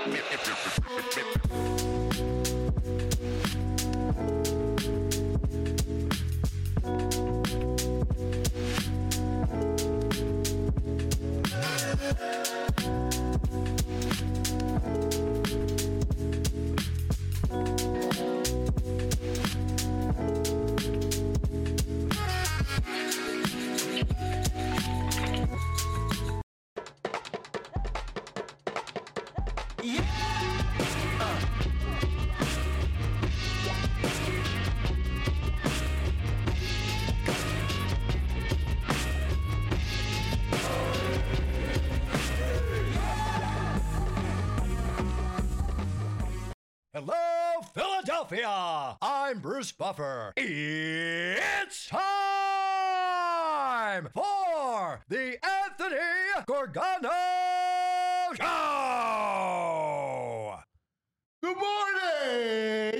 Hello, Philadelphia! I'm Bruce Buffer. It's time for the Anthony Gorgano Show! Good morning!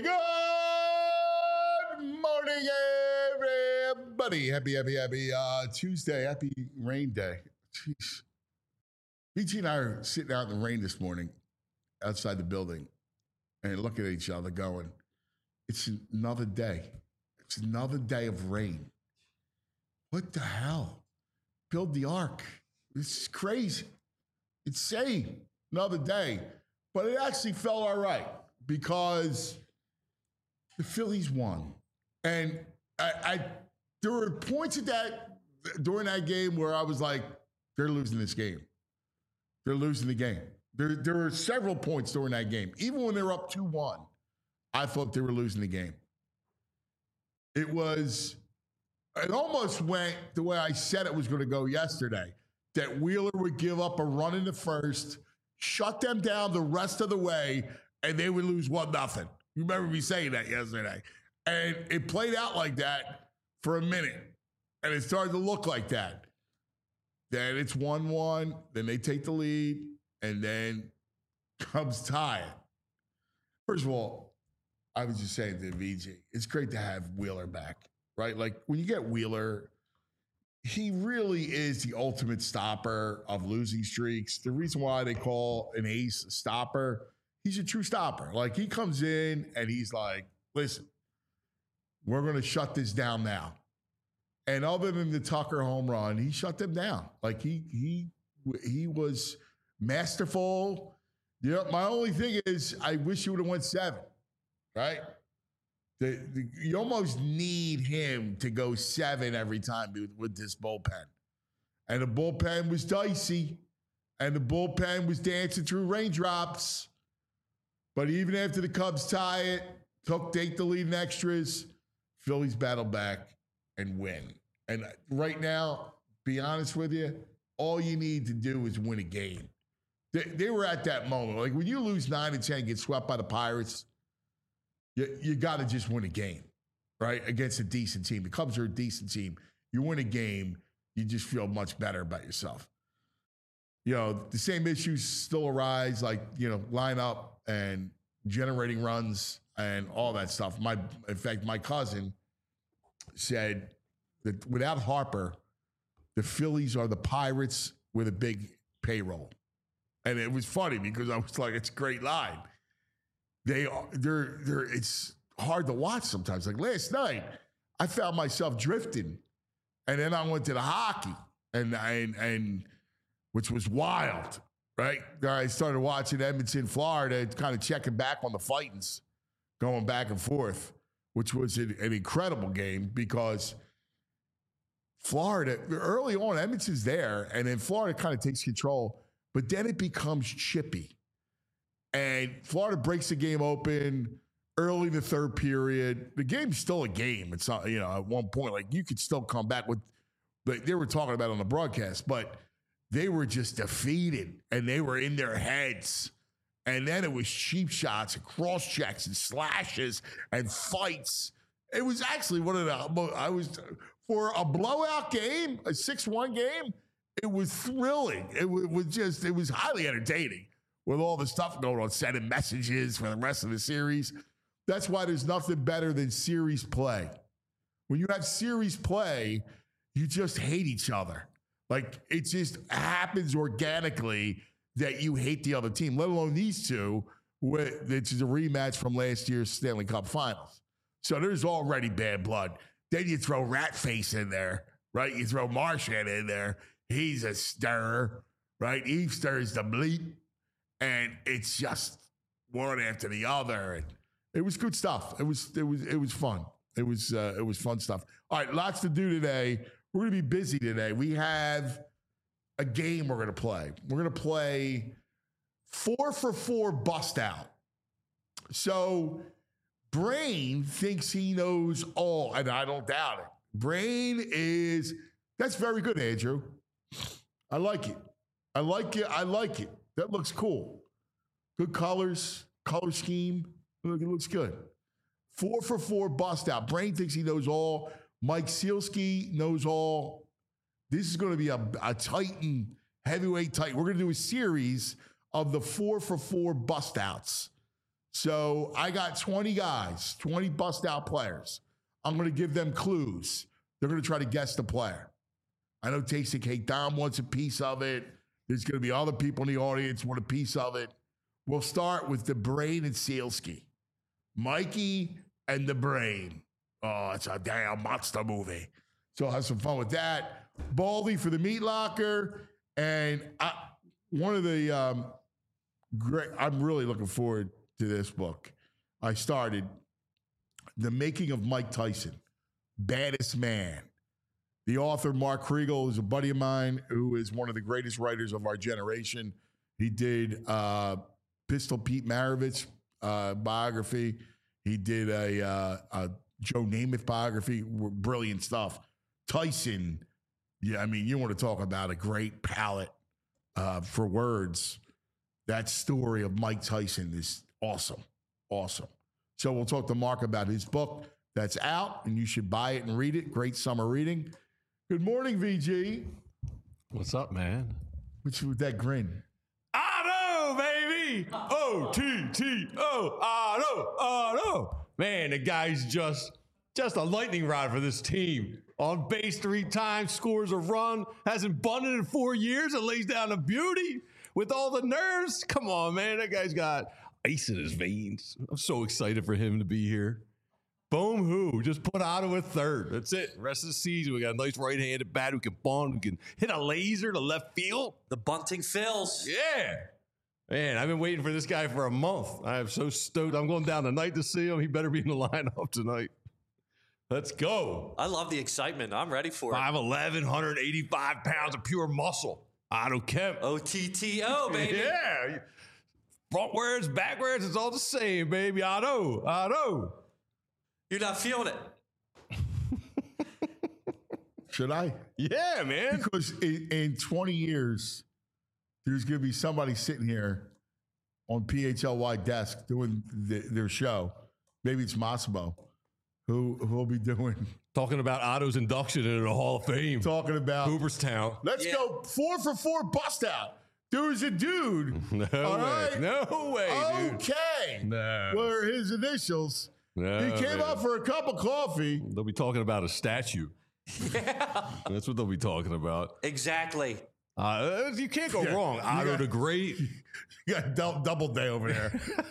Good morning, everybody. Happy Tuesday. Happy rain day. Jeez. BG and I are sitting out in the rain this morning outside the building and looking at each other going, it's another day. It's another day of rain. What the hell? Build the ark. This is crazy. Insane. Another day. But it actually felt all right because the Phillies won. And there were points during that game where I was like, they're losing this game. They're losing the game. There were several points during that game. Even when they were up 2-1, I thought they were losing the game. It almost went the way I said it was going to go yesterday, that Wheeler would give up a run in the first, shut them down the rest of the way, and they would lose 1-0. You remember me saying that yesterday. And it played out like that for a minute. And it started to look like that. Then it's 1-1. Then they take the lead. And then Cubs tie it. First of all, I was just saying to VG, it's great to have Wheeler back, right? Like when you get Wheeler, he really is the ultimate stopper of losing streaks. The reason why they call an ace a stopper, he's a true stopper. Like he comes in and he's like, listen, we're going to shut this down now. And other than the Tucker home run, he shut them down. Like he was masterful. My only thing is I wish you would have went 7, right? You almost need him to go 7 every time with this bullpen. And the bullpen was dicey. And the bullpen was dancing through raindrops. But even after the Cubs tie it, take the lead in extras, Phillies battle back and win. And right now, be honest with you, all you need to do is win a game. They were at that moment. Like when you lose 9-10, get swept by the Pirates, you got to just win a game, right? Against a decent team. The Cubs are a decent team. You win a game, you just feel much better about yourself. The same issues still arise, like, line up and generating runs and all that stuff. In fact, my cousin said that without Harper, the Phillies are the Pirates with a big payroll. And it was funny because I was like, it's a great line. It's hard to watch sometimes. Like last night, I found myself drifting. And then I went to the hockey and which was wild, right? I started watching Edmonton, Florida, kind of checking back on the Fightins, going back and forth, which was an incredible game because Florida, early on, Edmonton's there, and then Florida kind of takes control. But then it becomes chippy. And Florida breaks the game open early in the third period. The game's still a game. It's not, at one point, like you could still come back with, like they were talking about on the broadcast, but they were just defeated and they were in their heads. And then it was cheap shots and cross checks and slashes and fights. It was actually one of for a blowout game, a 6-1 game, it was thrilling. It was highly entertaining with all the stuff going on, sending messages for the rest of the series. That's why there's nothing better than series play. When you have series play, you just hate each other. Like it just happens organically that you hate the other team, let alone these two, which is a rematch from last year's Stanley Cup Finals. So there's already bad blood. Then you throw Ratface in there, right? You throw Marchand in there. He's a stirrer, right? He stirs the bleep. And it's just one after the other. And it was good stuff. It was fun. It was fun stuff. All right, lots to do today. We're going to be busy today. We have a game we're going to play. We're going to play 4 for 4 bust out. So Brain thinks he knows all, and I don't doubt it. Brain that's very good, Andrew. I like it. I like it. That looks cool. Good colors, color scheme. Look, it looks good. 4 for 4 bust out. Brain thinks he knows all. Mike Sealski knows all. This is going to be a Titan, heavyweight Titan. We're going to do a series of the 4 for 4 bust outs. So I got 20 guys, 20 bust out players. I'm going to give them clues. They're going to try to guess the player. I know Tasty Cake Dom wants a piece of it. There's going to be other people in the audience want a piece of it. We'll start with the Brain and Sealski. Mikey and the Brain. Oh, it's a damn monster movie. So I'll have some fun with that. Baldy for the Meat Locker. And one of the great, I'm really looking forward to this book. I started The Making of Mike Tyson, Baddest Man. The author, Mark Kriegel, is a buddy of mine who is one of the greatest writers of our generation. He did Pistol Pete Maravich biography. He did a Joe Namath biography. Brilliant stuff. Tyson, yeah, I mean, you want to talk about a great palette for words. That story of Mike Tyson is awesome. Awesome. So we'll talk to Mark about his book that's out, and you should buy it and read it. Great summer reading. Good morning, VG. What's up, man? What's with that grin? Otto, baby! O-T-T-O, Otto. Man, the guy's just a lightning rod for this team. On base 3 times, scores a run, hasn't bunted in 4 years, and lays down a beauty with all the nerves. Come on, man. That guy's got ice in his veins. I'm so excited for him to be here. Boom, who? Just put Otto at third. That's it. Rest of the season, we got a nice right-handed bat who can bunt, who can hit a laser to left field. The bunting fills. Yeah. Man, I've been waiting for this guy for a month. I am so stoked. I'm going down tonight to see him. He better be in the lineup tonight. Let's go. I love the excitement. I'm ready for it. 5'11", 185 pounds of pure muscle. Otto Kemp. OTTO, baby. Yeah. Frontwards, backwards, it's all the same, baby. Otto. You're not feeling it. Should I? Yeah, man. Because in 20 years, there's going to be somebody sitting here on PHLY desk doing their show. Maybe it's Massimo, who will be doing. Talking about Otto's induction into the Hall of Fame. Talking about Cooperstown. Let's go 4 for 4 bust out. There was a dude. No all way. right? No way, dude. Okay. No. Were his initials. No, he came man. up for a cup of coffee. They'll be talking about a statue. Yeah. That's what they'll be talking about. Exactly. You can't go wrong. Otto the Great. You got double day over there.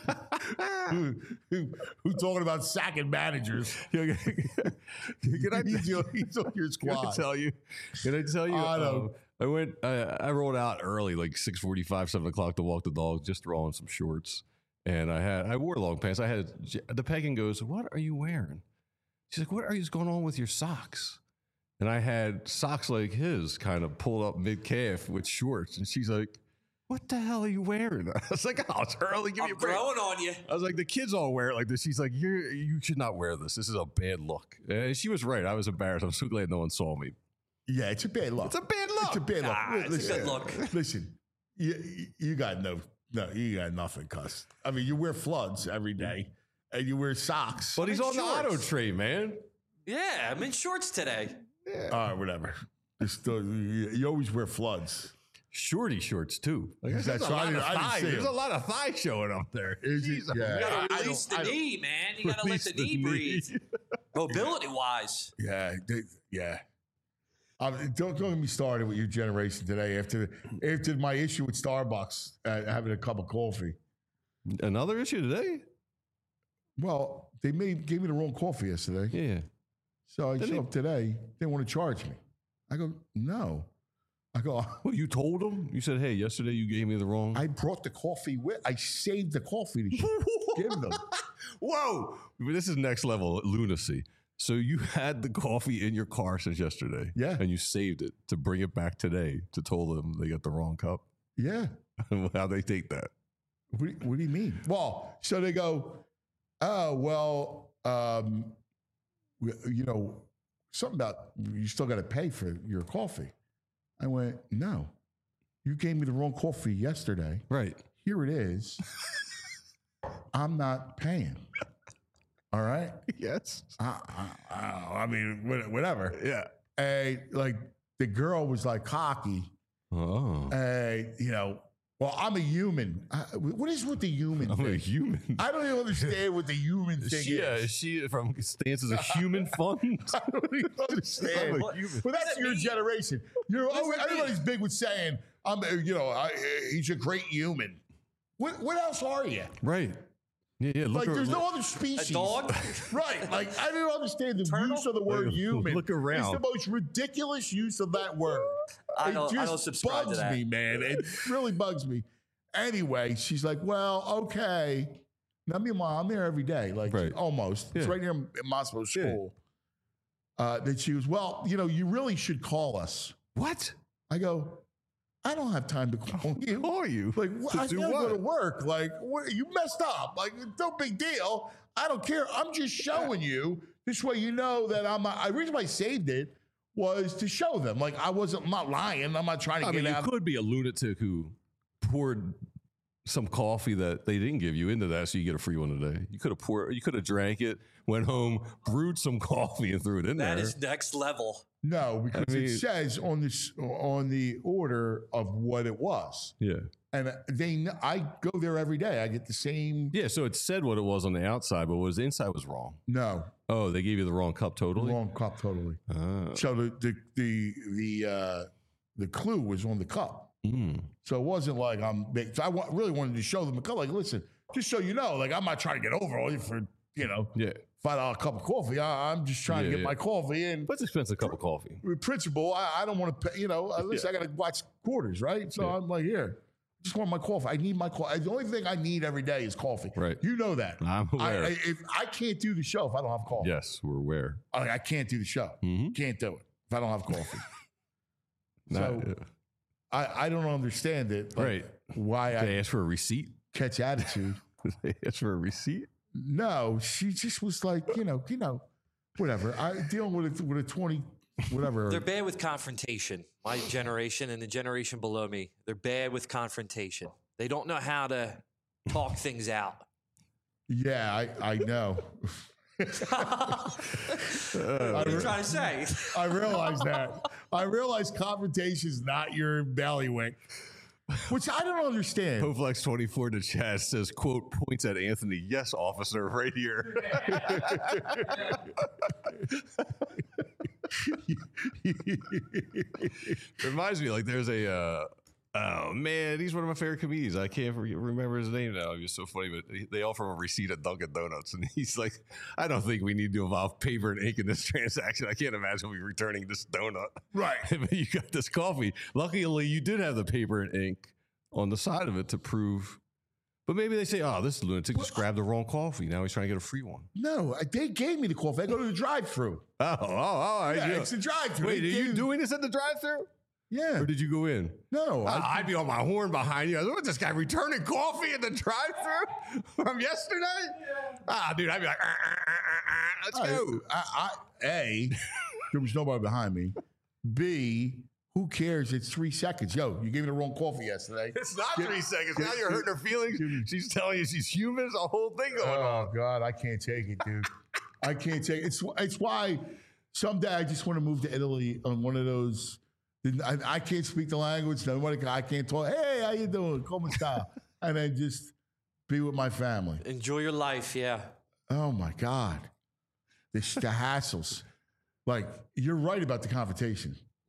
who talking about sacking managers? Can I, He's on your squad. Can I tell you? Otto. I rolled out early, like 6:45, 7 o'clock to walk the dog, just throw on some shorts. And I wore long pants. The Pekin goes, "What are you wearing?" She's like, "What are you going on with your socks?" And I had socks like his, kind of pulled up mid calf with shorts. And she's like, "What the hell are you wearing?" I was like, "Oh, it's early. Give me I'm a break." growing on you. I was like, "The kids all wear it like this." She's like, "You should not wear this. This is a bad look." And she was right. I was embarrassed. I'm so glad no one saw me. Yeah, it's a bad look. It's a bad look. It's a bad look. Nah, it's a good look. Listen, you got no, you got nothing, cuss. I mean, you wear floods every day, and you wear socks. But he's on the shorts. auto train, man. Yeah, I'm in shorts today. All right, whatever. You always wear floods. Shorty shorts too. Like, Is that there's a so? lot I of didn't thigh. see There's him. a lot of thigh showing up there. Is it? Jeez, Yeah. You gotta I release the don't- knee, man. You gotta let Release the the knee knee. breathe. Mobility wise. Yeah. Don't get me started with your generation today. After my issue with Starbucks, having a cup of coffee. Another issue today? Well, they gave me the wrong coffee yesterday. Yeah. So I show up today. They want to charge me. I go, no. I go, Well, you told them? You said, hey, yesterday you gave me the wrong. I brought the coffee with. I saved the coffee to give them. Whoa. This is next level lunacy. So you had the coffee in your car since yesterday. Yeah. And you saved it to bring it back today to tell them they got the wrong cup. Yeah. How they take that? What do you mean? Well, so they go, oh, well, something about you still got to pay for your coffee. I went, no, you gave me the wrong coffee yesterday. Right. Here it is. I'm not paying. All right. Yes. I mean, whatever. Yeah. And like the girl was like cocky. Oh. Well, I'm a human. What is with the human I'm thing? a human. I don't even understand what the human thing is. Is she from stance as a human fund? I don't even understand. I'm a human. But that's your generation. Everybody's big with saying, he's a great human. What else are you? Right. Yeah. Like, there's no other species. A dog? Right. Like, I don't understand the use of the word human. Look around. It's the most ridiculous use of that word. I don't subscribe bugs to that. me, man. It really bugs me. Anyway, she's like, well, okay. Now, meanwhile, I'm there every day, like Right. almost. It's Yeah. right near Moscow school. That she was, well, you really should call us. What? I go, I don't have time to call you. Call you? Like, To I do gotta go what? to work. Like, you messed up. Like, no big deal. I don't care. I'm just showing you. This way you know that the reason why I saved it was to show them. Like, I'm not lying. I'm not trying to get You out. could be a lunatic who poured some coffee that they didn't give you into that so you get a free one today. You could have drank it, went home, brewed some coffee and threw it in there. That is next level. No, because it says on the order of what it was. Yeah. And I go there every day. I get the same. Yeah, so it said what it was on the outside, but what was the inside was wrong. No, Oh, they gave you the wrong cup totally? wrong cup totally. Oh. So the clue was on the cup. Mm. So it wasn't like so I really wanted to show them the cup. Like, listen, just so you know, like, I'm not trying to get over on you for Yeah. $5 cup of coffee. I'm just trying to get my coffee in. What's expensive cup of coffee? Principle, I don't want to pay. Listen, I got to watch quarters, right? So I'm like, here, just want my coffee. I need my coffee. The only thing I need every day is coffee. Right. You know that. I'm aware. If I can't do the show if I don't have coffee. Yes, we're aware. I can't do the show. Mhm. Can't do it if I don't have coffee. Not- So I don't understand it. Like, Right. Why They I asked for a receipt? catch attitude. They asked for a receipt? No, she just was like, whatever. I dealing with a 20, whatever. They're bad with confrontation. My generation and the generation below me, they're bad with confrontation. They don't know how to talk things out. Yeah, I know. What are you trying to say? I realize that. I realize confrontation is not your bailiwick, which I don't understand. Hoflex24 in the chat says, quote, points at Anthony. Yes, officer, right here. Reminds me, like, there's oh man, he's one of my favorite comedians. I can't remember his name now. He was so funny, but they offer him a receipt at Dunkin' Donuts, and he's like, "I don't think we need to involve paper and ink in this transaction. I can't imagine we returning this donut." Right. But you got this coffee. Luckily, you did have the paper and ink on the side of it to prove. But maybe they say, "Oh, this lunatic just grabbed the wrong coffee. Now he's trying to get a free one." No, they gave me the coffee. I go to the drive-thru. Oh, Yeah, it's a drive-thru. Wait, They are you gave- doing this at the drive-thru? Yeah. Or did you go in? No. I'd be on my horn behind you. What, this guy returning coffee at the drive-thru from yesterday? Dude, I'd be like, let's go. A, there was nobody behind me. B, who cares? It's 3 seconds. Yo, you gave me the wrong coffee yesterday. It's not 3 seconds. Now you're hurting her feelings. She's telling you she's human. There's a whole thing going on. Oh God, I can't take it, dude. I can't take it. It's why someday I just want to move to Italy on one of those. I can't speak the language. Nobody. I can't talk. Hey, how you doing? Come sta? And then just be with my family. Enjoy your life, yeah. Oh my God, the hassles. Like, you're right about the confrontation.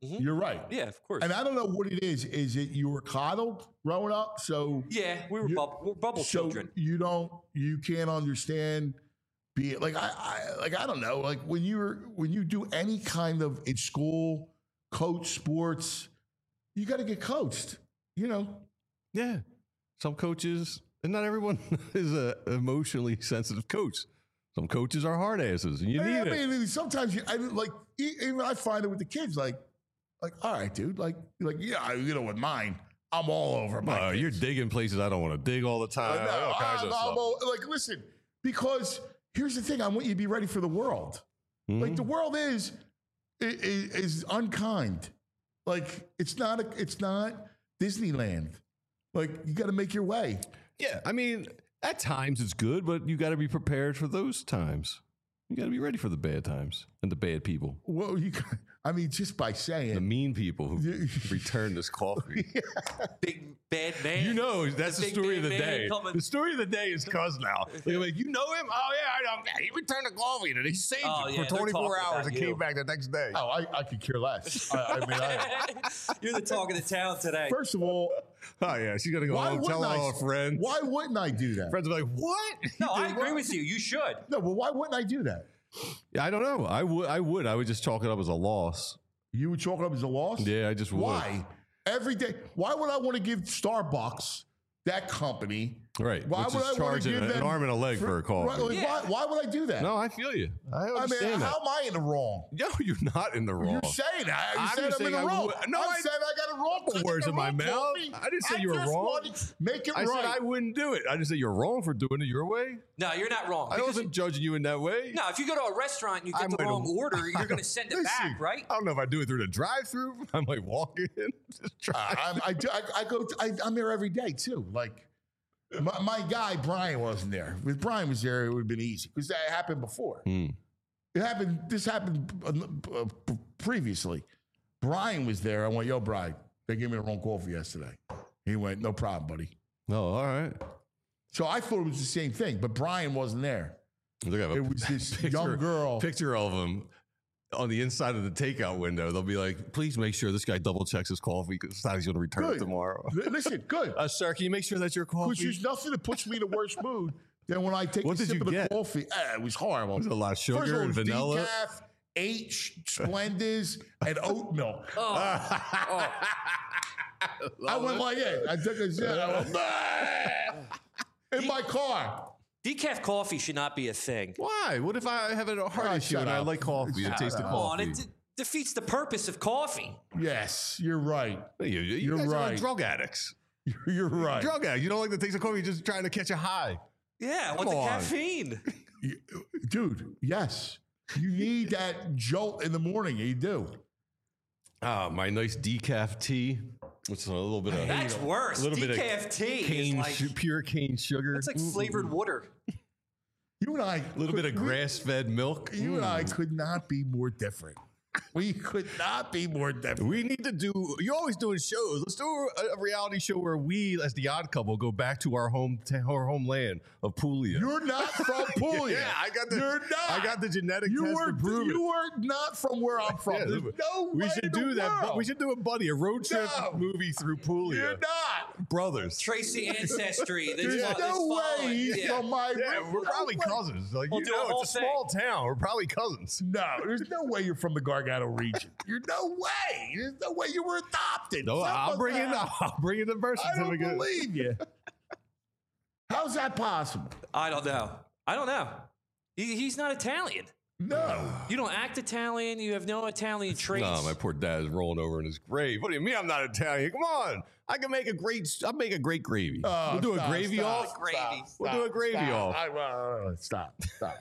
You're right. Yeah, of course. And I don't know what it is. Is it you were coddled growing up? So yeah, we're bubble so children. you can't understand. Be it like I don't know. Like when you do any kind of in school, coach sports, you got to get coached. You know. Yeah. Some coaches, and not everyone is a emotionally sensitive coach. Some coaches are hard asses, and you need it. I mean, sometimes even I find it with the kids. Like, all right, dude. Like, yeah, you know, with mine, I'm all over my. You're digging places I don't want to dig all the time. All kinds of stuff. Like, listen, because here's the thing: I want you to be ready for the world. Like, the world is unkind. Like, it's not Disneyland. Like, you got to make your way. Yeah, I mean, at times it's good, but you got to be prepared for those times. You got to be ready for the bad times and the bad people. Well, just by saying the mean people who return this coffee. Big bad man. You know, that's the story of the day. Coming. The story of the day is Cuz now. They're like, you know him? Oh, yeah, I know. He returned the coffee and he saved it for 24 hours and came back the next day. Oh, I could care less. You're the talk of the town today. First of all, oh, yeah, she's going to go home tell all her friends. Why wouldn't I do that? Friends are like, what? No, I agree with you. You should. No, but why wouldn't I do that? Yeah, I don't know. I would just chalk it up as a loss. You would chalk it up as a loss? Yeah, I just would. Why? Every day. Why would I want to give Starbucks, that company, right? Why Which would is I want to charging give an arm and a leg for a coffee? Right, like, Yeah. why would I do that? No, I feel you. I understand that. How am I in the wrong? No, you're not in the wrong. You're saying that. You I'm said I'm in the saying I wrong. would- no, I I- said I got it wrong. Put words in my mouth. I didn't say you were wrong. Want to make it I right. said I wouldn't do it. I just said you're wrong for doing it your way. No, you're not wrong. I Because- wasn't judging you in that way. No, if you go to a restaurant and you I get the might wrong have- order, you're going to send it back, right? I don't know if I do it through the drive-through. I might walk in. Just try. I'm there every day too. Like my guy Brian wasn't there. If Brian was there, it would have been easy because that happened before. This happened previously. Brian was there. I went, yo, Brian, they gave me the wrong coffee yesterday. He went, no problem, buddy. Oh, all right. So I thought it was the same thing, but Brian wasn't there. Look at It was this young girl. Picture of him on the inside of the takeout window. They'll be like, please make sure this guy double checks his coffee because he's going to return it tomorrow. Listen, good. Sir, can you make sure that's your Because coffee? there's nothing that puts me in a worse mood than when I take What a did sip you of the get? coffee. It was horrible. Was it a lot of First of all, sugar it and was vanilla? decaf, 8 Splendas, and oat milk. I went like that. I took a sip. I went, "Bah!" in my car. Decaf coffee should not be a thing. Why? What if I have a heart issue shut and I up. like coffee and Shut taste the up. Come on, coffee? it defeats the purpose of coffee. Yes, you're right. You guys are right. like drug addicts. You're right. Drug addicts. You don't like the taste of coffee. You're just trying to catch a high. Yeah, Come what's the on. caffeine? Dude, yes. You need that jolt in the morning. You do. My nice decaf tea, which is a little bit of That's worse. little bit of Decaf tea is cane, like pure cane sugar. it's like flavored water. You and I. a little bit of grass-fed milk. You and I could not be more different. We could not be more different. We need to do. You're always doing shows. Let's do a reality show where we, as the Odd Couple, go back to our homeland of Puglia. You're not from Puglia. Yeah, I got the. You're not. I got the genetic You test were to prove it. you were not from where I'm from. Yeah, There's no way we should in the do that. world. But we should do it, buddy. A road trip No. movie through Puglia. You're not. Brothers. Tracy ancestry. There's no way he's from my. Yeah, we're no probably way. cousins. Like, We'll you do a know, whole it's a small town. We're probably cousins. No, there's no way you're from the Gargano region. You're no way. There's no way you were adopted. No, Something I'll bring in. like that. I'll bring in the birth I don't certificate. believe you. How's that possible? I don't know. He's not Italian. No. You don't act Italian. You have no Italian traits. No, my poor dad is rolling over in his grave. What do you mean I'm not Italian? Come on. I can make a great. I'll make a great gravy. Oh, we'll do a stop, gravy stop, off. Gravy. We'll do a gravy off. Stop.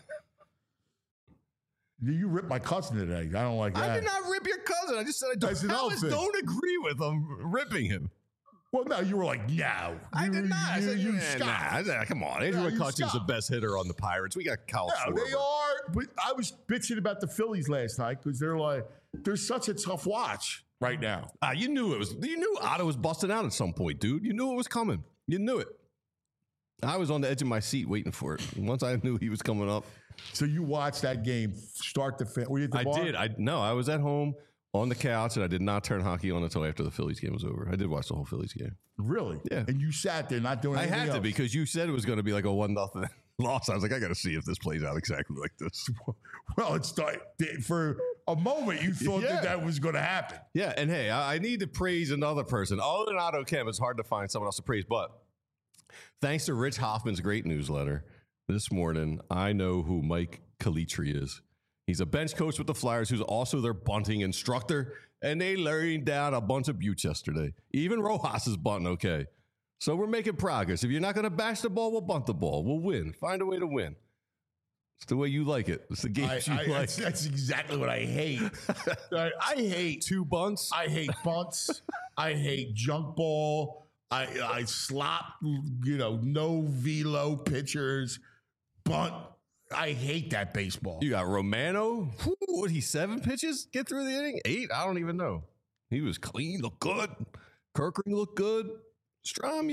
You ripped my cousin today. I don't like that. I did not rip your cousin. I just said I That's an don't, outfit. don't agree with him ripping him. Well, no, you were like, no. I did not. I said, You nah, scoffed. nah. I said, come on. Andrew you McCutcheon's the scoffed. best hitter on the Pirates. We got Kyle No, Schwarber. they are. But I was bitching about the Phillies last night because they're such a tough watch right now. You knew it was. You knew Otto was busting out at some point, dude. You knew it was coming. You knew it. I was on the edge of my seat waiting for it. Once I knew he was coming up, So you watched that game start to finish. Were you at the I bar? did. I was at home on the couch, and I did not turn hockey on until after the Phillies game was over. I did watch the whole Phillies game. Really? Yeah. And you sat there not doing I anything had to else. because you said it was going to be like a 1-0 loss. I was like, I got to see if this plays out exactly like this. Well, for a moment you thought Yeah. that was going to happen. Yeah, and hey, I need to praise another person. Other than Otto Kemp, it's hard to find someone else to praise. But thanks to Rich Hoffman's great newsletter this morning, I know who Mike Calitri is. He's a bench coach with the Flyers who's also their bunting instructor, and they laid down a bunch of buttes yesterday. Even Rojas is bunting okay. So we're making progress. If you're not going to bash the ball, we'll bunt the ball. We'll win. Find a way to win. It's the way you like it. It's the game you like. That's exactly what I hate. I hate 2 bunts. I hate bunts. I hate junk ball. I slop, no velo pitchers, bunt. I hate that baseball. You got Romano. What, he 7 pitches? Get through the inning? 8? I don't even know. He was clean, looked good. Kirkring looked good. Strom,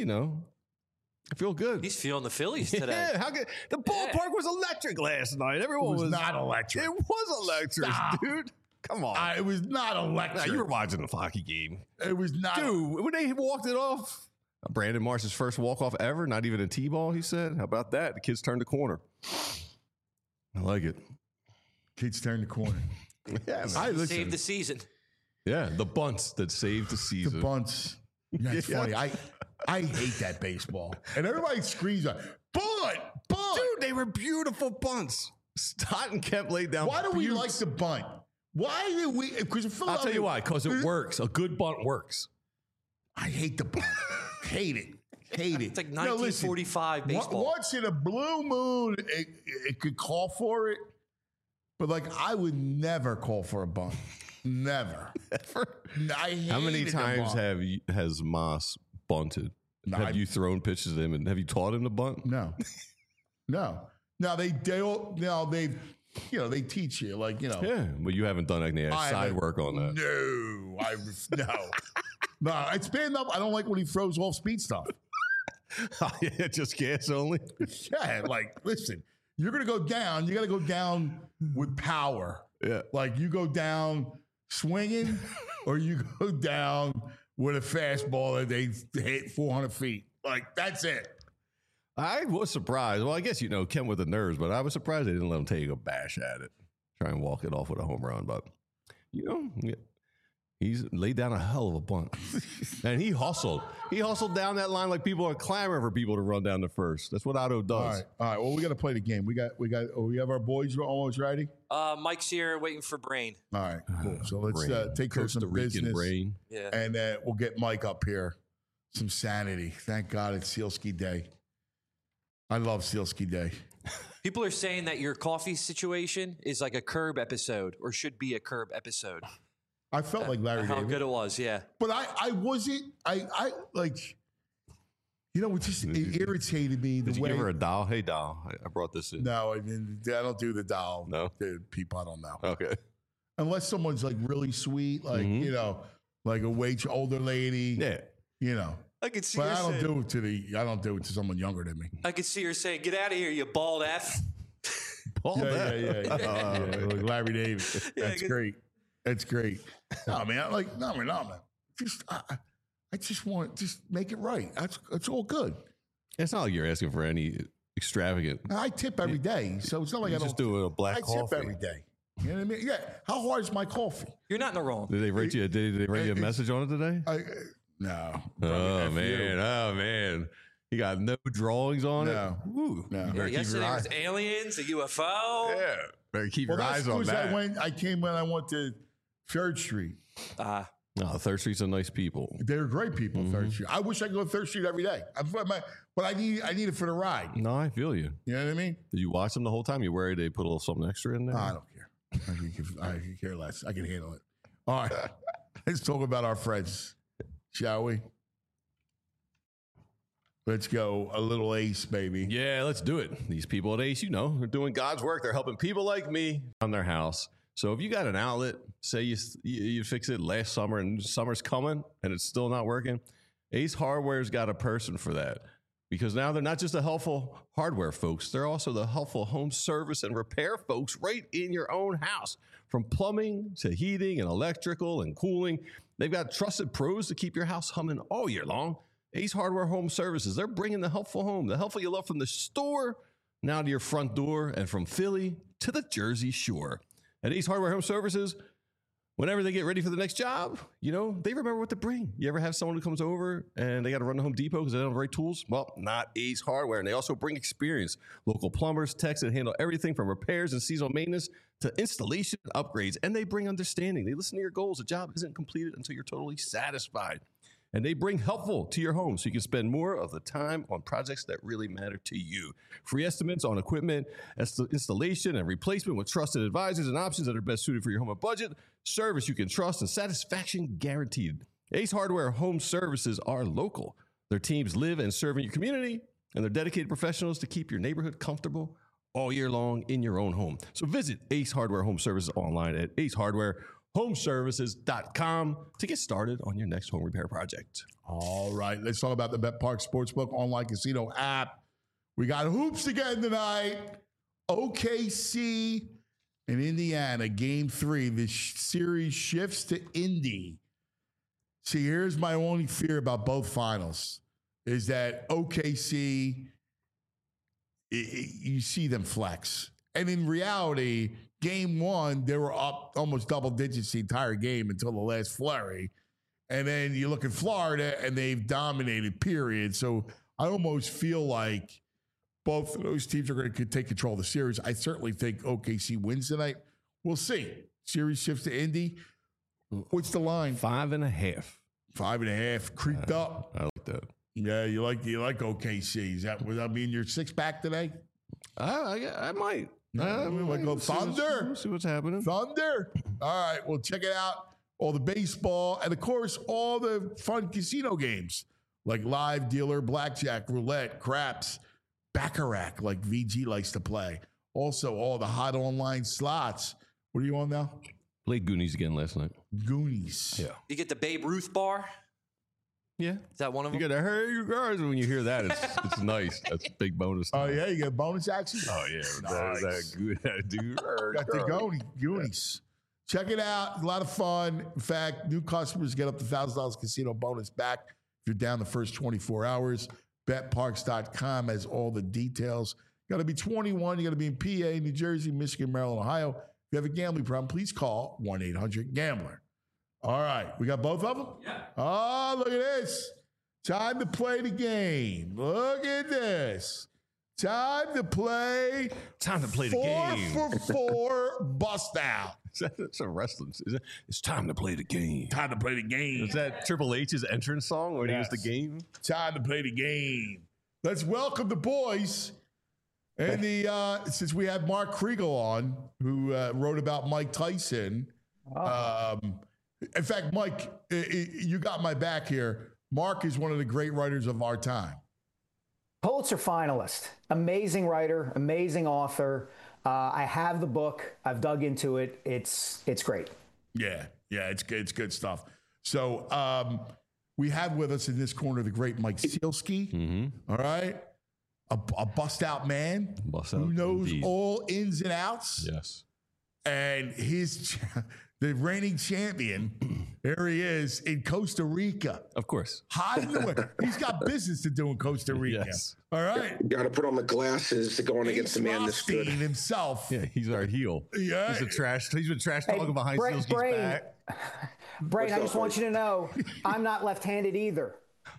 I feel good. He's feeling the Phillies today. Yeah, how good? The ballpark was electric last night. Everyone It was not electric. It was electric, Stop. dude. Come on. It was not Nah, electric. you were watching the hockey game. It was not. Dude, when they walked it off, Brandon Marsh's first walk-off ever, not even a T-ball, he said. How about that? The kids turned the corner. I like it. Kids turn the corner. Yeah, I He listen. saved the season. yeah, the bunts that saved the The season. bunts. That's Yeah. funny. I hate that baseball. And everybody screams out, bunt. Dude, they were beautiful bunts. Stott and Kemp laid down. Why do we buttes. like the bunt? Why do we? Because I'll tell you why. Because it works. A good bunt works. I hate the bunt. Hate it. Hate it. It's like No, listen, 1945 baseball. Once in a blue moon, it could call for it. But I would never call for a bunt. Never. I How many hated the times bunt. has Moss bunted? No, have you thrown pitches to him and have you taught him to bunt? No. Now they teach you Yeah, but you haven't done any I side haven't- work on that. No, it's bad enough. I don't like when he throws off speed stuff. Yeah, just gas only. Yeah, listen, you're gonna go down. You got to go down with power. Yeah. You go down swinging, or you go down with a fastball that they hit 400 feet. That's it. I was surprised. Well, I guess Kemp with the nerves, but I was surprised they didn't let him take a bash at it, try and walk it off with a home run. But he's laid down a hell of a bunt, and he hustled. He hustled down that line like people are clamoring for people to run down the first. That's what Otto does. All right. Well, we got to play the game. We have our boys almost ready. Mike's here waiting for Brain. All right, cool. So let's Brain. take care of Costa some Rican business, brain. Yeah. and we'll get Mike up here. Some sanity. Thank God it's Sealski Day. I love Sealski Day. People are saying that your coffee situation is like a Curb episode or should be a Curb episode. I felt like Larry How David. good it was, yeah. But I wasn't. It just irritated me the Did you way. give her a doll? Hey, doll, I brought this in. No, I don't do the doll. No? The people, I don't know. Okay. Unless someone's really sweet, like a older lady. Yeah. I could see But her I don't saying, do it to someone younger than me. I could see her saying, "Get out of here, you bald F." Paul, Yeah. Like Larry David. That's good. great. That's great. No, man. Man. Just I just want make it right. That's all good. It's not like you're asking for any extravagant. I tip every day, so it's not like You I don't. just do a black I coffee. tip every day. You know what I mean? Yeah. How hard is my coffee? You're not in the wrong. Did they write you? Did they write you a message on it today? No. Oh man! You got no drawings on No. it. Ooh, No. you better keep your Yesterday eye. was aliens, a UFO. Yeah, better keep Well, your that's eyes on because that. I came when I went to Third Street. No, Third Street's a nice people. They're great people. Third Street. I wish I could go to Third Street every day. But I need it for the ride. No, I feel you. You know what I mean? Did you watch them the whole time? You worried they put a little something extra in there? I don't care. I can care less. I can handle it. All right. Let's talk about our friends, shall we? Let's go a little Ace, baby. Yeah, let's do it. These people at Ace, they're doing God's work. They're helping people like me on their house. So if you got an outlet, say you fix it last summer and summer's coming and it's still not working, Ace Hardware's got a person for that. Because now they're not just the helpful hardware folks, they're also the helpful home service and repair folks right in your own house. From plumbing to heating and electrical and cooling, they've got trusted pros to keep your house humming all year long. Ace Hardware Home Services, they're bringing the helpful home, the helpful you love from the store, now to your front door, and from Philly to the Jersey Shore. At Ace Hardware Home Services, whenever they get ready for the next job, you know, they remember what to bring. You ever have someone who comes over and they got to run to Home Depot because they don't have the right tools? Well, not Ace Hardware. And they also bring experience. Local plumbers, techs that handle everything from repairs and seasonal maintenance to installation and upgrades. And they bring understanding. They listen to your goals. The job isn't completed until you're totally satisfied. And they bring helpful to your home so you can spend more of the time on projects that really matter to you. Free estimates on equipment, installation, and replacement with trusted advisors and options that are best suited for your home and budget. Service you can trust and satisfaction guaranteed. Ace Hardware Home Services are local. Their teams live and serve in your community, and they're dedicated professionals to keep your neighborhood comfortable all year long in your own home. So visit Ace Hardware Home Services online at acehardwarehomeservices.com to get started on your next home repair project. All right, let's talk about the BetPark Sportsbook online casino app. We got hoops again tonight. OKC and Indiana, game 3. The series shifts to Indy. See, here's my only fear about both finals is that OKC, you see them flex. And in reality, game 1, they were up almost double digits the entire game until the last flurry. And then you look at Florida, and they've dominated, period. So I almost feel like both of those teams are going to take control of the series. I certainly think OKC wins tonight. We'll see. Series shifts to Indy. What's the line? 5.5. 5.5. Creeped up. I like that. Yeah, you like OKC. Would that mean your 6-pack today? I might. Like go Thunder. See what's happening. Thunder. All right, well, check it out. All the baseball and, of course, all the fun casino games like live dealer, blackjack, roulette, craps, baccarat, like VG likes to play. Also, all the hot online slots. What are you on now? Played Goonies again last night. Goonies. Yeah. You get the Babe Ruth bar? Yeah. Is that one of them? You got to hey, you guys. When you hear that, it's nice. That's a big bonus. Oh, yeah? You get bonus action? Oh, yeah. Nice. That good, dude. Got the Goonies. Check it out. A lot of fun. In fact, new customers get up to $1,000 casino bonus back if you're down the first 24 hours. BetParks.com has all the details. Got to be 21. You got to be in PA, New Jersey, Michigan, Maryland, Ohio. If you have a gambling problem, please call 1-800-GAMBLER. All right. We got both of them? Yeah. Oh, look at this. Time to play the game. Look at this. Time to play the game. 4 for 4 bust out. That's a wrestling. It's time to play the game. Time to play the game. Is that Triple H's entrance song when he was the game? Time to play the game. Let's welcome the boys. And since we have Mark Kriegel on, who wrote about Mike Tyson. In fact, Mike, you got my back here. Mark is one of the great writers of our time. Pulitzer finalist, amazing writer, amazing author. I have the book. I've dug into it. It's great. Yeah, it's good stuff. So we have with us in this corner the great Mike Sielski. Mm-hmm. All right, a bust out man who knows indeed. All ins and outs. Yes, and the reigning champion. There he is in Costa Rica. Of course. Hiding away. He's got business to do in Costa Rica. Yes. All right. Got to put on the glasses to go on against the man that's good. Himself. Yeah, he's our heel. Yeah. He's been trash talking behind Sielski's back. Brain, I just want you to know, I'm not left-handed either.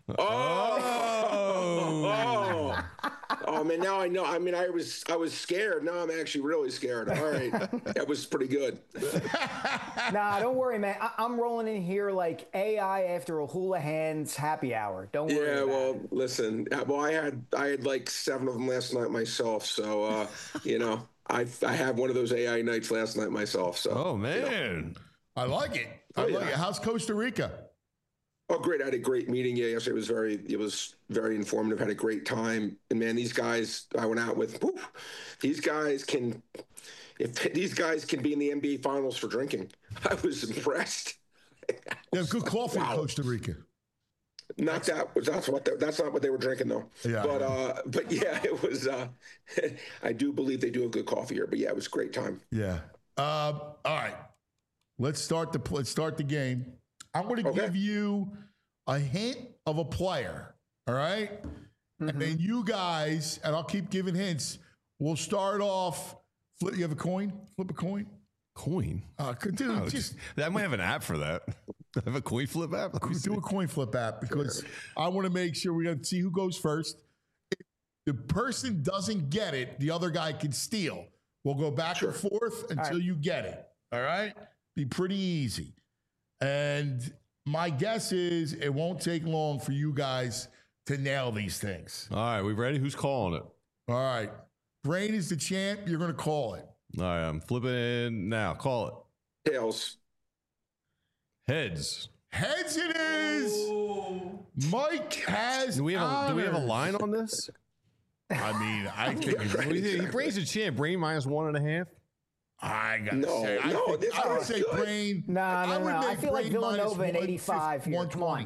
Oh man, now I know. I mean, I was scared. Now I'm actually really scared. All right, that was pretty good. Nah, don't worry, man. I'm rolling in here like AI after a Houlihan's happy hour. Don't worry. Yeah, well, listen. Well, I had like 7 of them last night myself. So I had one of those AI nights last night myself. So. Oh man, I like it. I like it. How's Costa Rica? Oh, great. I had a great meeting yesterday. It was very informative. Had a great time. And man, these guys I went out with, these guys can be in the NBA finals for drinking. I was impressed. They have good coffee in Costa Rica. Not that. That's not what they were drinking though. Yeah. But yeah, it was. I do believe they do have good coffee here. But yeah, it was a great time. Yeah. All right. Let's start the game. I'm going to give you a hint of a player. All right. Mm-hmm. And then you guys, and I'll keep giving hints. We'll start off. You have a coin? Flip a coin. Coin? I might have an app for that. I have a coin flip app. Do a coin flip app because I want to make sure we got to see who goes first. If the person doesn't get it, the other guy can steal. We'll go back and forth until you get it. All right? Be pretty easy. And my guess is it won't take long for you guys to nail these things. All right, we ready? Who's calling it? All right. Brain is the champ. You're going to call it. All right, I'm flipping in now. Call it. Tails. Heads. Heads it is. Ooh. Mike has. Do we have a line on this? I mean, I think he brings a champ. Brain -1.5. I gotta say, I would say Brain. No. I feel like Villanova in 85. 120.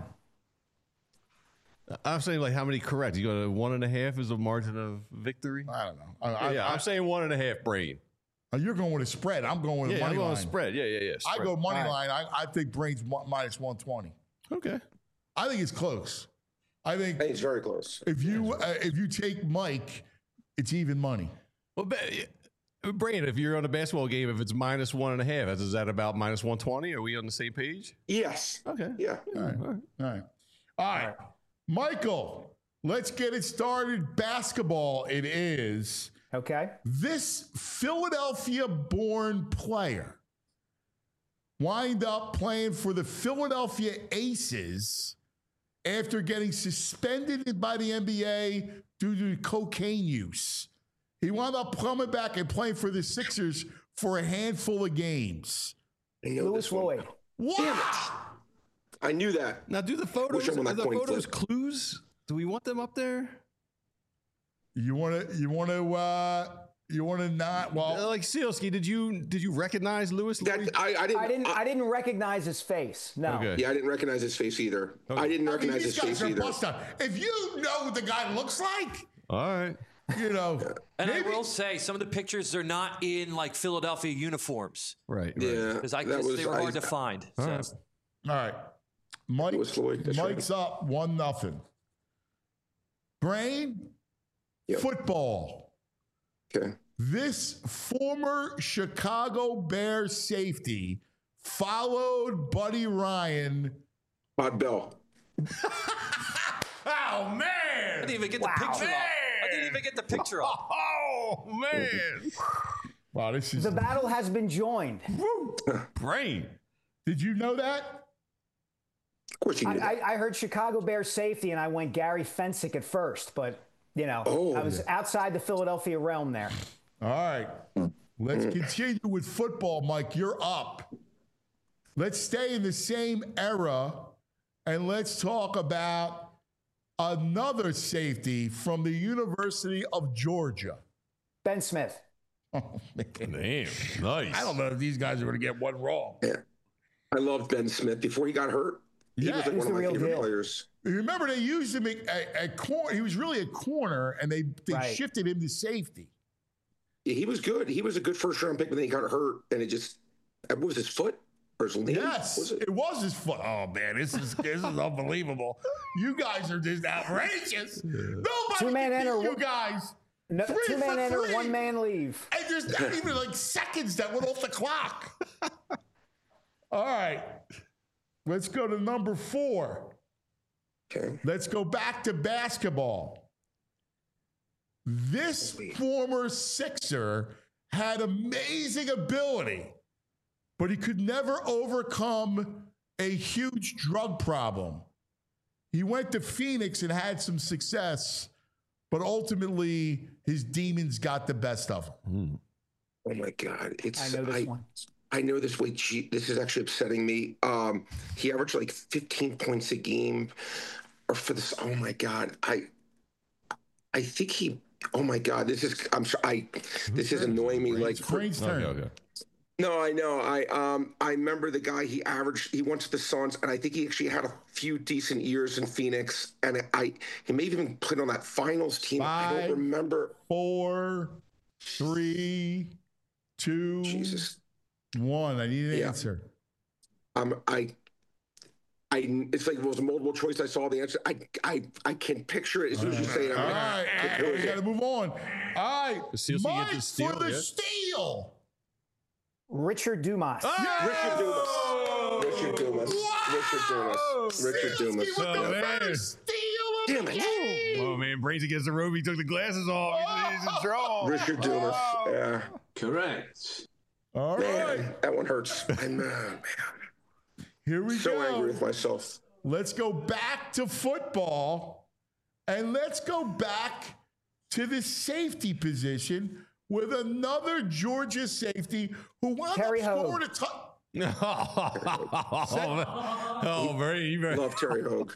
I'm saying like how many correct? You go to 1.5 is a margin of victory. I don't know. I'm saying 1.5. Brain. You're going with a spread. I'm going with a money line. I'm going with a spread. Yeah. Spread. I go money line. I think Brain's -120. Okay. I think it's close. I think it's very close. If you take Mike, it's even money. Well, Brain, if you're on a basketball game, if it's -1.5, is that about -120? Are we on the same page? Yes. Okay. Yeah. All right. Michael, let's get it started. Basketball it is. Okay. This Philadelphia-born player wind up playing for the Philadelphia Aces after getting suspended by the NBA due to cocaine use. He wound up coming back and playing for the Sixers for a handful of games. Lewis Lloyd. What? Damn it. I knew that. Now, do the photos? Are the photos clues? Do we want them up there? You want to not? Well, like Sealski, did you recognize Lewis Lloyd? I didn't recognize his face. No. Okay. Yeah, I didn't recognize his face either. Okay. I didn't recognize his face either. If you know what the guy looks like, all right. You know, and I will say some of the pictures are not in like Philadelphia uniforms, right? Yeah, because I guess they were hard to find. All right. Mike's up 1-0. Brain, football. Okay. This former Chicago Bears safety followed Buddy Ryan. Bud Bell. Oh man! I didn't even get the picture off. I didn't even get the picture off. Oh man! Wow, this is the battle has been joined. Brain. Did you know that? Of course you knew that. I heard Chicago Bears safety, and I went Gary Fensick at first, but I was outside the Philadelphia realm there. All right, let's continue with football, Mike. You're up. Let's stay in the same era, and let's talk about another safety from the University of Georgia. Ben Smith. Oh, man. Damn, nice. I don't know if these guys are going to get one wrong. Yeah. I loved Ben Smith before he got hurt. He was like one of my favorite players. Remember, they used him at corner. He was really a corner, and they shifted him to safety. Yeah, he was good. He was a good first-round pick, but then he got hurt, and it just – what was his foot? Or his knee? Yes, it was his foot. Oh, man, this is unbelievable. You guys are just outrageous. Nobody two-man can enter, beat you guys. No, two-man enter, one-man leave. And there's not even like seconds that went off the clock. All right. Let's go to number 4. Okay. Let's go back to basketball. This former Sixer had amazing ability, but he could never overcome a huge drug problem. He went to Phoenix and had some success, but ultimately his demons got the best of him. Oh my God! I know this one. I know this way. This is actually upsetting me. He averaged like 15 points a game, or for this. Oh my God! I think he. Oh my God! This is. I'm sorry. This is annoying me. Like Brain's turn. Okay. No, I know. I remember the guy. He went to the Suns, and I think he actually had a few decent years in Phoenix. And he may have even played on that finals team. 5, I don't remember. 4, 3, 2, Jesus. 1. I need an answer. It's like it was a multiple choice. I saw the answer. I can picture it as soon as you say it. All right, we got to move on. All right, Mike for the steal. Richard Dumas. Richard Dumas. With the first steal of the game. Oh, man. Brains against the rope. He took the glasses off. He's in trouble. Richard Dumas. Yeah. Correct. All right. Man, that one hurts. I'm man. Here we go. So angry with myself. Let's go back to football, and let's go back to the safety position with another Georgia safety who wound up scoring a very. Love Terry Hogue.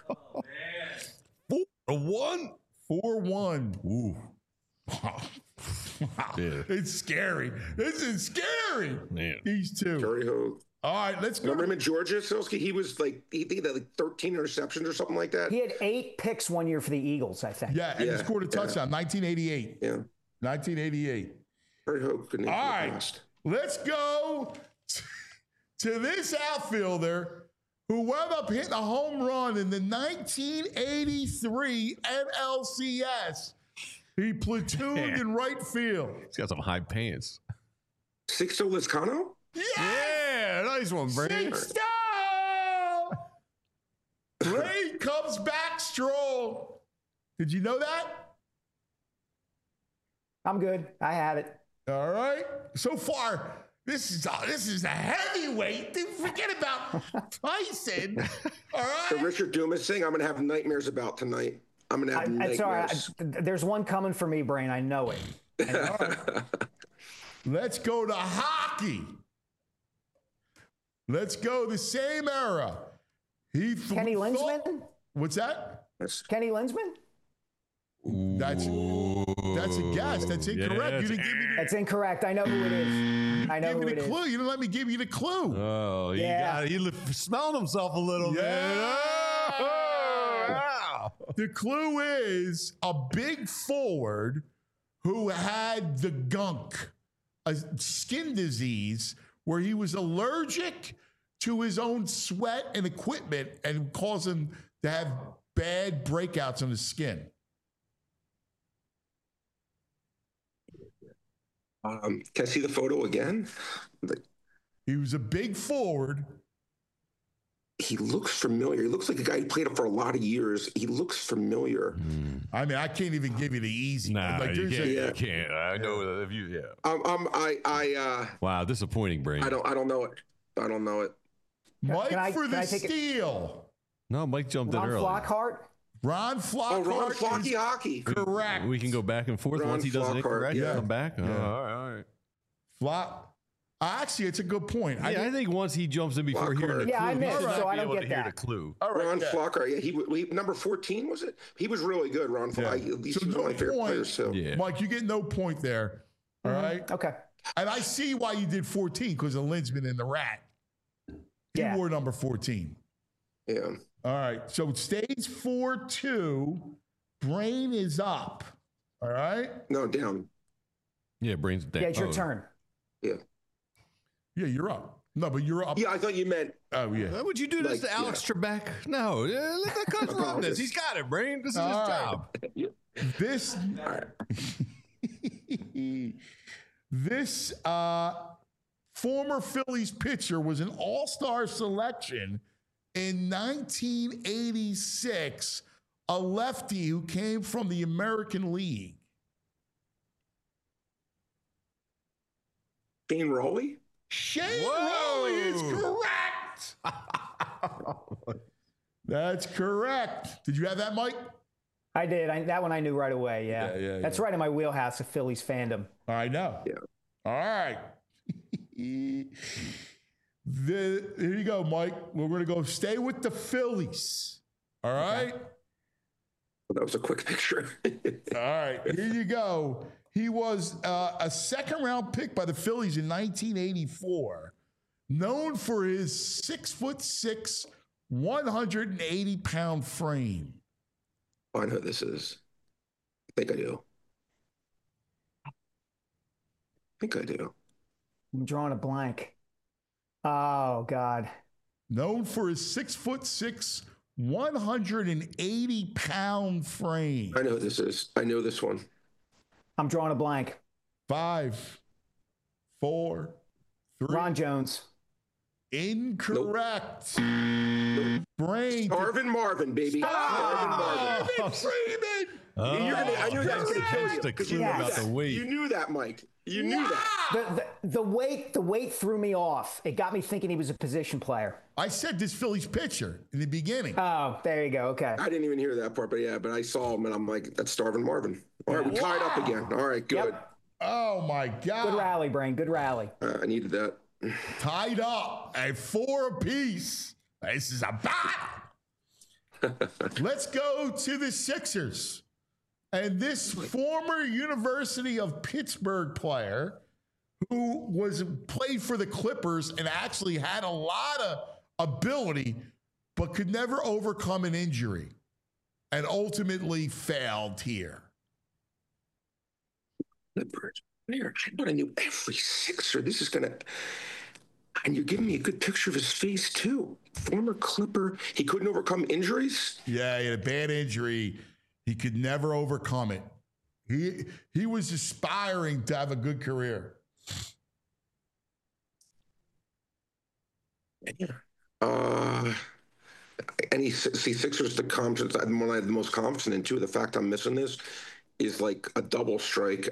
4-1. 4-1. Ooh. Yeah. It's scary. This is scary. Man. These two. Terry Hogue. All right, let's go. Remember him in Georgia, Silsky? He was like, he had like 13 interceptions or something like that. He had 8 picks one year for the Eagles, I think. Yeah, and he scored a touchdown, 1988. Yeah. 1988. Terry Hogue couldn't All right, let's go to this outfielder who wound up hitting a home run in the 1983 NLCS. He platooned in right field. He's got some high pants. Sixto Lizcano? Yeah, nice one, Brain. Sixto! Brain comes back strong. Did you know that? I'm good. I had it. All right. So far, this is a heavyweight. Forget about Tyson. All right. The Richard Dumas thing, I'm going to have nightmares about tonight. I'm going to have nightmares. Sorry, there's one coming for me, Brain. I know it. All right. Let's go to hockey. Let's go the same era. Kenny Linsman? What's that? Kenny Linsman? That's a guess. That's incorrect. Yeah, you didn't give me That's incorrect. I know who it is. I know who it is. clue. You didn't let me give you the clue. Oh, he smelled himself a little bit. Yeah. The clue is a big forward who had the gunk, a skin disease where he was allergic to his own sweat and equipment and caused him to have bad breakouts on his skin. Can I see the photo again? He was a big forward. He looks familiar. He looks like a guy who played it for a lot of years. He looks familiar. I mean, I can't even give you the easy. Nah, like, you can't. I know that if you, Wow, disappointing, Brain. I don't know it. I don't know it. Mike for the steal. No, Mike jumped in early. Flockhart? Ron Flockhart. Oh, Ron Flocky Hockey. Correct. We can go back and forth. Ron Once he does it incorrect, yeah. come back. Yeah. All right. Actually, it's a good point. I think once he jumps in before hearing the clue, I missed, he should so not I be don't able get to hear that. the clue. Ron Flockhart. Yeah, he number 14 was it? He was really good. Ron Flockhart. Yeah. At least So he was one of my favorite point. players too. Yeah. Mike, you get no point there. All right. Okay. And I see why you did 14 because of Linsman and the Rat. He wore number 14. Yeah. All right. So it stays 4-2. Brain is up. All right. No, down. Yeah, Brain's down. Yeah, it's your turn. Yeah. Yeah, you're up. No, but you're up. Yeah, I thought you meant. Oh, yeah. Why would you do this to Alex Trebek? No, let the coach run this. He's got it, Brain. This is his job. This, this former Phillies pitcher was an all-star selection in 1986, a lefty who came from the American League. Shane Rowley? Shane Rowley is correct. That's correct. Did you have that, Mike? I did. That one I knew right away. Yeah. That's right in my wheelhouse of Phillies fandom. I know. Yeah. All right. Here you go, Mike. We're going to go stay with the Phillies. All right. That was a quick picture. All right. Here you go. He was a second-round pick by the Phillies in 1984, known for his 6'6", 180-pound frame. Oh, I know who this is. I think I do. I'm drawing a blank. Oh, God. Known for his 6'6", 180-pound frame. I know who this is. I know this one. I'm drawing a blank. 5, 4, 3. Ron Jones. Incorrect. Nope. Brain. Starvin' Marvin, baby. Starvin' Marvin. Freeman. I knew that was going to kill you. The Because you clue knew about that. the weight. You knew that, Mike. You knew that. The weight threw me off. It got me thinking he was a position player. I said this Phillies pitcher in the beginning. Oh, there you go. Okay. I didn't even hear that part, but I saw him and I'm like, that's Starvin' Marvin. All right, we tied up again. All right, good. Yep. Oh, my God. Good rally, Brain. Good rally. I needed that. Tied up at 4 apiece. This is a battle. Let's go to the Sixers. And this former University of Pittsburgh player who played for the Clippers and actually had a lot of ability, but could never overcome an injury and ultimately failed here. Clippers player. I thought I knew every Sixer. This is going to... And you're giving me a good picture of his face, too. Former Clipper. He couldn't overcome injuries? Yeah, he had a bad injury. He could never overcome it. He was aspiring to have a good career. And Sixers, the confidence, the one I had the most confidence in, too. The fact I'm missing this is like a double strike.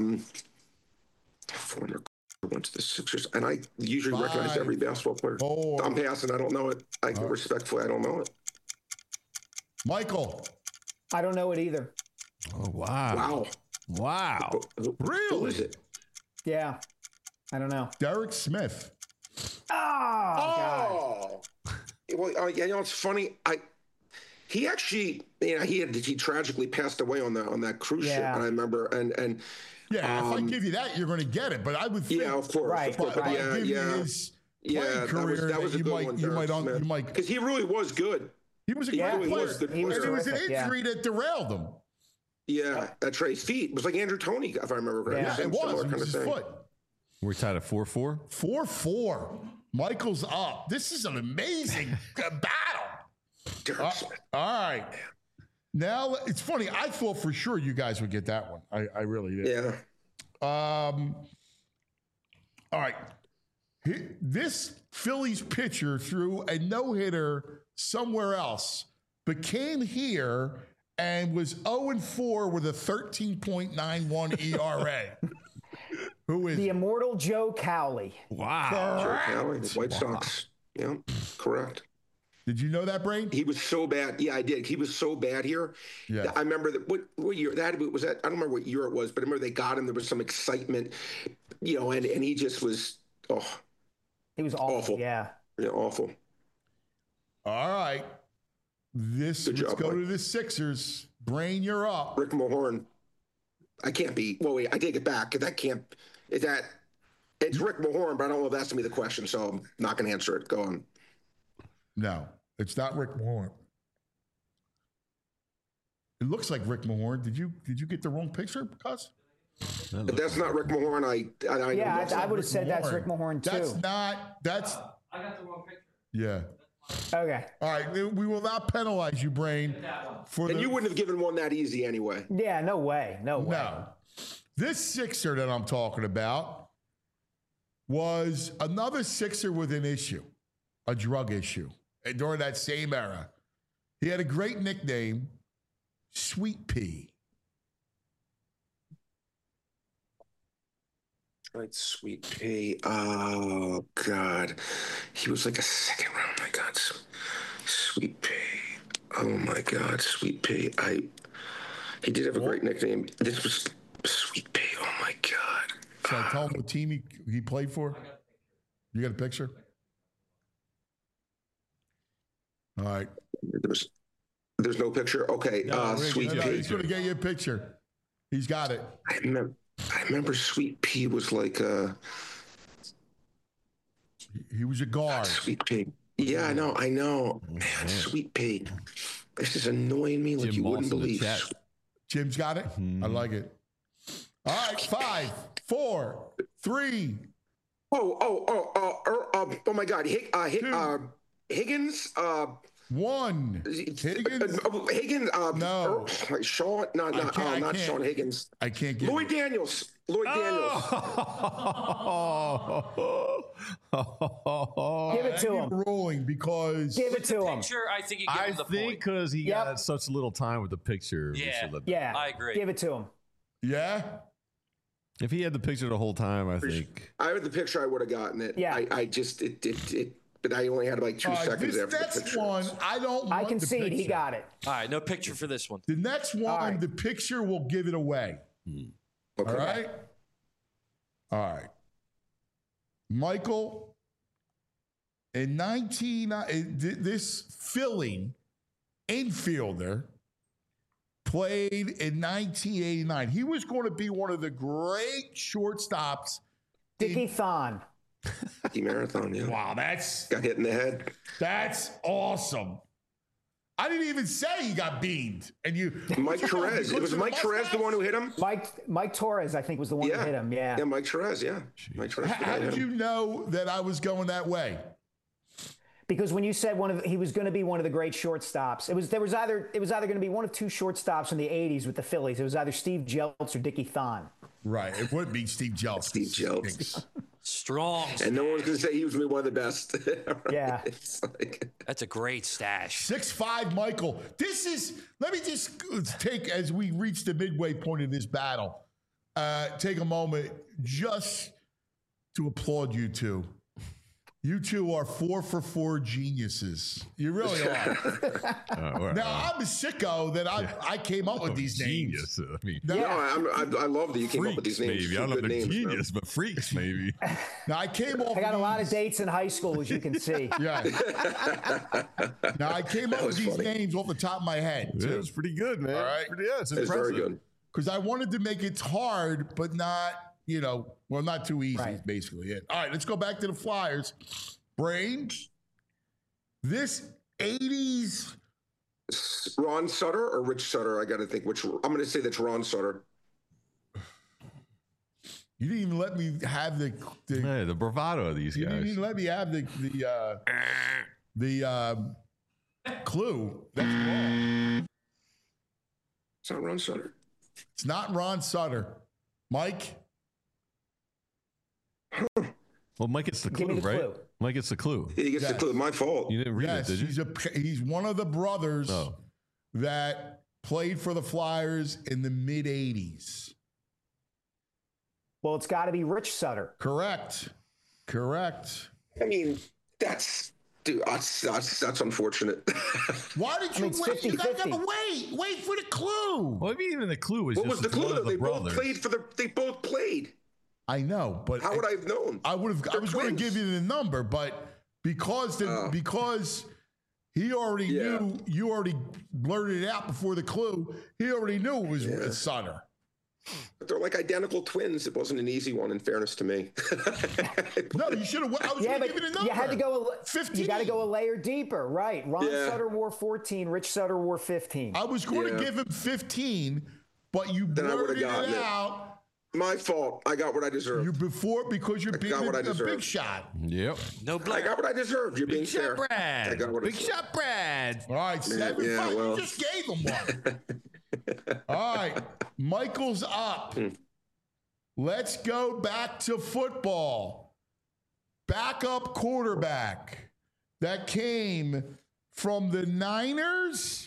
Former went to the Sixers, and I usually recognize every basketball player. 4. I'm passing. I don't know it. Respectfully, I don't know it. Michael. I don't know it either. Oh, wow. Wow. Who is it? Yeah. I don't know. Derek Smith. Oh, God. Well, it's funny. He actually, he tragically passed away on that cruise ship, and I remember, and yeah, if I give you that, you're going to get it. But I would think, of course, right, of course. But But give you his playing career, that was a good one. you might, because he really was good. He was a great really player, was good and it was an terrific, injury that derailed him. Yeah, that's right. His feet. It was like Andrew Toney, if I remember correctly. Yeah, it was. It was his foot. We're tied at 4-4. 4-4. Michael's up. This is an amazing battle. All right. Now, it's funny. I thought for sure you guys would get that one. I really did. Yeah. All right. This Phillies pitcher threw a no-hitter somewhere else, but came here and was 0-4 with a 13.91 ERA. Who is the immortal Joe Cowley? Wow. Joe Cowley, the White Sox. Yeah, correct. Did you know that, Brain? He was so bad. Yeah, I did. He was so bad here. Yeah. I remember that. What year that was? That I don't remember what year it was, but I remember they got him. There was some excitement, and he just was. Oh, he was awful. Yeah, awful. All right. Let's go to the Sixers. Brain, you're up. Rick Mahorn. I can't be. Well, wait. I take it back. That can't. Is that? It's Rick Mahorn, but I don't know if that's to be the question, so I'm not going to answer it. Go on. No, it's not Rick Mahorn. It looks like Rick Mahorn. Did you get the wrong picture, Cuz? That's not Rick Mahorn. I would have said that's Rick Mahorn too. That's. I got the wrong picture. Yeah. Okay. All right. We will not penalize you, Brain. And you wouldn't have given one that easy anyway. Yeah. No way. No. This Sixer that I'm talking about was another Sixer with an issue, a drug issue, and during that same era. He had a great nickname, Sweet Pea. Right, Sweet Pea. Oh, God. He was like a second round. My God. Sweet Pea. Oh, my God. Sweet Pea. He did have a great nickname. This was Sweet Pea. Oh, my God. Should I tell him what team he played for? You got a picture? All right. There's no picture? Okay. Sweet Pea. He's going to get you a picture. He's got it. I remember. I remember Sweet Pea was like He was a guard. Sweet Pea. Yeah, I know. Man, Sweet Pea. This is annoying me like Jim you Moss wouldn't in the believe. chat. Jim's got it. I like it. All right, 5, 4, 3. Oh my God. Higgins. 1. Higgins. Higgins. No. Sean. Not can't. Sean Higgins. I can't get Lloyd it. Daniels. Give Give it to him. Rolling because Give it to him. Picture, I think you give I him the think point. because he Yep. got such little time with the picture. we Yeah. should let- Yeah, I agree. Give it to him. yeah. If he had the picture the whole time, I think. I had the picture. I would have gotten it. Yeah. I just but I only had like 2 All right, seconds this after the next picture. one, I don't want I the concede he picture. got it. All right, no picture for this one. The next one, right. the picture will give it away. Okay. All right? All right. Michael, in this Philly infielder played in 1989. He was going to be one of the great shortstops. Dickie Thon. The marathon. Yeah. Wow, that's Got hit in the head. awesome. I didn't even say he got beamed. And you, Mike Torres. You It was looked Mike at the Torres the mustache? one who hit him. Mike Torres, I think, was the one who hit him. Yeah. Yeah, Mike Torres. Yeah. Mike Torres. How did you know that I was going that way? Because when you said he was going to be one of the great shortstops, it was either going to be one of 2 shortstops in the 80s with the Phillies. It was either Steve Jeltz or Dickie Thon. Right. It would be Steve Jeltz. Steve Jeltz. Strong. And no one's going to say he was going to be one of the best. Right? Yeah. It's like, That's a great stash. 6'5", Michael. Let me just take, as we reach the midway point of this battle, take a moment just to applaud you two. You two are 4 for 4 geniuses. You really are. Now, I'm a sicko that I came up with these names. Genius. I mean, Now, I love that you came up with these names. maybe. I don't know if Good they're names, man. genius, but freaks, maybe. now I came off. I got a of lot of these- dates in high school, as you can see. Yeah. Now I came up with these names off the top of my head. Yeah, it's pretty good, man. All right. Pretty, it's It's impressive. very good. Because I wanted to make it hard, but not, not too easy, Right. is basically it. All right, let's go back to the Flyers. Brain, this 80s, Ron Sutter or Rich Sutter? I got to think which. I'm going to say that's Ron Sutter. you didn't even let me have the Hey, the bravado of these you didn't guys. even let me have the clue. That's wrong. It's not Ron Sutter. It's not Ron Sutter. Mike? Well, Mike gets the Give clue, me the right? clue. Mike gets the clue. He gets Yes. the clue. My fault. You didn't read Yes, it, did you? he's one of the brothers Oh. that played for the Flyers in the mid-80s. Well, it's got to be Rich Sutter. Correct. I mean, that's unfortunate. Why did you it's wait? You guys 50-50. gotta wait for the clue. Well, maybe even the clue was What just was the one clue? of the They both brothers. played They both played. I know, but How would I have known? I was going to give you the number, but because he already knew, you already blurted it out before the clue. He already knew it was Sutter. But they're like identical twins. It wasn't an easy one, in fairness to me. No, you should have. I was Yeah, going to but give you the number. you had to go. 15. You got to go a layer deeper, right? Ron Yeah. Sutter wore 14. Rich Sutter wore 15. I was going to Yeah. give him 15, but you Then I would've blurted gotten it it. out. My fault. I got what I deserved. Because you're being got what I a big deserved. shot. Yep. No I Blair. got what I deserved. You're being Big fair. shot, Brad. I got what I Big deserved. shot, Brad. All right, 7-5. yeah, well. You just gave him one. All right, Michael's up. Let's go back to football. Backup quarterback that came from the Niners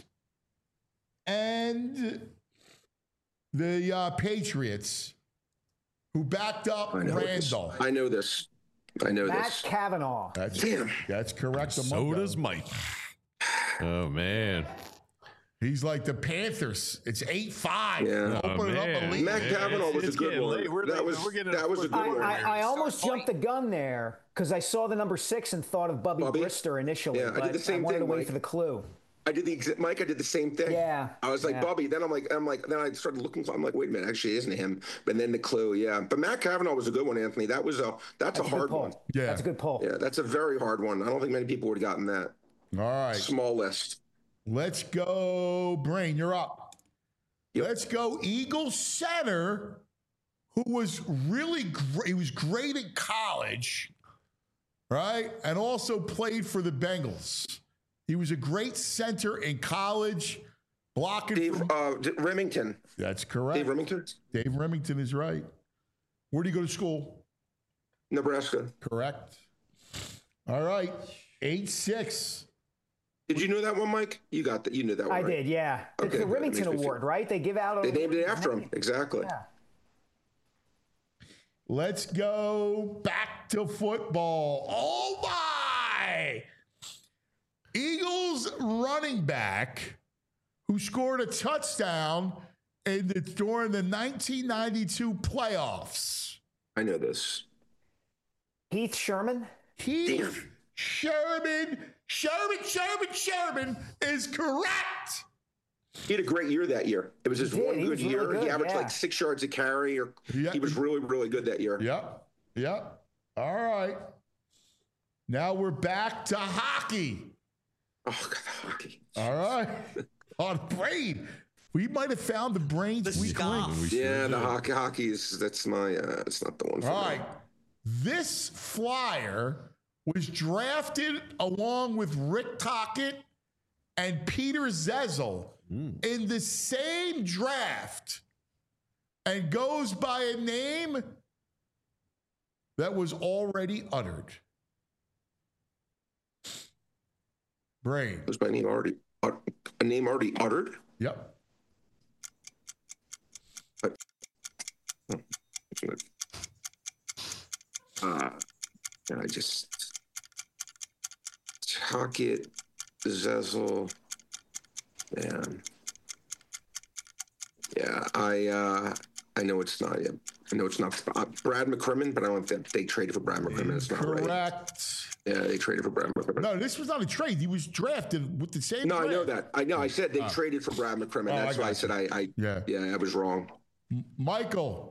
and the Patriots, who backed up Randall. I know this. Matt Cavanaugh. That's correct. So does Mike. Oh, man. He's like the Panthers. It's 8-5. Yeah. Open it up a man. lead. Matt Cavanaugh was a It's good getting one. late. We're That was getting a good one. I almost jumped the gun there because I saw the number 6 and thought of Bubby Bubby? Brister initially, Yeah, I did but the same wanted thing, to wait Mike. for the clue. I did the same thing. Yeah. I was like, Bubby. Then then I started looking. I'm like, wait a minute, actually, isn't him? But then the clue, yeah. But Matt Cavanaugh was a good one, Anthony. That's a hard one. Yeah, that's a good pull. Yeah, that's a very hard one. I don't think many people would have gotten that. All right, small list. Let's go, Brain. You're up. Yep. Let's go, Eagles center, who was really great. He was great in college, right? And also played for the Bengals. He was a great center in college, blocking. Dave Remington. That's correct. Dave Remington? Dave Remington is right. Where do you go to school? Nebraska. Correct. All right. 8-6. Did you know that one, Mike? You got that. You knew that one. I right? did, yeah. It's Okay, the Remington Award, right? They give out. They named it after him. Exactly. Yeah. Let's go back to football. Oh, my. Eagles running back who scored a touchdown during the 1992 playoffs. I know this. Heath Sherman? Heath Sherman is correct. He had a great year that year. It was just one good year. Really good, he averaged like 6 yards a carry. He was really, really good that year. Yep. All right. Now we're back to hockey. Oh, God, hockey. All right. On Brain. We might have found the Brain's weak link. Yeah, the hockey is, that's my, it's not the one for me. All right. This flyer was drafted along with Rick Tocchet and Peter Zezel in the same draft and goes by a name that was already uttered. Brain. Was my name already, a name already uttered? Yep. And I just Tocchet, Zezel, man. Yeah, I know it's not. Yeah, I know it's not Brad McCrimmon, but I don't think they traded for Brad McCrimmon. It's not right. Correct. Yeah, they traded for Brad McCrimmon. No, this was not a trade. He was drafted with the same. No, draft. I know that. I know. I said they traded for Brad McCrimmon. That's why I said I was wrong. Michael.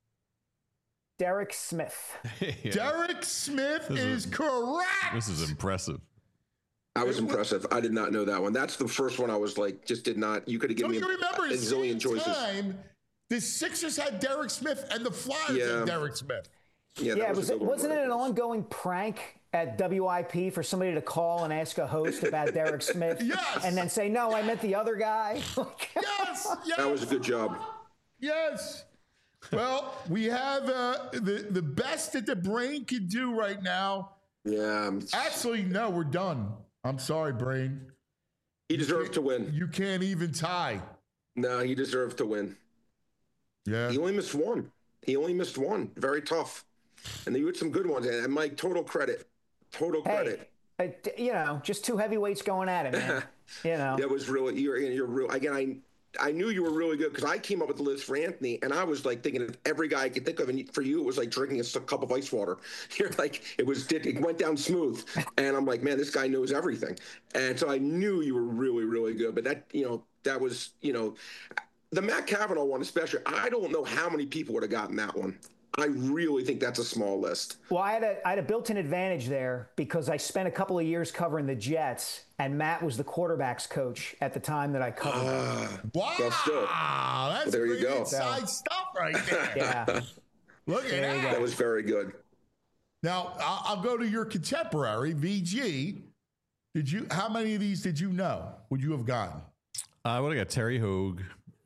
Derek Smith. Yeah. Derek Smith is correct. This is impressive. I was impressive. I did not know that one. That's the first one I was like, just did not. You could have given me you remember a zillion choices. Time, the Sixers had Derek Smith and the Flyers had Derek Smith. Yeah, wasn't it an ongoing prank at WIP for somebody to call and ask a host about Derek Smith? Yes. And then say, no, I meant the other guy? Yes. That was a good job. Yes. Well, we have the best that the Brain can do right now. Yeah. Actually, no, we're done. I'm sorry, Brain. He deserved to win. You can't even tie. No, he deserved to win. Yeah. He only missed one. Very tough. And you had some good ones. And Mike, total credit. Credit. Just two heavyweights going at it, man. That was really, you're real. Again, I knew you were really good because I came up with the list for Anthony, and I was like thinking of every guy I could think of, and for you, it was like drinking a cup of ice water. You're like, it went down smooth, and I'm like, man, this guy knows everything, and so I knew you were really, really good. But that was, the Matt Cavanaugh one especially. I don't know how many people would have gotten that one. I really think that's a small list. Well, I had a built-in advantage there because I spent a couple of years covering the Jets, and Matt was the quarterback's coach at the time that I covered. Wow, that's there you go. Inside stuff right there. Yeah, Look at that. That was very good. Now I'll go to your contemporary VG. How many of these did you know? Would you have gotten? I would have got Terry Hogue.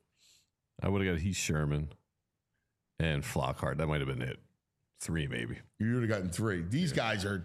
I would have got Heath Sherman. And Flockhart. That might have been it. 3 maybe. You would have gotten 3. These guys are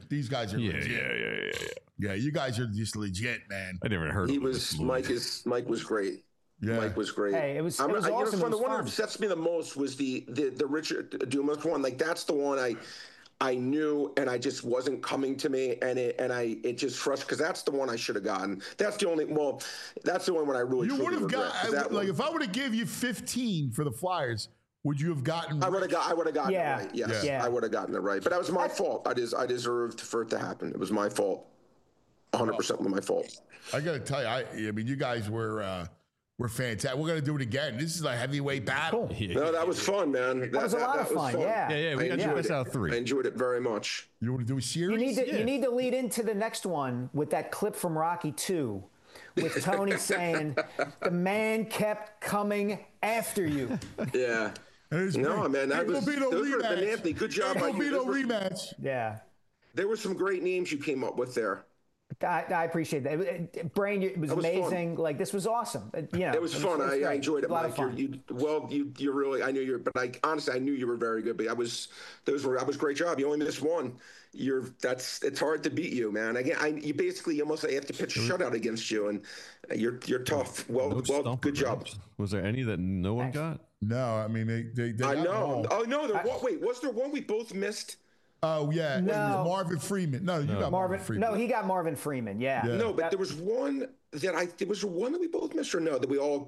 legit. Yeah, you guys are just legit, man. I never heard of him. Mike was great. Yeah. Mike was great. Hey, it was awesome. The one that upsets me the most was the Richard Dumas one. Like that's the one I knew and I just wasn't coming to me, and it just frustrated because that's the one I should have gotten. That's the one when I really you would have got like if I would have give you 15 for the Flyers. Would you have gotten? I would have gotten it right. Yes, yeah. I would have gotten it right. But that was my fault. I deserved for it to happen. It was my fault. 100% my fault. I got to tell you, I mean, you guys were fantastic. We're going to do it again. This is a heavyweight battle. Cool. No, that was fun, man. That was a lot of fun. Yeah. We got to best out of 3. I enjoyed it very much. You want to do a series? You need to lead into the next one with that clip from Rocky 2 with Tony saying, the man kept coming after you. Yeah. No, man, that was Anthony. Good job. There'll be no rematch. Yeah. There were some great names you came up with there. I appreciate that. Brain, it was amazing. Fun. Like, this was awesome. It was fun. I enjoyed it, Mike. You're really. I knew you were, but honestly, I knew you were very good. But that was great job. You only missed one. It's hard to beat you, man. Again, you basically almost have to pitch a shutout against you, and you're tough. Well, good job. Was there any that no one got? No, I mean they I know. Oh no, wait, was there one we both missed? Oh yeah, no. Marvin Freeman. No, you got Marvin Freeman. No, he got Marvin Freeman. Yeah. No, but there was one that we both missed, or no? That we all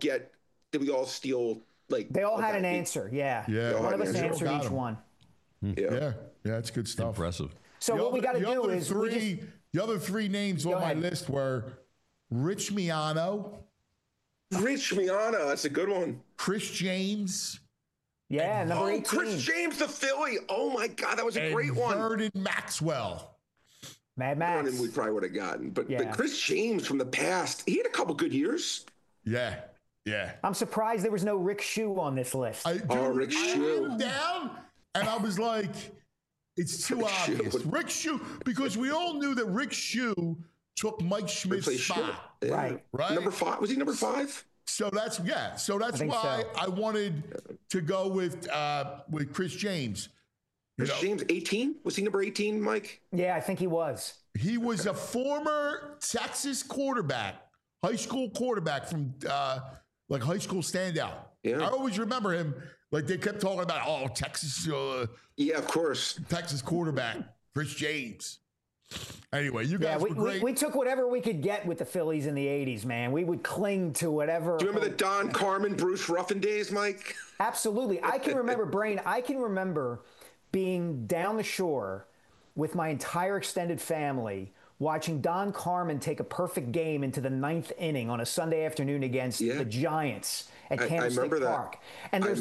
steal? Like they all had an answer. Yeah. One of us answered each one. Yeah, that's good stuff. Impressive. So what we got to do is the other 3 names on my list were Rich Miano. Rich Miano, that's a good one. Chris James. Yeah, number 18. Chris James, the Philly. Oh my God, that was a great one. Vernon Maxwell. Mad Max. Vernon we probably would have gotten, but Chris James from the past, he had a couple good years. Yeah. I'm surprised there was no Rick Shue on this list. Rick Shue. I down, and I was like, it's too obvious. Rick Shue, because we all knew that Rick Shue took Mike Schmidt's spot. Right. Number 5. Was he number 5? So that's why I wanted to go with Chris James. Chris James, 18? Was he number 18, Mike? Yeah, I think he was. He was a former Texas quarterback, high school quarterback from high school standout. Yeah. I always remember him. Like they kept talking about, Texas. Yeah, of course. Texas quarterback, Chris James. Anyway, you guys were great. We took whatever we could get with the Phillies in the 80s, man. We would cling to whatever. Do you remember the Don Carmen, Bruce Ruffin days, Mike? Absolutely. I can remember being down the shore with my entire extended family watching Don Carmen take a perfect game into the 9th inning on a Sunday afternoon against the Giants at Candlestick Park. And there's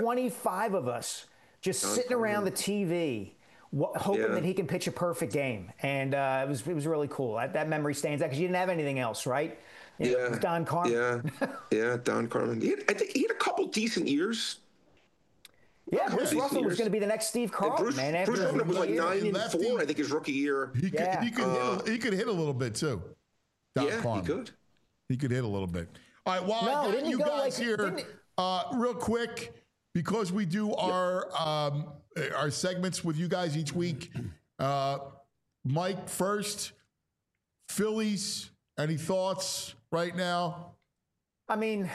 25 of us just sitting around the TV hoping that he can pitch a perfect game. And it was really cool. That memory stands out because you didn't have anything else, right? It was Don Carmen. Yeah, Don Carmen. I think he had a couple decent years. Yeah, Bruce Ruffin was going to be the next Steve Carlton, man. Bruce Ruffin was like 9-4, I think, his rookie year. He could hit a little bit too. Don Carmen. He could. He could hit a little bit. All right, well, I got you guys here real quick because we do our segments with you guys each week. Mike, first, Phillies, any thoughts right now? I mean,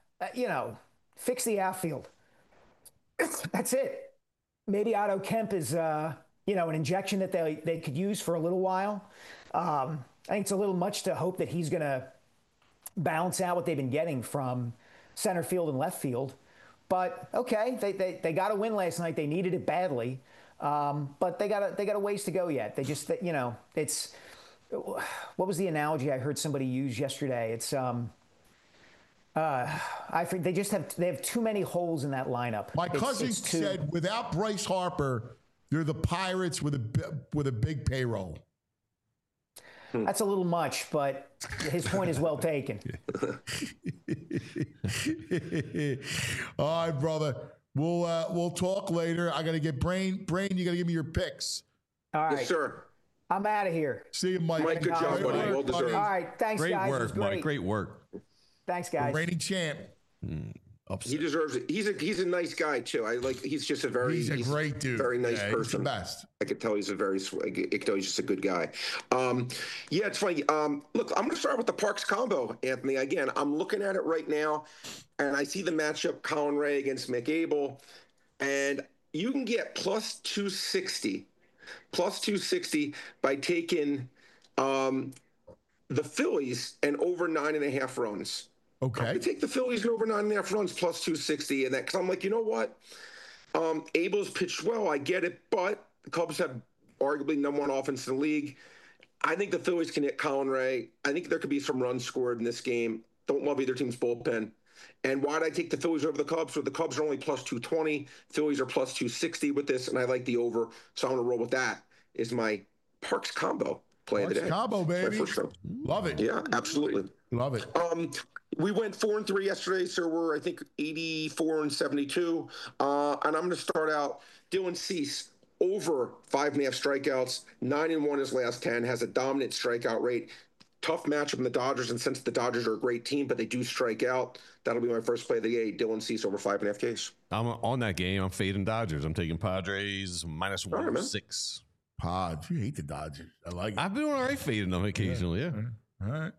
fix the outfield. That's it. Maybe Otto Kemp is, an injection that they could use for a little while. I think it's a little much to hope that he's going to balance out what they've been getting from center field and left field. But okay, they got a win last night. They needed it badly, but they got a ways to go yet. They just, it's what was the analogy I heard somebody use yesterday? It's they have too many holes in that lineup. My cousin said without Bryce Harper, they're the Pirates with a big payroll. That's a little much, but his point is well taken. All right, brother. We'll talk later. I got to get Brain. Brain, you got to give me your picks. All right. Yes, sir. I'm out of here. See you, Mike. Mike, good job, buddy. Well deserved. All right. Thanks, great guys. Work, Mike. Great work. Thanks, guys. Reigning champ. He deserves it. He's a nice guy too. He's just a great dude. Very nice person. He's the best. I could tell he's he's just a good guy. It's funny. Look, I'm going to start with the Parks combo, Anthony. Again, I'm looking at it right now, and I see the matchup Colin Ray against Mick Abel, and you can get plus 260 by taking the Phillies and over 9.5 runs. Okay. I take the Phillies and over 9.5 runs plus 260, and that because I'm like, you know what? Abel's pitched well. I get it, but the Cubs have arguably #1 offense in the league. I think the Phillies can hit Colin Ray. I think there could be some runs scored in this game. Don't love either team's bullpen. And why did I take the Phillies over the Cubs? So the Cubs are only plus 220. Phillies are plus 260 with this, and I like the over. So I'm going to roll with that. Is my Parks combo play of the day. Combo, baby. Love it. Yeah, absolutely. Love it. We went 4-3 yesterday, so we're, I think, 84-72. And I'm going to start out Dylan Cease over 5.5 strikeouts, 9-1 his last 10, has a dominant strikeout rate. Tough matchup in the Dodgers, and since the Dodgers are a great team, but they do strike out, that'll be my first play of the day. Dylan Cease over 5.5 Ks. I'm on that game. I'm fading Dodgers. I'm taking Padres minus 106. Pods. You hate the Dodgers. I like it. I've been all right fading them occasionally, yeah. All right.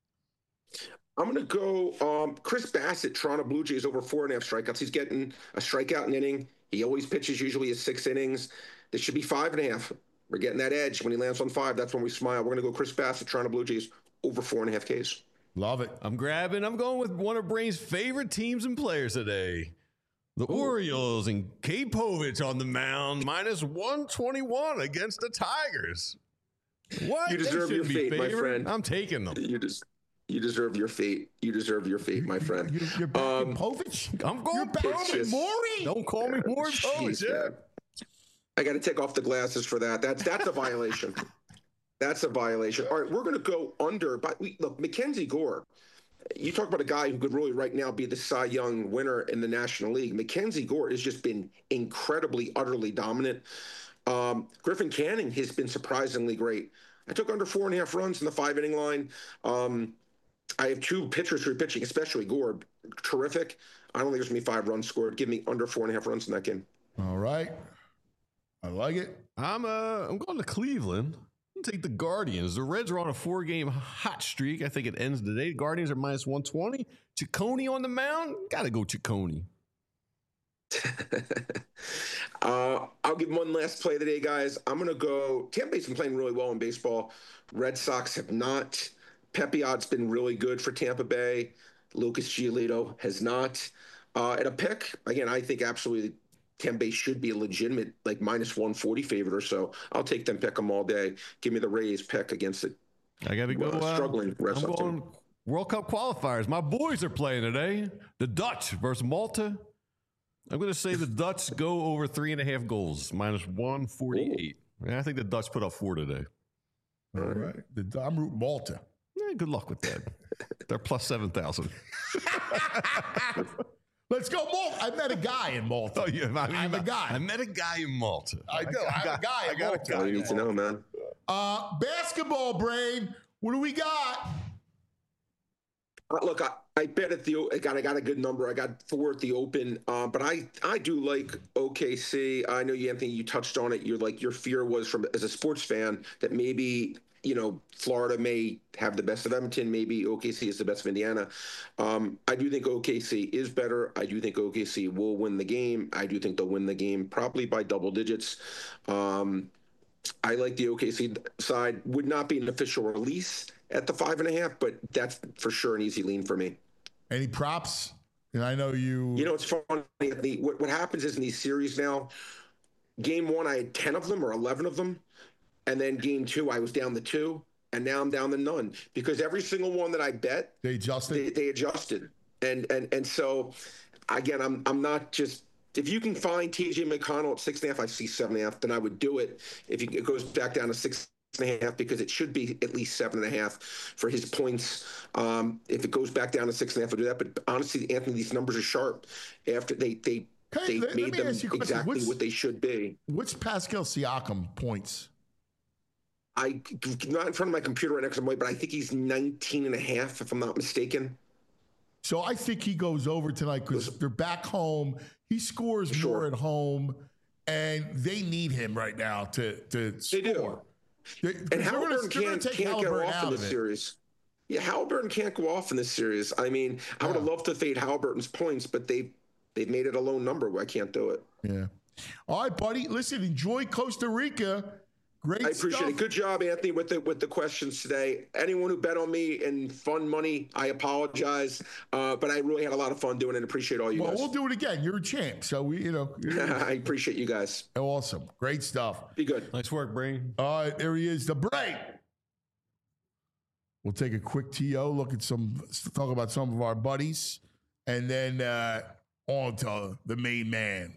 I'm going to go Chris Bassett, Toronto Blue Jays over 4.5 strikeouts. He's getting a strikeout an inning. He always pitches usually his 6 innings. This should be 5.5. We're getting that edge. When he lands on 5, that's when we smile. We're going to go Chris Bassett, Toronto Blue Jays over 4.5 Ks. Love it. I'm going with one of Brain's favorite teams and players today. The Orioles and Cade Povich on the mound, minus 121 against the Tigers. What? You deserve your fate, my friend. I'm taking them. You deserve your fate. You deserve your fate, my friend. You're back in Povich? I'm going back just, Maury. Don't call me Maury Povich. Yeah. I got to take off the glasses for that. That's a violation. That's a violation. All right, we're going to go under. But look, Mackenzie Gore. You talk about a guy who could really right now be the Cy Young winner in the National League. Mackenzie Gore has just been incredibly, utterly dominant. Griffin Canning has been surprisingly great. I took under 4.5 runs in the 5-inning line. I have 2 pitchers who are pitching, especially Gore. Terrific. I don't think there's going to be 5 runs scored. Give me under 4.5 runs in that game. All right. I like it. I'm going to Cleveland. I'm take the Guardians. The Reds are on a 4-game hot streak. I think it ends today. Guardians are minus 120. Ciccone on the mound. Got to go Ciccone. I'll give one last play of the day, guys. I'm going to go. Tampa Bay's been playing really well in baseball. Red Sox have not. Pepiot's been really good for Tampa Bay. Lucas Giolito has not. At a pick, again, I think absolutely Tampa Bay should be a legitimate, like, minus 140 favorite or so. I'll take them, pick them all day. Give me the Rays pick against it. I got to go. Struggling Red I'm Sox going team. World Cup qualifiers. My boys are playing today. The Dutch versus Malta. I'm going to say the Dutch go over 3.5 goals, minus 148. Yeah, I think the Dutch put up 4 today. All right. I'm rooting Malta. Yeah, good luck with that. They're plus 7,000. Let's go Malta. I met a guy in Malta. Oh, yeah, I'm a guy. I met a guy in Malta. I do. I have a guy in Malta. All you need to know, man. Basketball brain. What do we got? Look, I bet at I got a good number. I got 4 at the Open, but I do like OKC. I know you, Anthony, you touched on it. Your fear was as a sports fan that maybe Florida may have the best of Edmonton. Maybe OKC is the best of Indiana. I do think OKC is better. I do think OKC will win the game. I do think they'll win the game probably by double digits. I like the OKC side. Would not be an official release at the 5.5, but that's for sure an easy lean for me. Any props? And I know you. It's funny. What happens is in these series now, game 1 I had 10 of them or 11 of them, and then game 2 I was down to 2, and now I'm down to none because every single one that I bet they adjusted. They adjusted, and so again, I'm not just. If you can find TJ McConnell at 6.5, I see 7.5, then I would do it. If it goes back down to 6.5, because it should be at least 7.5 for his points. If it goes back down to 6.5, I'll do that. But honestly, Anthony, these numbers are sharp. After they made them exactly what they should be. What's Pascal Siakam points? I'm not in front of my computer right now because I'm away, but I think he's 19.5, if I'm not mistaken. So I think he goes over tonight because they're back home. He scores more at home, and they need him right now to score. They do. And Halliburton can't go off in this series. Yeah, Halliburton can't go off in this series. I mean, I would have loved to fade Halliburton's points, but they've made it a low number where I can't do it. Yeah. All right, buddy. Listen, enjoy Costa Rica. Great I appreciate stuff. it. Good job, Anthony, with the questions today. Anyone who bet on me in fun money, I apologize. But I really had a lot of fun doing it. Appreciate all you guys. Well, we'll do it again. You're a champ. So I appreciate you guys. Awesome. Great stuff. Be good. Nice work, Brain. All right, there he is, the Brain. We'll take a quick TO, talk about some of our buddies, and then on to the main man,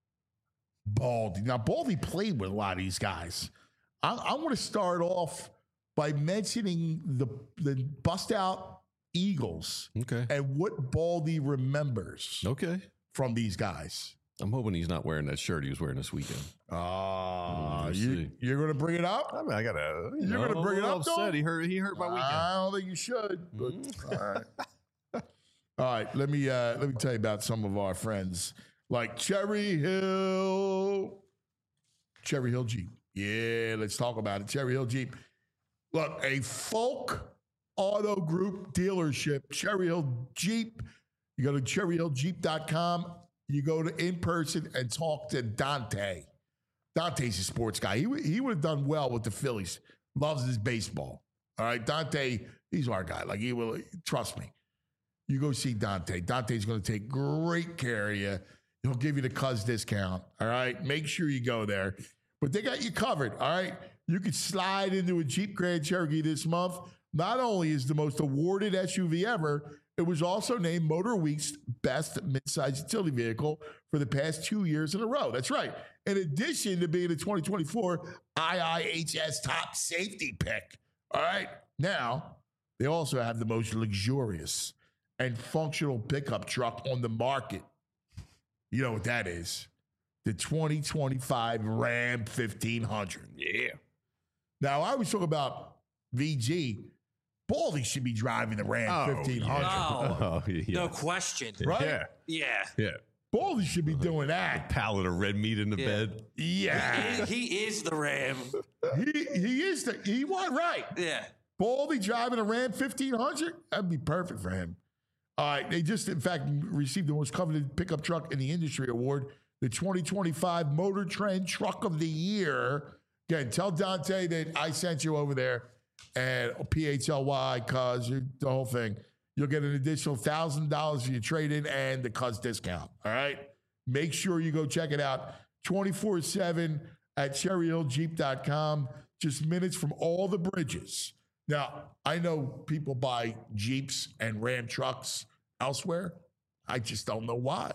Baldy. Now, Baldy played with a lot of these guys. I want to start off by mentioning the bust out Eagles. Okay. And what Baldy remembers. Okay. From these guys. I'm hoping he's not wearing that shirt he was wearing this weekend. You're going to bring it up? I mean, I gotta. You're going to bring it up? Upset. He hurt my weekend. I don't think you should. But, all right. All right. Let me tell you about some of our friends like Cherry Hill Jeep. Yeah, let's talk about it. Cherry Hill Jeep. Look, a Folk Auto Group dealership. Cherry Hill Jeep. You go to cherryhilljeep.com. You go to in person and talk to Dante. Dante's a sports guy. He would have done well with the Phillies. Loves his baseball. All right, Dante, he's our guy. Like, he will, trust me. You go see Dante. Dante's going to take great care of you. He'll give you the cuz discount. All right, make sure you go there. But they got you covered. All right, you could slide into a Jeep Grand Cherokee this month. Not only is the most awarded SUV ever, it was also named Motor Week's best midsize utility vehicle for the past 2 years in a row. That's right. In addition to being the 2024 IIHS top safety pick. All right. Now, they also have the most luxurious and functional pickup truck on the market. You know what that is? The 2025 Ram 1500. Yeah. Now, I always talk about VG. Baldy should be driving the Ram 1500. No question. Right? Yeah. Baldy should be doing that. Pallet of red meat in the bed. Yeah. He is the Ram. He was right. Yeah. Baldy driving a Ram 1500? That'd be perfect for him. All right. They just, in fact, received the most coveted pickup truck in the industry award, the 2025 Motor Trend Truck of the Year. Again, tell Dante that I sent you over there. And PHLY, cuz the whole thing. You'll get an additional $1,000 for your trade-in and the cuz discount. All right? Make sure you go check it out 24/7 at cherryhilljeep.com. Just minutes from all the bridges. Now, I know people buy Jeeps and Ram trucks elsewhere. I just don't know why.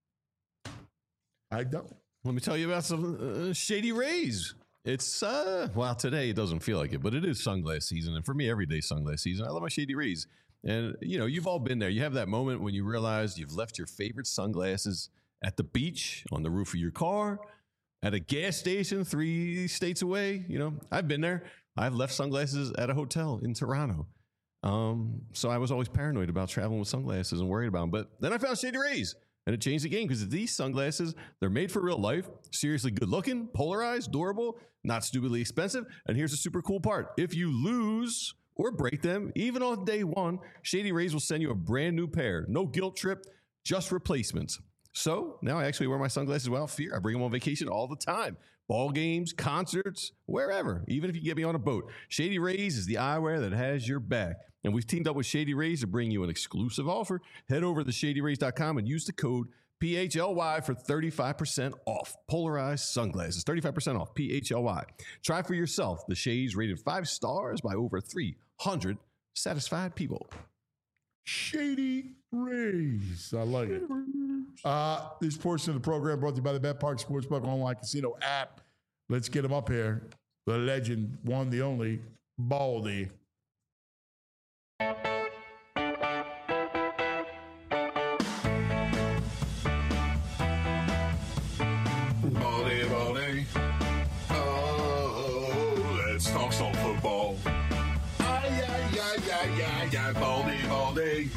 I don't. Let me tell you about some Shady Rays. It's, well, today it doesn't feel like it, but it is sunglass season. And for me, every day sunglass season. I love my Shady Rays. And, you know, you've all been there. You have that moment when you realize you've left your favorite sunglasses at the beach, on the roof of your car, at a gas station 3 states away. You know, I've been there. I've left sunglasses at a hotel in Toronto. So I was always paranoid about traveling with sunglasses and worried about them. But then I found Shady Rays. And it changed the game because these sunglasses, they're made for real life, seriously good looking, polarized, durable, not stupidly expensive. And here's the super cool part. If you lose or break them, even on day one, Shady Rays will send you a brand new pair. No guilt trip, just replacements. So now I actually wear my sunglasses without fear. I bring them on vacation all the time. Ball games, concerts, wherever, even if you get me on a boat. Shady Rays is the eyewear that has your back. And we've teamed up with Shady Rays to bring you an exclusive offer. Head over to shadyrays.com and use the code PHLY for 35% off. Polarized sunglasses, 35% off, PHLY. Try for yourself the shades rated 5 stars by over 300 satisfied people. Shady Rays. I like it. This portion of the program brought to you by the Bet Park Sportsbook Online Casino app. Let's get him up here. The legend, one, the only, Baldy. Baldy. Oh, let's talk some football. Baldy.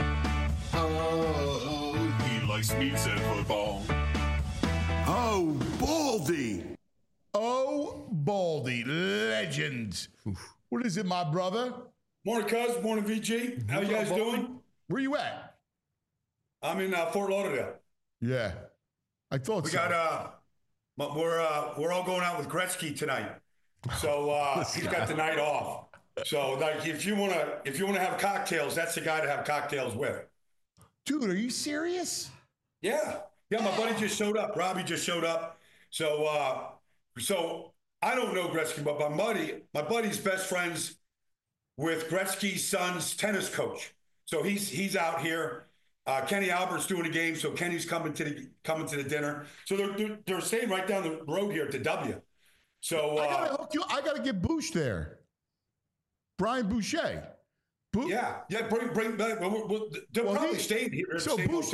Oh, he likes meats and football. Oh, Baldy. Oh, Baldy. Legend. What is it, my brother? Morning, cuz. Morning, VG. How you guys doing? Where you at? I'm in Fort Lauderdale. Yeah. I thought we so. got we're all going out with Gretzky tonight. So he's got the night off. So like if you wanna have cocktails, that's the guy to have cocktails with. Dude, are you serious? Yeah. Yeah, my buddy just showed up. Robbie just showed up. So I don't know Gretzky, but my buddy's best friends with Gretzky's son's tennis coach. So he's out here. Kenny Albert's doing a game, so Kenny's coming to the dinner. So they're staying right down the road here to W. So I gotta get Bouch there. Brian Boucher. Yeah. Bring back. They're probably staying here. So Bouch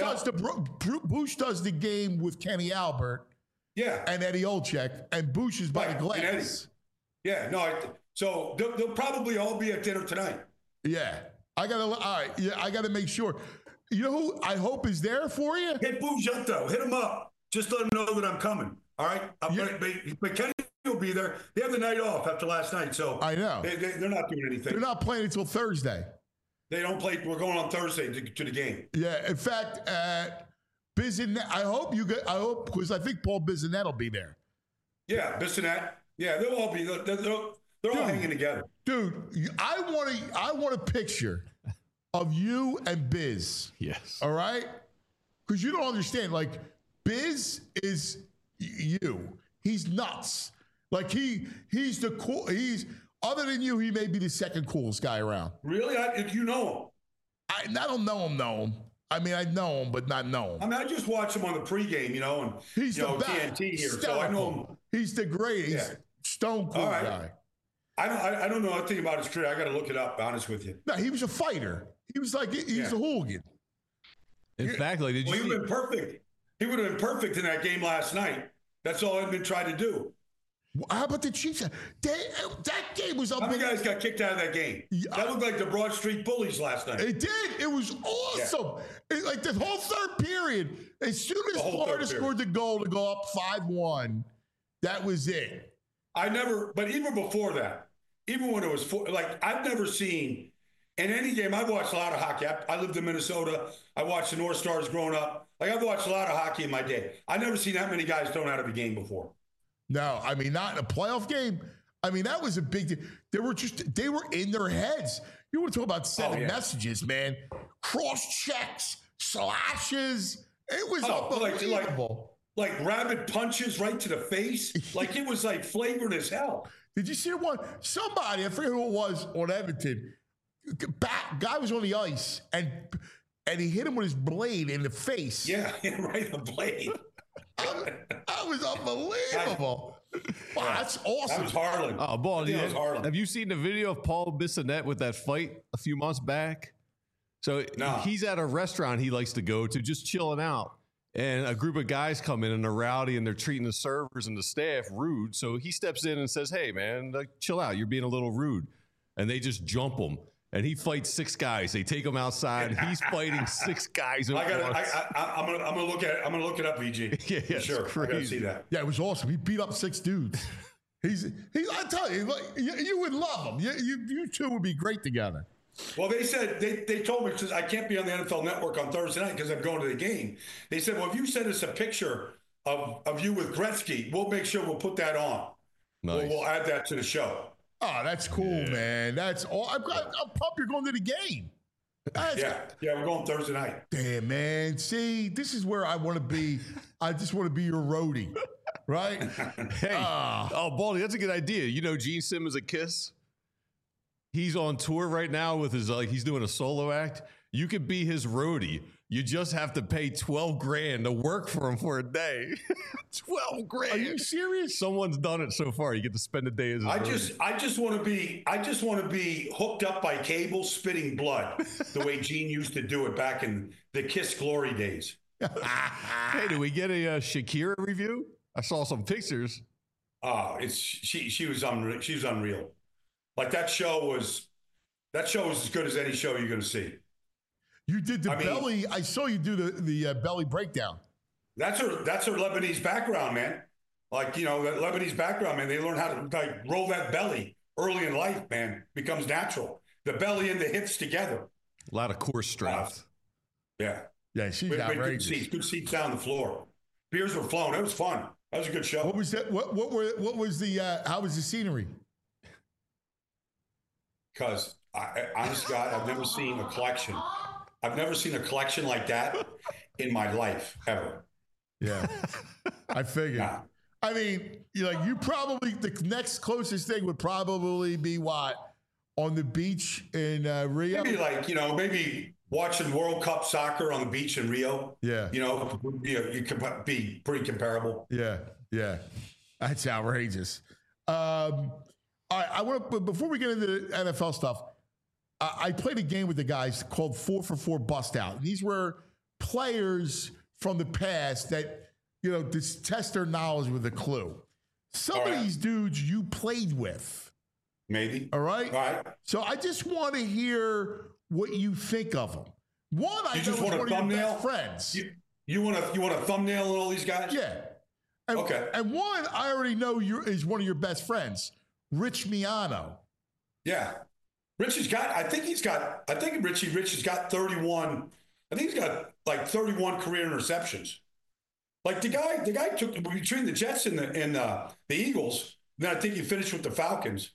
does the game with Kenny Albert. Yeah. And Eddie Olczyk, and Bouch is by the glass. Yeah. No. So they'll probably all be at dinner tonight. Yeah. I gotta make sure. You know who I hope is there for you? Hit Bouch up though. Hit him up. Just let him know that I'm coming. All right. But Kenny will be there. They have the night off after last night, so I know they're not doing anything. They're not playing until Thursday. They don't play. We're going on Thursday to the game. Yeah. In fact, Bissonnette. I hope because I think Paul Bissonnette will be there. Yeah, Bissonnette. Yeah, they'll all be. They're all hanging together. Dude, I want a picture of you and Biz. Yes. All right? Because you don't understand. Like, Biz is you. He's nuts. Like, he's the cool. He's, other than you, he may be the second coolest guy around. Really? You know I him? don't know him. I mean, I know him, but not know him. I mean, I just watch him on the pregame, and he's the best. TNT here, so I know him. He's the greatest. Stone cool guy. I don't know anything about his career. I got to look it up. Honest with you. No, he was a fighter. He was like he's a hooligan. In fact, like, he would have been perfect. He would have been perfect in that game last night. That's all I've been trying to do. How about the Chiefs? That game was up. How many guys got kicked out of that game? That looked like the Broad Street Bullies last night. It did. It was awesome. Yeah. Like the whole third period, as soon as Florida scored the goal to go up 5-1, that was it. But even before that, even when it was I've never seen in any game. I've watched a lot of hockey. I lived in Minnesota. I watched the North Stars growing up. Like, I've watched a lot of hockey in my day. I've never seen that many guys thrown out of a game before. No, I mean, not in a playoff game. I mean, that was a big deal. They were in their heads. You want to talk about sending messages, man. Cross checks, slashes. It was unbelievable. Like rabid punches right to the face. Like, it was like flagrant as hell. Did you see the one? Somebody, I forget who it was, on Edmonton. Guy was on the ice, and he hit him with his blade in the face. Yeah, right in the blade. That was unbelievable. Wow, that's awesome. That was Harlan. Oh, Ball, was Harlan. Have you seen the video of Paul Bissonnette with that fight a few months back? So he's at a restaurant he likes to go to, just chilling out. And a group of guys come in and they're rowdy and they're treating the servers and the staff rude. So he steps in and says, "Hey, man, chill out. You're being a little rude." And they just jump him. And he fights 6 guys. They take him outside. He's fighting 6 guys. I'm gonna look at it. I'm gonna look it up, VG. Yeah, sure. I gotta see that. Yeah, it was awesome. He beat up 6 dudes. I tell you, you would love him. You two would be great together. Well, they said they told me, because I can't be on the NFL Network on Thursday night because I'm going to the game. They said, well, if you send us a picture of you with Gretzky, we'll make sure we'll put that on. Nice. We'll add that to the show. Oh, that's cool, man. That's all. I'm pumped you're going to the game. Yeah, we're going Thursday night. Damn, man. See, this is where I want to be. I just want to be your roadie, right? Hey, Baldy, that's a good idea. You know Gene Simmons at Kiss? He's on tour right now with his, he's doing a solo act. You could be his roadie. You just have to pay $12,000 to work for him for a day. $12,000. Are you serious? Someone's done it so far. You get to spend a day as a roadie. I just want to be hooked up by cable, spitting blood, the way Gene used to do it back in the Kiss glory days. Hey, did we get a Shakira review? I saw some pictures. She was unreal. She was unreal. Like, that show was as good as any show you're going to see. You did the belly. I saw you do the belly breakdown. That's her Lebanese background, man. Like, that Lebanese background, man. They learn how to roll that belly early in life, man. Becomes natural. The belly and the hips together. A lot of core strength. Yeah, she's outrageous. Good seats down the floor. Beers were flowing. It was fun. That was a good show. What was that? What was the? How was the scenery? Because honest to God, I've never seen a collection. I've never seen a collection like that in my life, ever. Yeah. I figured. Yeah. I mean, you probably, the next closest thing would probably be what? on the beach in Rio? Maybe maybe watching World Cup soccer on the beach in Rio. Yeah. You can be pretty comparable. Yeah. That's outrageous. All right, I want to, before we get into the NFL stuff, I played a game with the guys called 4 for 4 Bust Out. These were players from the past that, just test their knowledge with a clue. Some of these dudes you played with. Maybe. All right? All right. So I just want to hear what you think of them. One, I know is one of your best friends. You want a thumbnail on all these guys? Yeah. And, okay. And one, I already know is one of your best friends, Rich Miano. Yeah. Rich has got 31. I think he's got like 31 career interceptions. Like the guy took between the Jets and the Eagles. Then I think he finished with the Falcons.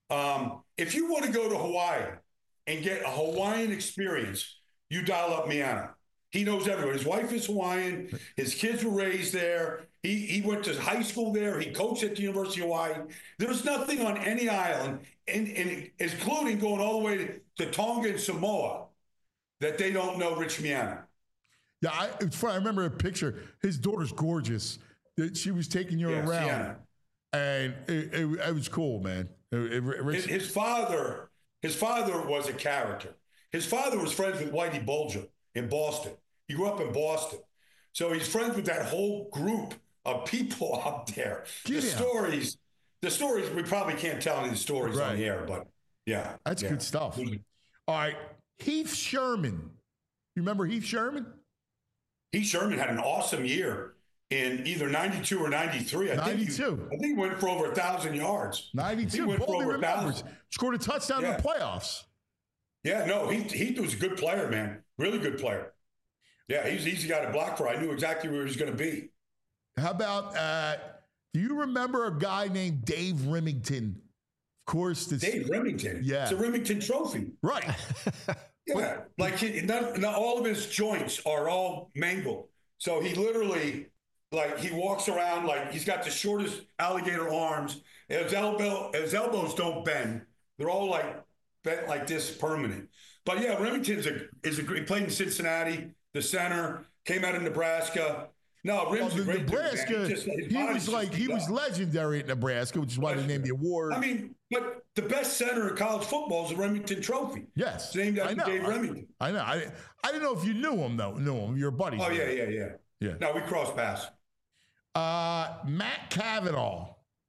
If you want to go to Hawaii and get a Hawaiian experience, you dial up Miano. He knows everyone. His wife is Hawaiian. His kids were raised there. He went to high school there. He coached at the University of Hawaii. There's nothing on any island, and including going all the way to Tonga and Samoa, that they don't know Rich Miano. Yeah, it's funny. I remember a picture. His daughter's gorgeous. She was taking you around, Sienna. And it was cool, man. His father was a character. His father was friends with Whitey Bulger in Boston. He grew up in Boston, so he's friends with that whole group of people up there. The stories we probably can't tell any stories on the air, but yeah, that's good stuff. All right, Heath Sherman. You remember Heath Sherman? Heath Sherman had an awesome year in either 92 or 93. I think he went for over 1,000 yards. 92. Boldy remembers. Scored a touchdown in the playoffs. Yeah, no, Heath was a good player, man. Really good player. Yeah, he's easy guy to block for. I knew exactly where he was going to be. How about, do you remember a guy named Dave Remington? Of course. Dave Remington? Yeah. It's a Remington trophy. Right. Yeah, like not all of his joints are all mangled. So he literally, he walks around like he's got the shortest alligator arms. His elbows don't bend. They're all bent like this permanent. But yeah, Remington's he played in Cincinnati, the center, came out of Nebraska. No, Rim's a great Nebraska. He was legendary at Nebraska, which is why they named the award. I mean, but the best center in college football is the Remington Trophy. Yes, it's named after Dave Remington. I know. I didn't know if you knew him though. Knew him. Your buddies. Oh yeah. No, we crossed paths. Matt Cavanaugh.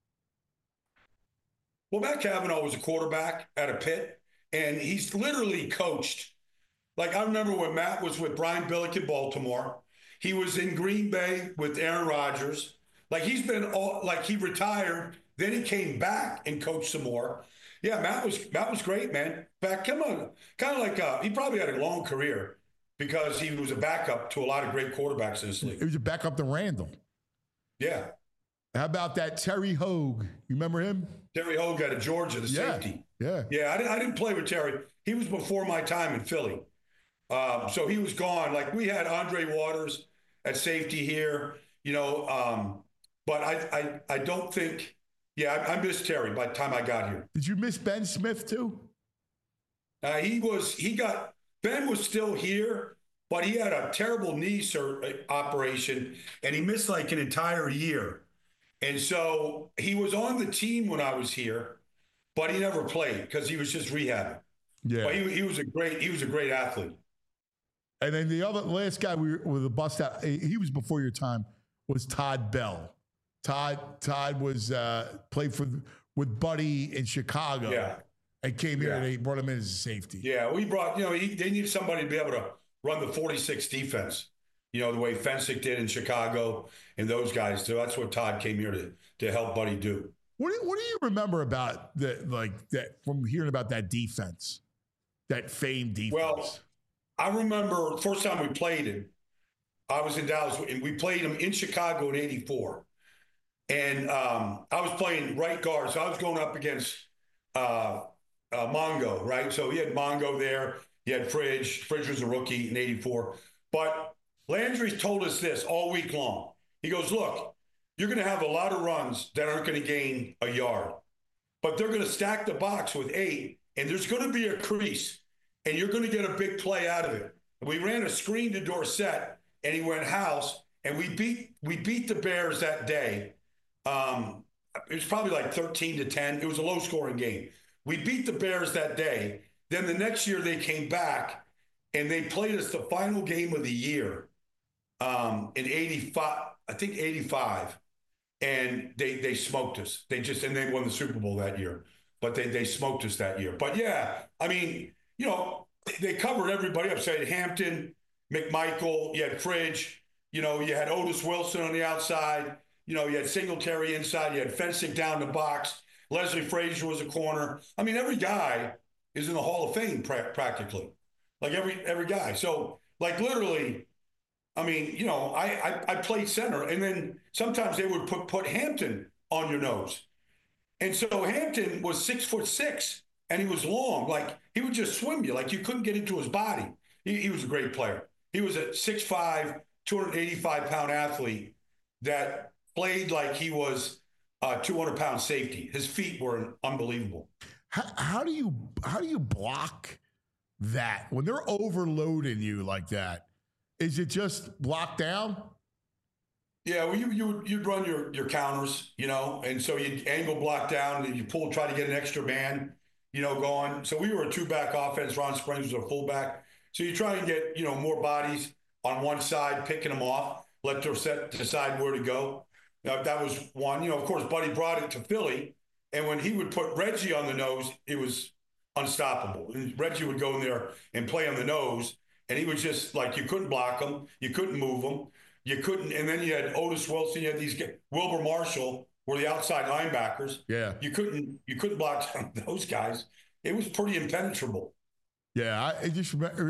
Well, Matt Cavanaugh was a quarterback at a Pitt, and he's literally coached. I remember when Matt was with Brian Billick in Baltimore. He was in Green Bay with Aaron Rodgers. He's been he retired, then he came back and coached some more. Yeah, Matt was great, man. In fact, come on, kind of he probably had a long career because he was a backup to a lot of great quarterbacks in this league. He was a backup to Randall. Yeah. How about that Terry Hogue? You remember him? Terry Hogue out of Georgia, the safety. Yeah. Yeah, I didn't play with Terry. He was before my time in Philly. So he was gone. We had Andre Waters at safety here, but I don't think, I missed Terry by the time I got here. Did you miss Ben Smith too? Ben was still here, but he had a terrible knee operation and he missed an entire year. And so he was on the team when I was here, but he never played because he was just rehabbing. Yeah. But he was a great athlete. And then the last guy with a bust out, he was before your time, was Todd Bell. Todd was played with Buddy in Chicago. Yeah. And came here and they brought him in as a safety. Yeah, we brought, they needed somebody to be able to run the 46 defense, the way Fensick did in Chicago and those guys. So that's what Todd came here to help Buddy do. What do you remember about that from hearing about that defense, that famed defense? Well, I remember the first time we played him, I was in Dallas, and we played him in Chicago in '84. And I was playing right guard, so I was going up against Mongo, right? So he had Mongo there. He had Fridge. Fridge was a rookie in '84. But Landry told us this all week long. He goes, look, you're going to have a lot of runs that aren't going to gain a yard. But they're going to stack the box with 8, and there's going to be a crease, and you're going to get a big play out of it. We ran a screen to Dorsett, and he went house, and we beat the Bears that day. It was probably like 13-10. It was a low-scoring game. We beat the Bears that day. Then the next year they came back, and they played us the final game of the year in 85, I think 85. And they smoked us. And they won the Super Bowl that year. But they smoked us that year. But, yeah, I mean, you know, they covered everybody up. So you had Hampton, McMichael, you had Fridge, you know, you had Otis Wilson on the outside, you know, you had Singletary inside, you had Fensick down the box, Leslie Frazier was a corner. I mean, every guy is in the Hall of Fame practically, like every guy. So, like, literally, I mean, you know, I played center, and then sometimes they would put Hampton on your nose. And so Hampton was 6'6", and he was long. Like, he would just swim you. Like, you couldn't get into his body. He was a great player. He was a 6'5", 285-pound athlete that played like he was a 200-pound safety. His feet were unbelievable. How do you block that when they're overloading you like that? Is it just block down? Yeah, well, you'd run your counters, you know, and so you'd angle block down, and you try to get an extra man, you know, going. So we were a two-back offense. Ron Springs was a fullback. So you try and get, you know, more bodies on one side, picking them off, let Dorsett decide where to go. That was one. You know, of course, Buddy brought it to Philly, and when he would put Reggie on the nose, it was unstoppable. And Reggie would go in there and play on the nose, and he was just like, you couldn't block him, you couldn't move him, you couldn't. And then you had Otis Wilson, you had these guys, Wilbur Marshall were the outside linebackers. Yeah, you couldn't block those guys. It was pretty impenetrable. Yeah, I just remember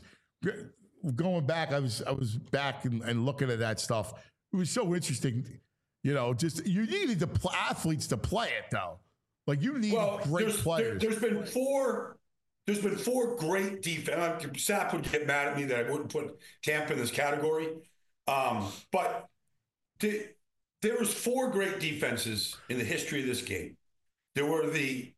going back. I was back and looking at that stuff. It was so interesting. You know, just you needed the athletes to play it though. Like you need great players. There's been four great defense. Sapp would get mad at me that I wouldn't put Tampa in this category, but there was four great defenses in the history of this game. There were the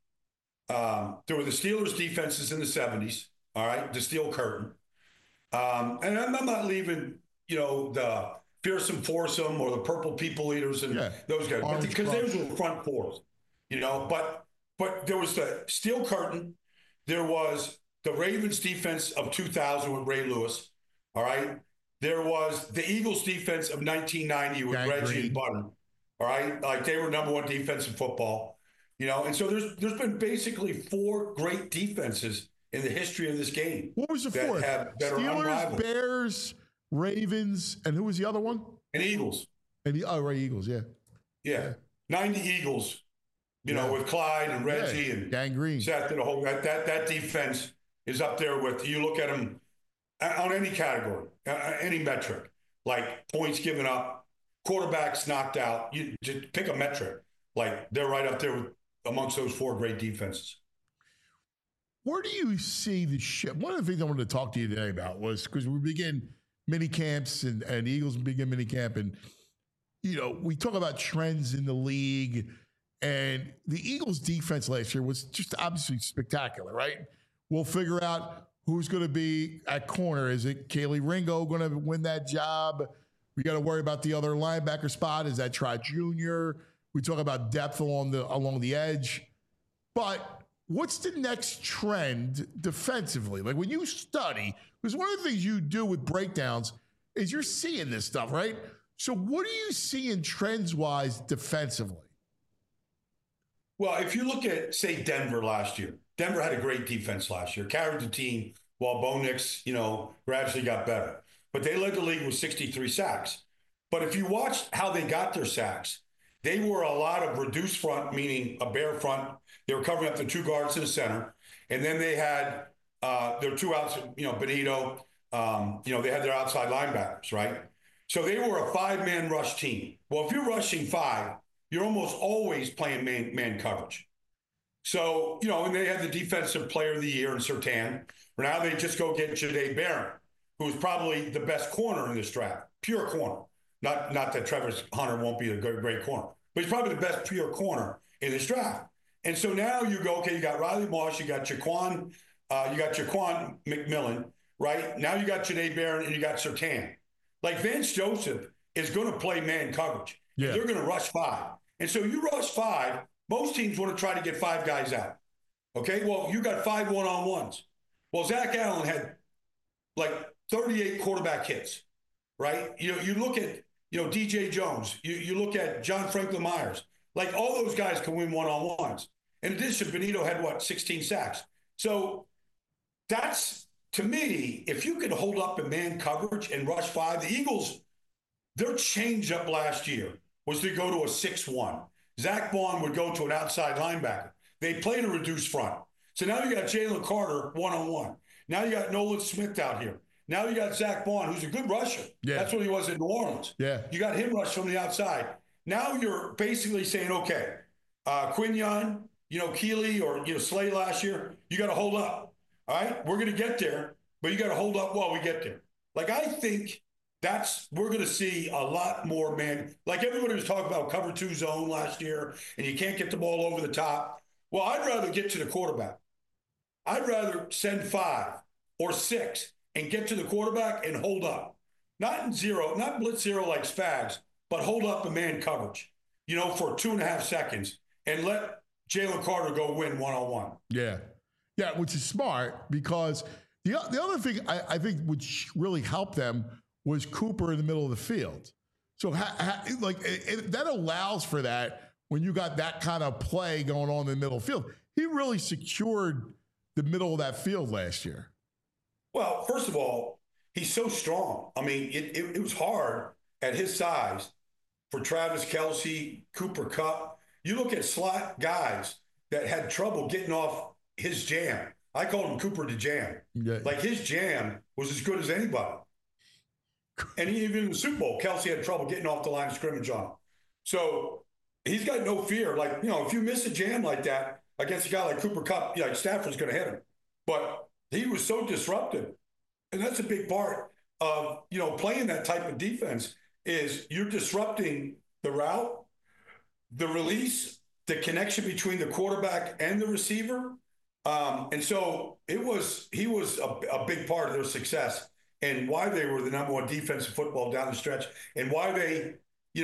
Steelers defenses in the 70s. All right, the Steel Curtain, and I'm not leaving, you know, the Fearsome Foursome or the Purple People Eaters and those guys, but because those were front fours, you know. But there was the Steel Curtain. There was the Ravens defense of 2000 with Ray Lewis. All right. There was the Eagles defense of 1990 with Reggie and Button. All right. Like they were number one defense in football, you know. And so there's been basically four great defenses in the history of this game. What was the fourth? Steelers, Bears, Ravens, and who was the other one? And Eagles. And Eagles, yeah. Yeah. 90 Eagles, you know, with Clyde and Reggie and Gangrene. Seth and the whole that defense is up there with, you look at them on any category, any metric, like points given up, quarterbacks knocked out. You just pick a metric. Like they're right up there amongst those four great defenses. Where do you see the shift? One of the things I wanted to talk to you today about was because we begin mini camps and Eagles begin mini camp, and you know we talk about trends in the league, and the Eagles defense last year was just obviously spectacular, right? We'll figure out who's going to be at corner. Is it Kaylee Ringo going to win that job? We got to worry about the other linebacker spot. Is that Trot Jr.? We talk about depth along the edge, but what's the next trend defensively? Like when you study, because one of the things you do with breakdowns is you're seeing this stuff, right? So what are you seeing trends-wise defensively? Well, if you look at, say, Denver last year, Denver had a great defense last year, carried the team while Bo Nix, you know, gradually got better. But they led the league with 63 sacks. But if you watch how they got their sacks, they were a lot of reduced front, meaning a bare front. They were covering up the two guards in the center. And then they had their two outs, you know, Benito, you know, they had their outside linebackers, right? So they were a five-man rush team. Well, if you're rushing five, you're almost always playing man coverage. So, you know, and they had the defensive player of the year in Surtain. Now they just go get Jahdae Barron, who's probably the best corner in this draft, pure corner. Not that Travis Hunter won't be a great corner, but he's probably the best pure corner in this draft. And so now you go, okay, you got Riley Moss, you got Jaquan McMillan, right? Now you got Janae Barron and you got Surtain. Like Vance Joseph is going to play man coverage. Yeah. They're going to rush 5. And so you rush 5, most teams want to try to get 5 guys out. Okay, well, you got 5 one-on-ones. Well, Zach Allen had like 38 quarterback hits, right? You look at, DJ Jones. You look at John Franklin Myers. Like all those guys can win one-on-ones. In addition, Benito had 16 sacks. So that's, to me, if you could hold up in man coverage and rush 5, the Eagles, their change-up last year was to go to a 6-1. Zach Vaughn would go to an outside linebacker. They played a reduced front. So now you got Jalen Carter one-on-one. Now you got Nolan Smith out here. Now you got Zach Vaughn, who's a good rusher. Yeah. That's what he was in New Orleans. Yeah. You got him rush from the outside. Now you're basically saying, okay, Quinion, Keeley or Slay last year, you got to hold up. All right? We're going to get there, but you got to hold up while we get there. Like, I think we're going to see a lot more, man. Like everybody was talking about cover 2 zone last year, and you can't get the ball over the top. Well, I'd rather get to the quarterback. I'd rather send 5 or 6 and get to the quarterback and hold up. Not in zero, not blitz zero like Spags, but hold up in man coverage, for 2.5 seconds and let Jalen Carter go win one-on-one. Yeah. Yeah, which is smart because the other thing I think would really help them was Cooper in the middle of the field. So that allows for that when you got that kind of play going on in the middle of the field. He really secured the middle of that field last year. Well, first of all, he's so strong. I mean, it was hard at his size for Travis Kelce, Cooper Kupp. You look at slot guys that had trouble getting off his jam. I called him Cooper the Jam. Yeah. Like his jam was as good as anybody. And even in the Super Bowl, Kelce had trouble getting off the line of scrimmage on him. So he's got no fear. Like, if you miss a jam like that against a guy like Cooper Kupp, like Stafford's going to hit him. But he was so disruptive. And that's a big part of, playing that type of defense is you're disrupting the route, the release, the connection between the quarterback and the receiver. And so he was a big part of their success and why they were the number 1 defensive football down the stretch and why they,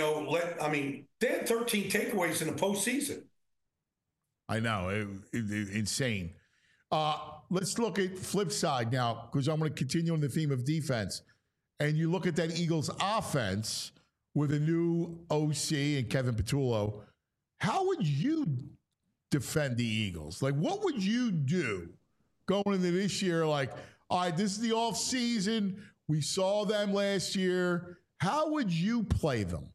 they had 13 takeaways in the postseason. I know. Insane. Let's look at flip side now because I'm going to continue on the theme of defense. And you look at that Eagles offense with a new OC and Kevin Patullo. How would you defend the Eagles? Like, what would you do going into this year? Like, all right, this is the off season. We saw them last year. How would you play them?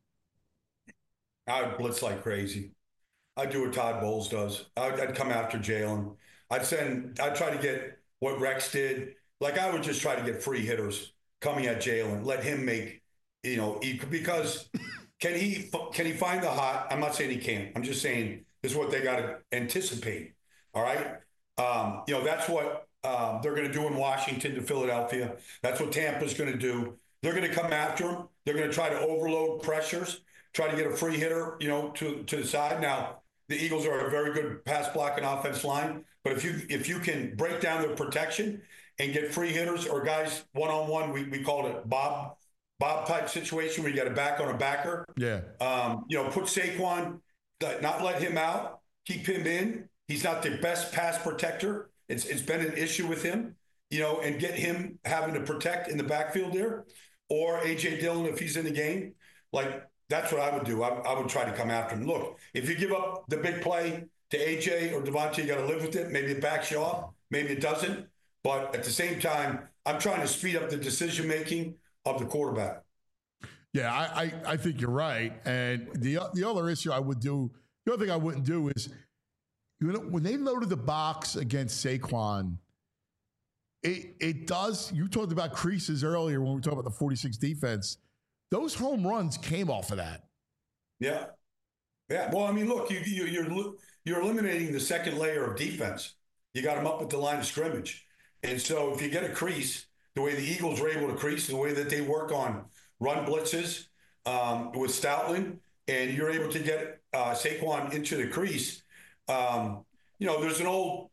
I would blitz like crazy. I'd do what Todd Bowles does. I'd come after Jalen. I'd try to get what Rex did. Like, I would just try to get free hitters coming at Jalen. Let him make, because can he find the hot? I'm not saying he can't. I'm just saying this is what they got to anticipate. All right. That's what they're going to do in Washington to Philadelphia. That's what Tampa's going to do. They're going to come after him. They're going to try to overload pressures, try to get a free hitter, to the side. Now, the Eagles are a very good pass blocking offense line, but if you can break down their protection and get free hitters or guys one-on-one, we called it Bob type situation where you got a back on a backer. Yeah. Put Saquon, not let him out, keep him in. He's not the best pass protector. It's been an issue with him, and get him having to protect in the backfield there, or A.J. Dillon if he's in the game. Like, that's what I would do. I would try to come after him. Look, if you give up the big play to A.J. or Devontae, you got to live with it. Maybe it backs you off. Maybe it doesn't. But at the same time, I'm trying to speed up the decision-making of the quarterback. Yeah, I think you're right. And the other issue I would do, the other thing I wouldn't do is, when they loaded the box against Saquon, it does, you talked about creases earlier when we were talking about the 46 defense. Those home runs came off of that. Yeah. Yeah. Well, I mean, look, you're eliminating the second layer of defense. You got them up at the line of scrimmage. And so if you get a crease, the way the Eagles were able to crease, the way that they work on run blitzes with Stoutland, and you're able to get Saquon into the crease, There's an old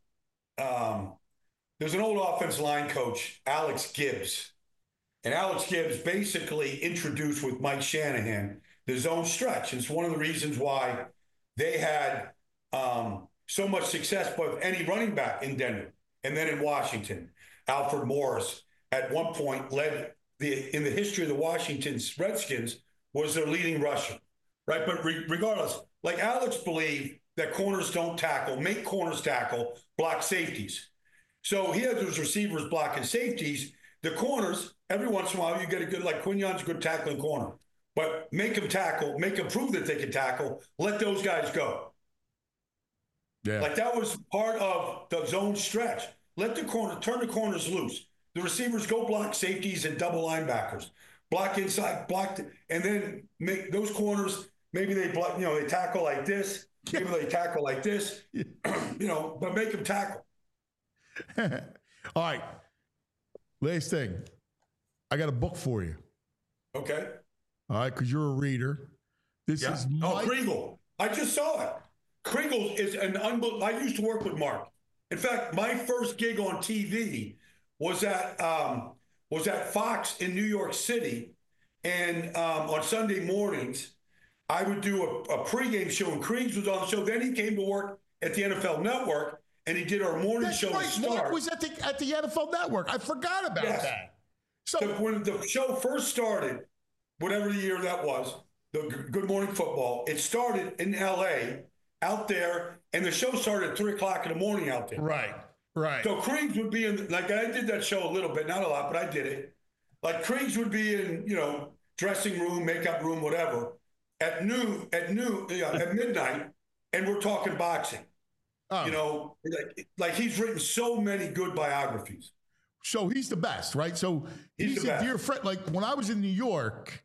offensive line coach, Alex Gibbs. And Alex Gibbs basically introduced with Mike Shanahan the zone stretch. And it's one of the reasons why they had so much success with any running back in Denver. And then in Washington, Alfred Morris at one point led in the history of the Washington Redskins was their leading rusher, right? But regardless, like Alex believed that corners don't tackle, make corners tackle, block safeties. So he had those receivers blocking safeties. The corners, every once in a while, you get a good, like Quignon's a good tackling corner. But make them tackle, make them prove that they can tackle, let those guys go. Yeah. Like that was part of the zone stretch. Let the corner, turn the corners loose. The receivers go block safeties and double linebackers. Block inside, and then make those corners, maybe they block, they tackle like this. Maybe they tackle like this, but make them tackle. All right. Last thing. I got a book for you. Okay. All right, because you're a reader. This is Mike. Kriegel. I just saw it. Kriegel is an unbelievable. I used to work with Mark. In fact, my first gig on TV was at Fox in New York City, and on Sunday mornings, I would do a pregame show, and Kriegs was on the show. Then he came to work at the NFL Network, and he did our morning show. Right. Mark was at the NFL Network. I forgot about that. So when the show first started, whatever the year that was, the Good Morning Football, it started in L.A., out there, and the show started at 3 o'clock in the morning out there. Right. So Kriegs would be in, like I did that show a little bit, not a lot, but I did it. Like Kriegs would be in, dressing room, makeup room, whatever, at midnight, and we're talking boxing. Oh. Like he's written so many good biographies. So he's the best, right? So he's a dear friend. Like when I was in New York,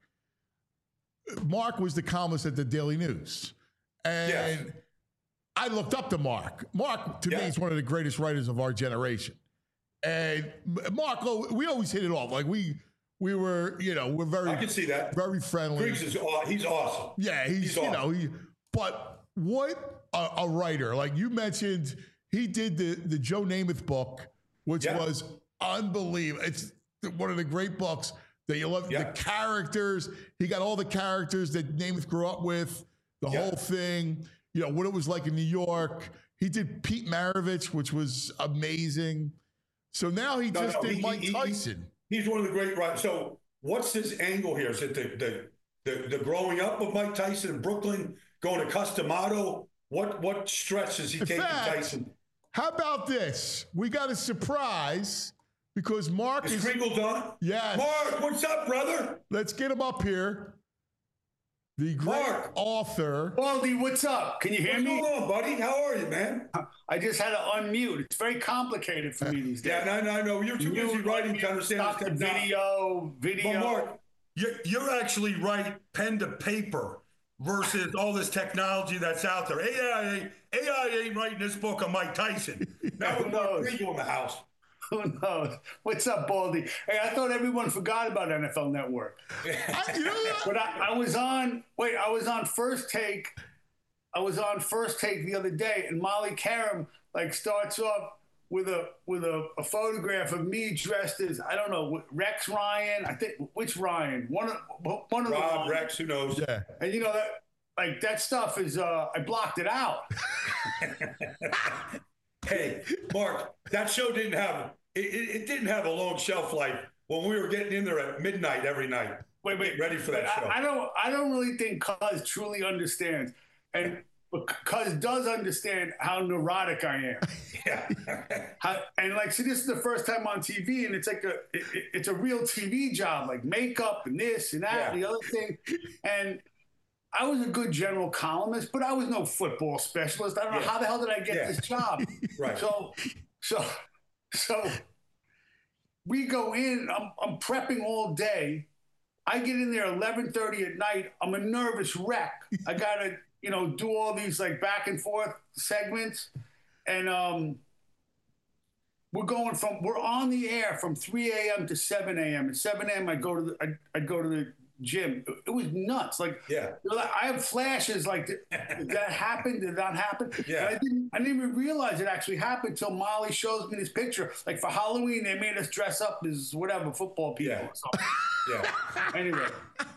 Mark was the columnist at the Daily News. And I looked up to Mark. Mark, to me, is one of the greatest writers of our generation. And Mark, we always hit it off. Like we were, we're very, I can see that. Very friendly. He's awesome. Yeah, he's awesome. But what a writer. Like you mentioned, he did the Joe Namath book, which was unbelievable. It's one of the great books that you love. The characters, he got all the characters that Namath grew up with, the whole thing, what it was like in New York. He did Pete Maravich, which was amazing. So now he did Mike Tyson. He's one of the great writers. So what's his angle here? Is it the growing up of Mike Tyson in Brooklyn, going to Customato? What stretch is he taking Tyson? How about this? We got a surprise because Mark is Kriegel done? Yes. Mark, what's up, brother? Let's get him up here. The great author. Baldy, what's up? Can you hear me? What's going on, buddy? How are you, man? I just had to unmute. It's very complicated for me these days. Yeah, no. You're too busy writing to understand this video. But Mark, you're actually right pen to paper versus all this technology that's out there. AI ain't writing this book on Mike Tyson. Now we're going to in the house. Who knows? What's up, Baldy? Hey, I thought everyone forgot about NFL Network. But I was on First Take. I was on First Take the other day, and Molly Karam starts off with a photograph of me dressed as, I don't know, Rex Ryan. I think which Ryan? One of the Rob, Rex, who knows? Yeah. And that stuff is I blocked it out. Hey, Mark, that show didn't have it didn't have a long shelf life when we were getting in there at midnight every night. Wait, ready for that show. I don't really think Cuz truly understands, and Cuz does understand how neurotic I am. Yeah. See, this is the first time on TV, and it's a real TV job, like makeup and this and that and the other thing, and I was a good general columnist, but I was no football specialist. I don't know how the hell did I get this job. Right. So we go in. I'm prepping all day. I get in there 11:30 at night. I'm a nervous wreck. I gotta do all these back and forth segments, and we're on the air from 3 a.m. to 7 a.m. At 7 a.m. I'd go to gym. It was nuts. Like, I have flashes like, did that happen? Did that happen? Yeah. And I didn't even realize it actually happened until Molly shows me this picture. Like for Halloween, they made us dress up as whatever football people. Yeah. Or something. Yeah. Anyway.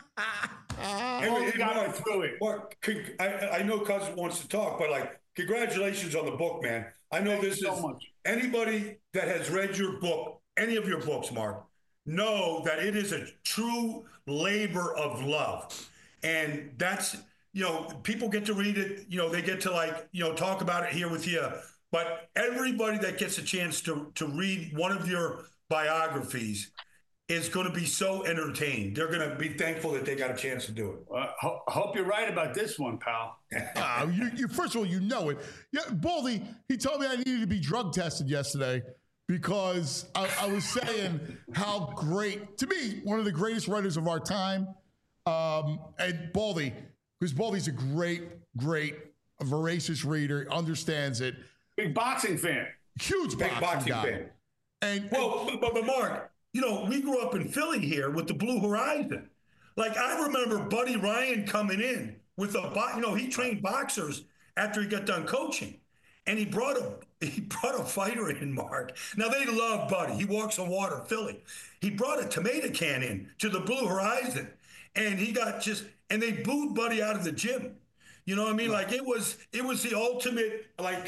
Mark, I know Cousin wants to talk, but like, congratulations on the book, man. I know this is anybody that has read your book, any of your books, Mark, know that it is a true labor of love. And that's, people get to read it, they get to talk about it here with you. But everybody that gets a chance to read one of your biographies is going to be so entertained. They're going to be thankful that they got a chance to do it. I hope you're right about this one, pal. You first of all, you know it. Yeah, Baldy, he told me I needed to be drug tested yesterday because I was saying how great, to me, one of the greatest writers of our time. And Baldy, because Baldy's a great, voracious reader, understands it. Big boxing fan. Huge boxing fan. But Mark, we grew up in Philly here with the Blue Horizon. Like, I remember Buddy Ryan coming in with he trained boxers after he got done coaching. And he brought a fighter in, Mark. Now, they love Buddy. He walks on water, Philly. He brought a tomato can in to the Blue Horizon. And he got and they booed Buddy out of the gym. You know what I mean? Like, it was the ultimate, like,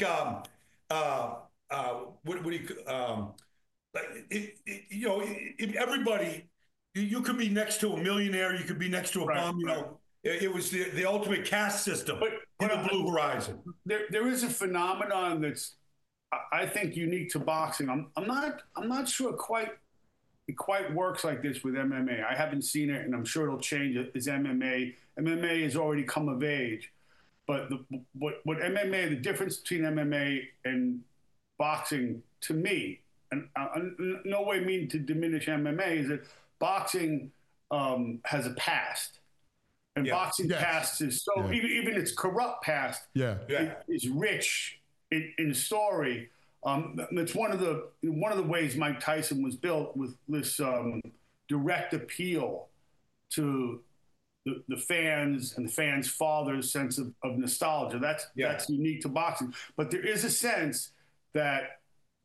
everybody, you could be next to a millionaire, you could be next to a bum, it was the ultimate caste system in the Blue Horizon. There is a phenomenon that's, I think, unique to boxing. I'm not sure it quite works like this with MMA. I haven't seen it, and I'm sure it'll change as MMA has already come of age. But what MMA, the difference between MMA and boxing, to me, and no way mean to diminish MMA, is that boxing has a past. And boxing past is even its corrupt past is rich in story. It's one of the ways Mike Tyson was built, with this direct appeal to the fans and the fans' fathers' sense of nostalgia. That's unique to boxing. But there is a sense that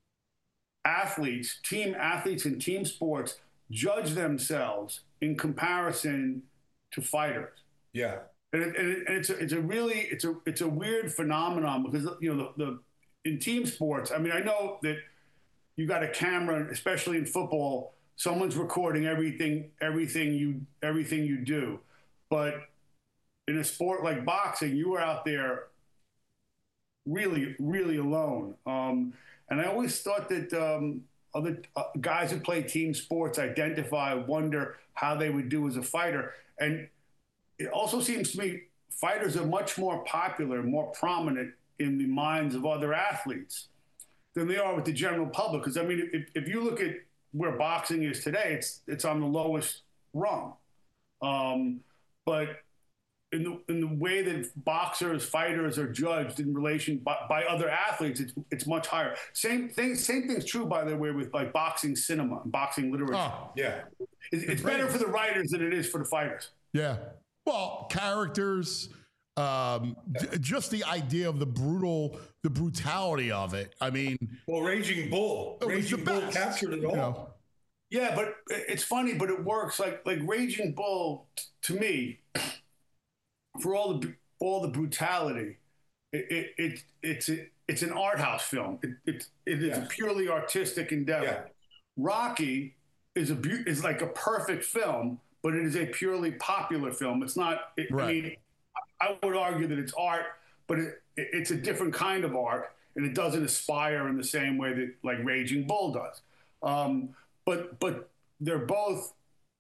team athletes in team sports judge themselves in comparison to fighters. Yeah. And it's a weird phenomenon, because in team sports, I mean, I know that you got a camera, especially in football, someone's recording everything you do. But in a sport like boxing, you are out there really, really alone. And I always thought that other guys who play team sports wonder how they would do as a fighter. And it also seems to me fighters are much more popular, more prominent in the minds of other athletes than they are with the general public. Because, I mean, if you look at where boxing is today, it's on the lowest rung. But in the way that fighters are judged in relation by other athletes, it's much higher. Same thing's true, by the way, with like boxing cinema and boxing literature. Oh, yeah. It's better for the writers than it is for the fighters. Yeah. Well, characters, just the idea of the brutality of it. I mean, Raging Bull. Raging Bull captured it all. Yeah, but it's funny, but it works. Like Raging Bull, to me, for all the brutality, it's an art house film. It is a purely artistic endeavor. Yeah. Rocky is like a perfect film, but it is a purely popular film. It's not. I mean, I would argue that it's art, but it's a different kind of art, and it doesn't aspire in the same way that like Raging Bull does. But they're both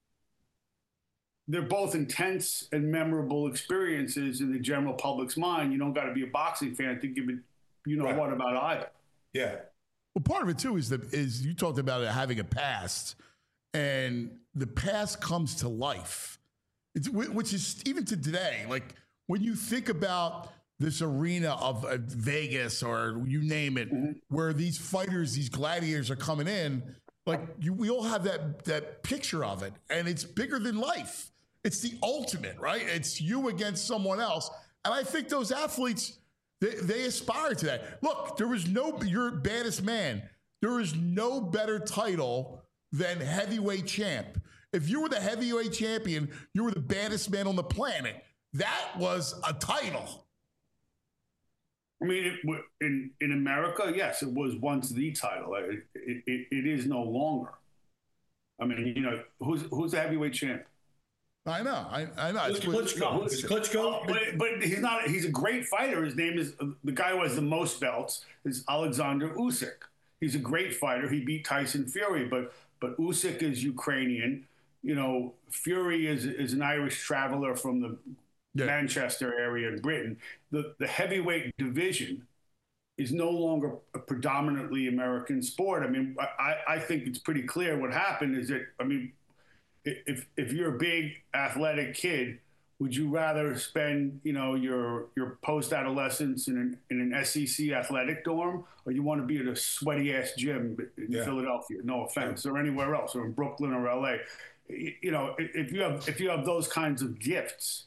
intense and memorable experiences in the general public's mind. You don't got to be a boxing fan to give it, what about either. Yeah. Well, part of it too is you talked about it having a past, and the past comes to life. Which is even to today. Like when you think about this arena of Vegas or you name it, where these fighters, these gladiators are coming in. Like we all have that picture of it, and it's bigger than life. It's the ultimate, right? It's you against someone else. And I think those athletes, they aspire to that. Look, you're baddest man. There is no better title than heavyweight champ. If you were the heavyweight champion, you were the baddest man on the planet. That was a title. I mean, in America, yes, it was once the title. It is no longer. I mean, who's the heavyweight champ? I know. I know. It's Klitschko. It's Klitschko. But he's not. He's a great fighter. His name is the guy who has the most belts is Alexander Usyk. He's a great fighter. He beat Tyson Fury, but Usyk is Ukrainian. Fury is an Irish traveler from the Manchester area in Britain. The heavyweight division is no longer a predominantly American sport. I mean, I think it's pretty clear what happened is that, I mean, if you're a big athletic kid, would you rather spend, your post-adolescence in an SEC athletic dorm, or you want to be at a sweaty-ass gym in Philadelphia, no offense, or anywhere else, or in Brooklyn or LA? If you have those kinds of gifts,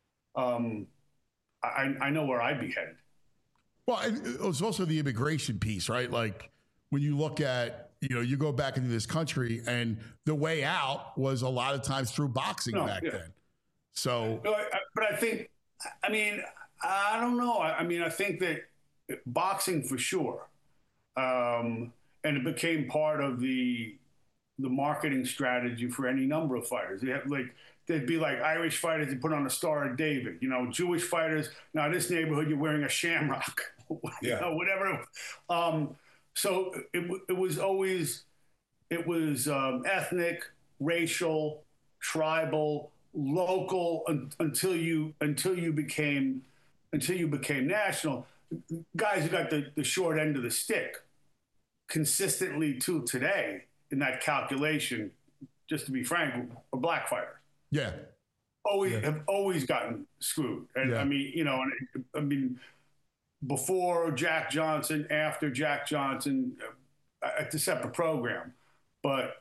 I know where I'd be headed. Well, it was also the immigration piece, right? Like when you look at, you go back into this country and the way out was a lot of times through boxing back then. So, but I think, I mean, I don't know. I mean, I think that boxing for sure. And it became part of the marketing strategy for any number of fighters. There'd be like Irish fighters that put on a Star of David, Jewish fighters. Now this neighborhood, you're wearing a shamrock, whatever. So it was always, ethnic, racial, tribal, local until you became national. Guys who got the short end of the stick consistently till today in that calculation, just to be frank, are black fighters. Yeah. Have always gotten screwed. And I mean, before Jack Johnson, after Jack Johnson, it's a separate program. But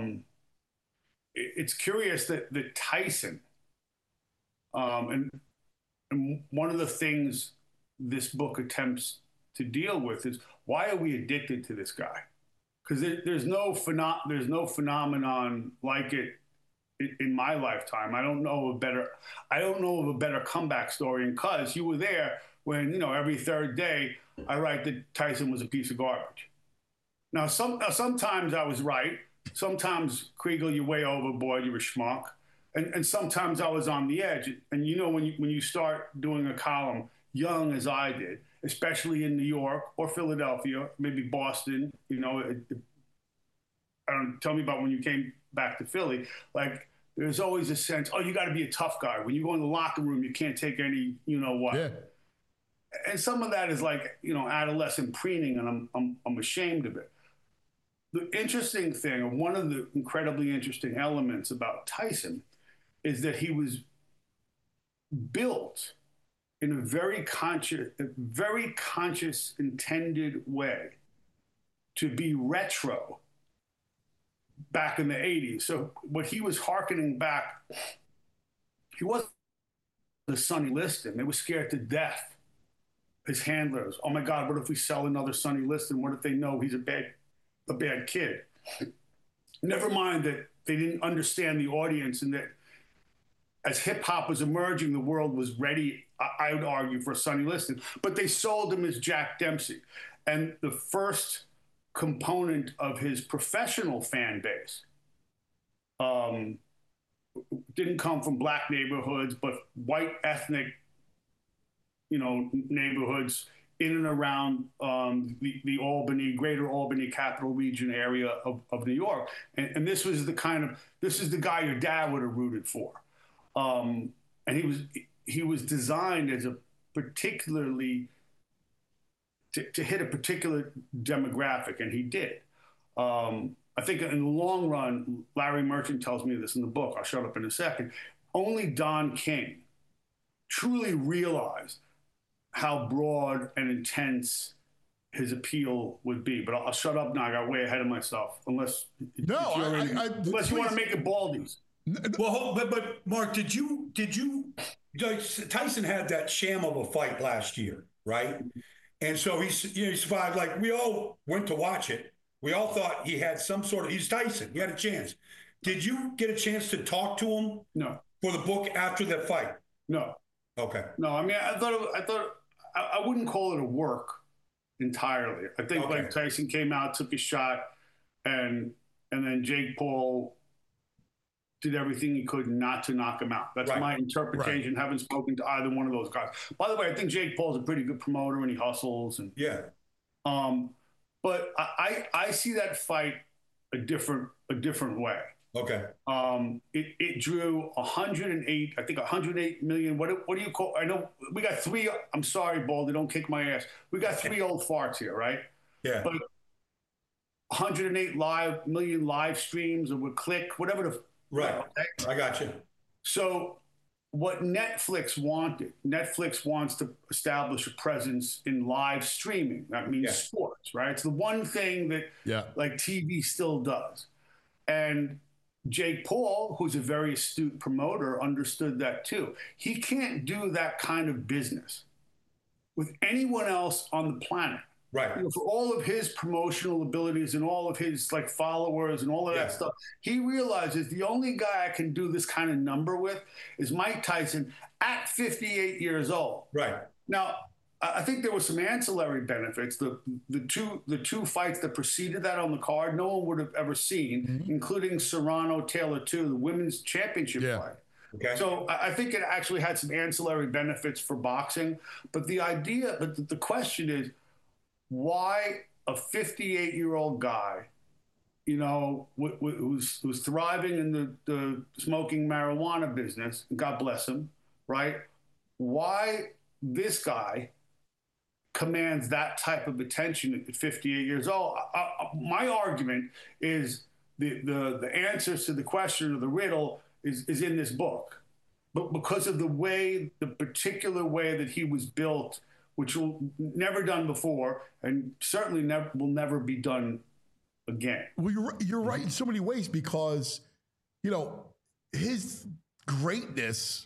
it's curious that Tyson, and one of the things this book attempts to deal with is, why are we addicted to this guy? Because there's no phenomenon like it in my lifetime. I don't know of a better comeback story. And cuz you were there when, every third day I write that Tyson was a piece of garbage. Now sometimes I was right. Sometimes, Kriegel, you're way overboard, you're a schmuck. And sometimes I was on the edge. And when you start doing a column young as I did, especially in New York or Philadelphia, maybe Boston, tell me about when you came back to Philly. Like, there's always a sense, you got to be a tough guy. When you go in the locker room, you can't take any, what. Yeah. And some of that is like, adolescent preening, and I'm ashamed of it. The interesting thing, or one of the incredibly interesting elements about Tyson, is that he was built in a very conscious, intended way to be retro back in the 80s. So what he was hearkening back, he wasn't the Sonny Liston. They were scared to death. His handlers, oh my God, what if we sell another Sonny Liston? What if they know he's a bad kid? Never mind that they didn't understand the audience, and that as hip hop was emerging, the world was ready, I would argue, for Sonny Liston. But they sold him as Jack Dempsey. And the first component of his professional fan base didn't come from black neighborhoods, but white ethnic, neighborhoods in and around the Albany, greater Albany capital region area of New York. And this is the guy your dad would have rooted for. And he was designed as a particularly, to hit a particular demographic, and he did. I think in the long run, Larry Merchant tells me this in the book, I'll shut up in a second, only Don King truly realized how broad and intense his appeal would be. But I'll shut up now. I got way ahead of myself. Unless you want to make it Baldy's. Well, but Mark, did you Tyson had that sham of a fight last year, right? And so he survived. Like, we all went to watch it. We all thought he had some sort of, he's Tyson. He had a chance. Did you get a chance to talk to him? No. For the book after that fight? No. Okay. No, I mean, I wouldn't call it a work entirely. I think like Tyson came out, took a shot, and then Jake Paul did everything he could not to knock him out. That's my interpretation. Haven't spoken to either one of those guys. By the way, I think Jake Paul's a pretty good promoter and he hustles. And but I see that fight a different way. Okay. It drew 108 million. What do you call? I know we got three. I'm sorry, Baldy, don't kick my ass. We got three old farts here, right? Yeah. But 108 million live streams, or with click, whatever the. Right. Okay? I got you. So what Netflix wants to establish a presence in live streaming. That means sports, right? It's the one thing that like TV still does. And Jake Paul, who's a very astute promoter, understood that too. He can't do that kind of business with anyone else on the planet. Right. You know, for all of his promotional abilities and all of his like followers and all of that stuff, he realizes the only guy I can do this kind of number with is Mike Tyson at 58 years old. Right. Now, I think there were some ancillary benefits. The two fights that preceded that on the card, no one would have ever seen, including Serrano Taylor 2, the women's championship fight. Okay. So I think it actually had some ancillary benefits for boxing. But the question is, why a 58-year-old guy, you know, who's thriving in the smoking marijuana business, God bless him, right? Why this guy commands that type of attention at 58 years old? My argument is the answers to the question or the riddle is in this book, but because of the particular way that he was built, which will never done before, and certainly will never be done again. Well, you're right in so many ways, because, you know, his greatness,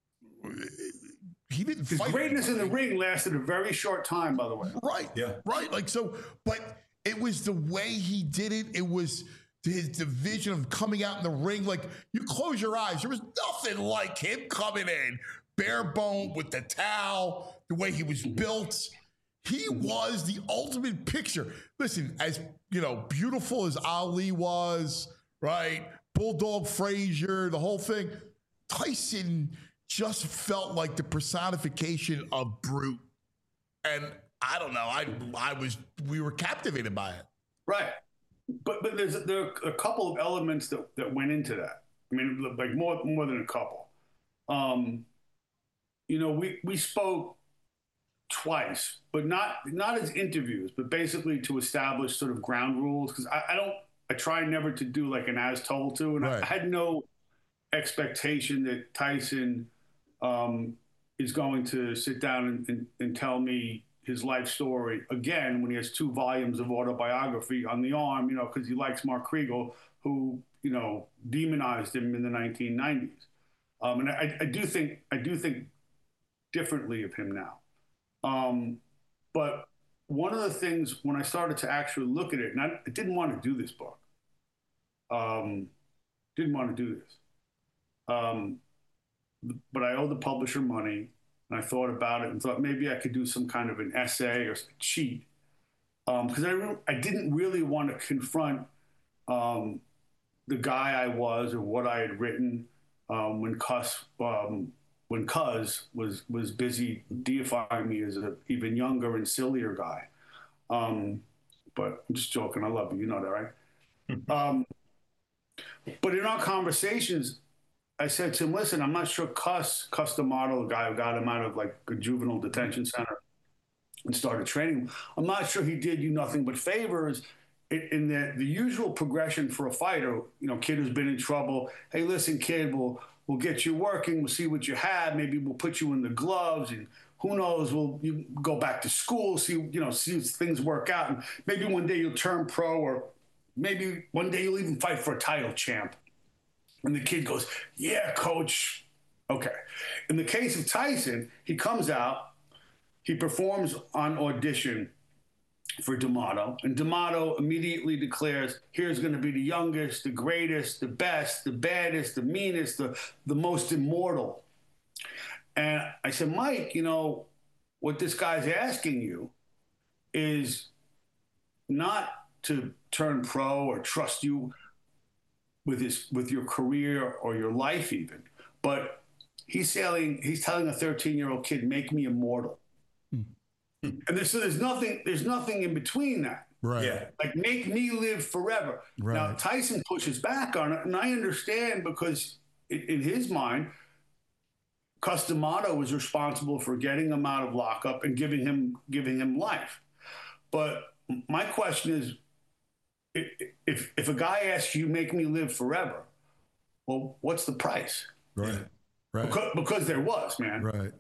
he didn't fight. His greatness in the ring lasted a very short time, by the way. Right. Yeah. Right. Like, so, but it was the way he did it. It was his division of coming out in the ring. Like, you close your eyes, there was nothing like him coming in bare bone with the towel, the way he was built. He was the ultimate picture. Listen, as, you know, beautiful as Ali was, right? Bulldog Frazier, the whole thing. Tyson just felt like the personification of brute. And I don't know, we were captivated by it. Right. But there are a couple of elements that went into that. I mean, like more than a couple. You know, we spoke twice, but not as interviews, but basically to establish sort of ground rules. Because I try never to do like an as told to, and I had no expectation that Tyson is going to sit down and tell me his life story again when he has 2 volumes of autobiography on the arm, you know, because he likes Mark Kriegel, who, you know, demonized him in the 1990s. And I do think differently of him now. But one of the things when I started to actually look at it, and I didn't want to do this book, didn't want to do this, but I owed the publisher money, and I thought about it and thought maybe I could do some kind of an essay or cheat, because I didn't really want to confront the guy I was or what I had written when Cuz was busy deifying me as an even younger and sillier guy. But I'm just joking. I love you. You know that, right? But in our conversations, I said to him, listen, I'm not sure Cus D'Amato, the guy who got him out of like a juvenile detention center and started training him, I'm not sure he did you nothing but favors in the usual progression for a fighter. You know, kid who's been in trouble. Hey, listen, kid, we'll get you working. We'll see what you have. Maybe we'll put you in the gloves, and who knows? You go back to school, see if things work out, and maybe one day you'll turn pro, or maybe one day you'll even fight for a title, champ. And the kid goes, yeah, coach. Okay. In the case of Tyson, he comes out, he performs on audition for D'Amato, and D'Amato immediately declares, here's going to be the youngest, the greatest, the best, the baddest, the meanest, the most immortal. And I said, Mike, you know, what this guy's asking you is not to turn pro or trust you with your career or your life even, but he's telling a 13-year-old kid, make me immortal. And there's nothing in between that. Right. Yeah. Like, make me live forever. Right. Now, Tyson pushes back on it, and I understand, because in his mind, Cus D'Amato was responsible for getting him out of lockup and giving him life. But my question is, if a guy asks you, make me live forever, well, what's the price? Right. Right. Because there was, man. Right.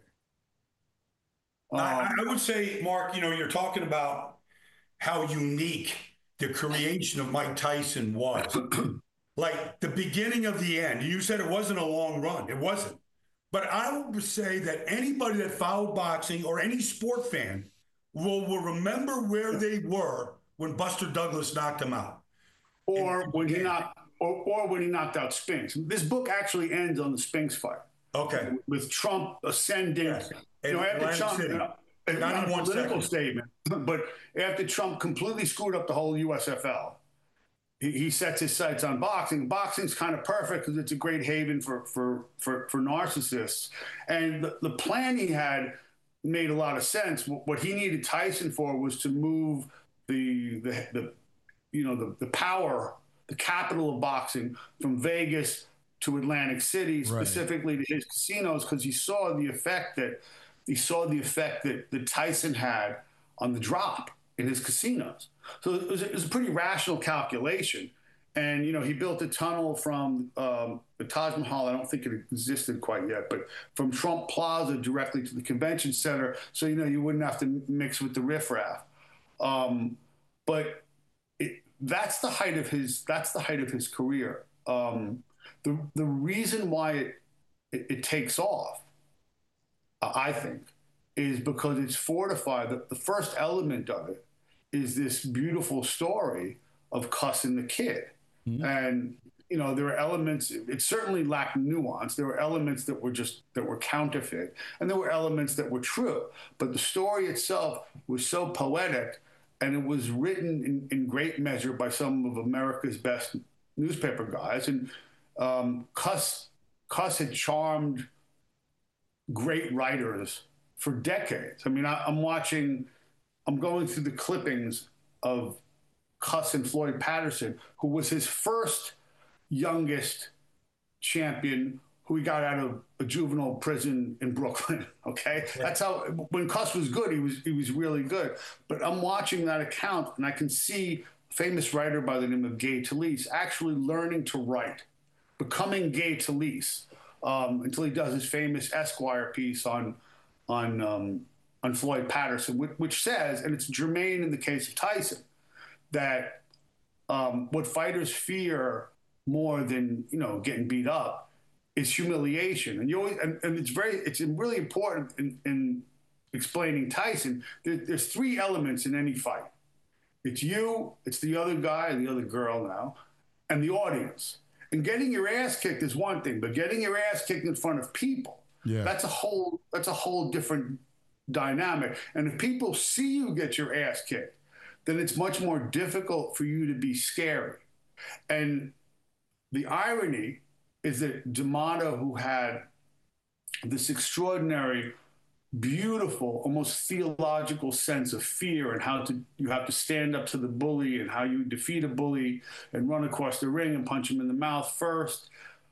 I would say, Mark, you know, you're talking about how unique the creation of Mike Tyson was. Like the beginning of the end. You said it wasn't a long run. It wasn't. But I would say that anybody that followed boxing or any sport fan will remember where they were when Buster Douglas knocked him out. Or when he knocked out Spinks. This book actually ends on the Spinks fight. Okay. With Trump ascending. Yes. You know, after Trump, City. not a political statement, but after Trump completely screwed up the whole USFL, he sets his sights on boxing. Boxing's kind of perfect because it's a great haven for narcissists. And the plan he had made a lot of sense. What he needed Tyson for was to move the power, the capital of boxing, from Vegas to Atlantic City, specifically to his casinos, because he saw the effect that Tyson had on the drop in his casinos. So it was a pretty rational calculation. And, you know, he built a tunnel from the Taj Mahal. I don't think it existed quite yet, but from Trump Plaza directly to the convention center. So, you know, you wouldn't have to mix with the riffraff. But that's the height of his career. The reason why it takes off, I think, is because it's fortified. The first element of it is this beautiful story of Cus and the Kid. Mm-hmm. And, you know, there are elements, it certainly lacked nuance. There were elements that were counterfeit, and there were elements that were true. But the story itself was so poetic, and it was written in great measure by some of America's best newspaper guys. And Cus had charmed great writers for decades. I mean, I'm going through the clippings of Cus and Floyd Patterson, who was his first youngest champion, who he got out of a juvenile prison in Brooklyn. Okay, yeah. That's how. When Cus was good, he was really good. But I'm watching that account, and I can see a famous writer by the name of Gay Talese actually learning to write, becoming Gay Talese, until he does his famous Esquire piece on Floyd Patterson, which says, and it's germane in the case of Tyson, that what fighters fear more than, you know, getting beat up is humiliation. And it's really important in explaining Tyson. There's three elements in any fight. It's you, it's the other guy, the other girl now, and the audience. And getting your ass kicked is one thing, but getting your ass kicked in front of people, that's a whole different dynamic. And if people see you get your ass kicked, then it's much more difficult for you to be scary. And the irony is that D'Amato, who had this extraordinary, beautiful, almost theological sense of fear and how you have to stand up to the bully and how you defeat a bully and run across the ring and punch him in the mouth first.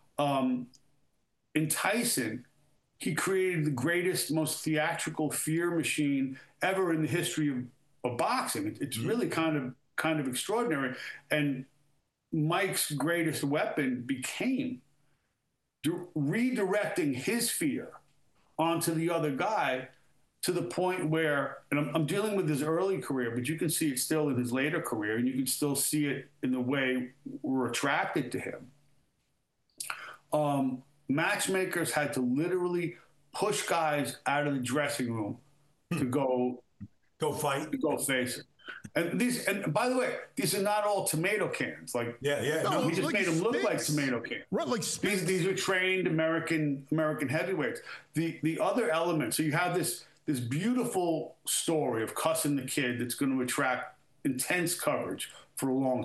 In Tyson, he created the greatest, most theatrical fear machine ever in the history of boxing. It's really kind of extraordinary. And Mike's greatest weapon became redirecting his fear onto the other guy, to the point where, and I'm dealing with his early career, but you can see it still in his later career, and you can still see it in the way we're attracted to him, Matchmakers had to literally push guys out of the dressing room to go fight, to go face it. And by the way, these are not all tomato cans. Like, no, we just made them look like tomato cans. Right, like these are trained American heavyweights. The other element. So you have this beautiful story of cussing the kid that's going to attract intense coverage for a long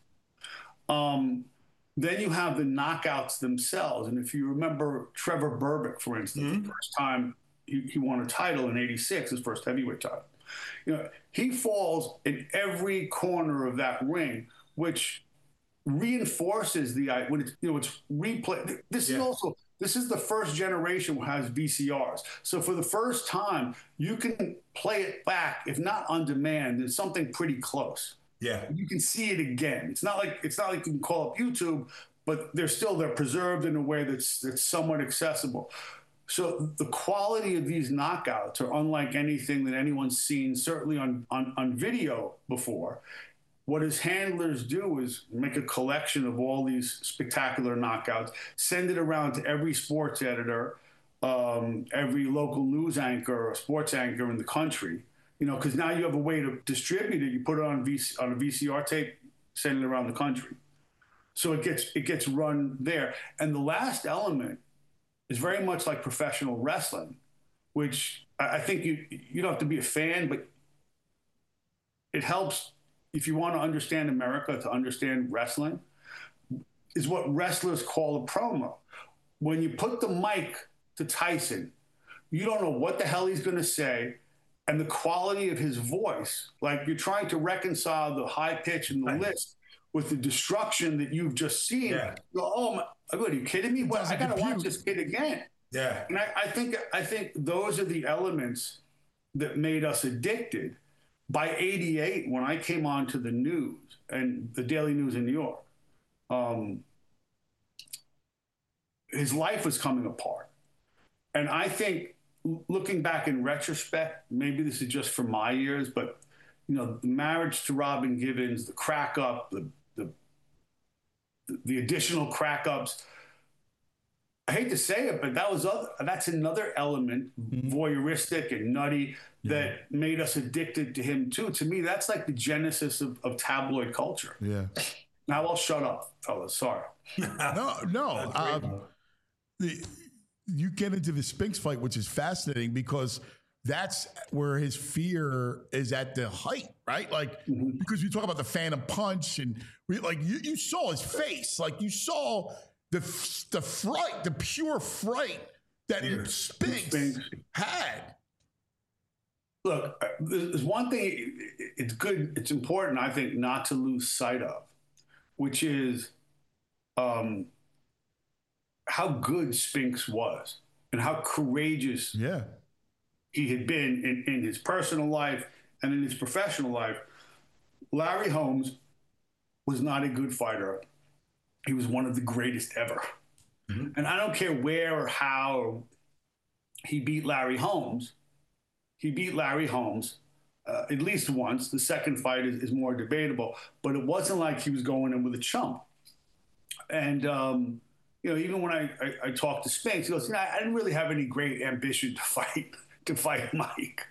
time. Then you have the knockouts themselves. And if you remember Trevor Berbick, for instance, the first time he won a title in '86, his first heavyweight title. He falls in every corner of that ring, which reinforces when it's replay. This is the first generation who has VCRs. So for the first time, you can play it back, if not on demand, there's something pretty close. Yeah, you can see it again. It's not like you can call up YouTube, but they're preserved in a way that's somewhat accessible. So the quality of these knockouts are unlike anything that anyone's seen, certainly on video before. What his handlers do is make a collection of all these spectacular knockouts, send it around to every sports editor, every local news anchor or sports anchor in the country. Because now you have a way to distribute it. You put it on a VCR tape, send it around the country. So it gets run there. And the last element is very much like professional wrestling, which I think you don't have to be a fan, but it helps if you want to understand America, to understand wrestling, is what wrestlers call a promo. When you put the mic to Tyson, you don't know what the hell he's going to say, and the quality of his voice, like you're trying to reconcile the high pitch and the lisp with the destruction that you've just seen. Yeah. Oh my, are you kidding me? Well, I got to watch this kid again. Yeah. And I think those are the elements that made us addicted. By '88, when I came on to the news and the Daily News in New York, his life was coming apart. And I think, looking back in retrospect, maybe this is just from my years, but the marriage to Robin Givens, the crack up, the additional crack ups. I hate to say it, but that's another element, voyeuristic and nutty, that made us addicted to him too. To me, that's like the genesis of tabloid culture. Yeah. Now I'll shut up, fellas. Sorry. No. You get into the Spinks fight, which is fascinating because that's where his fear is at the height, right? Like, because you talk about the Phantom Punch, and you saw his face, like you saw the fright, the pure fright that Spinks had. Look, there's one thing it's important, I think, not to lose sight of, which is how good Spinks was and how courageous he had been in his personal life and in his professional life. Larry Holmes was not a good fighter. He was one of the greatest ever. And I don't care where or how he beat Larry Holmes. He beat Larry Holmes at least once. The second fight is more debatable, but it wasn't like he was going in with a chump. And, even when I talked to Spinks, he goes, I didn't really have any great ambition to fight Mike,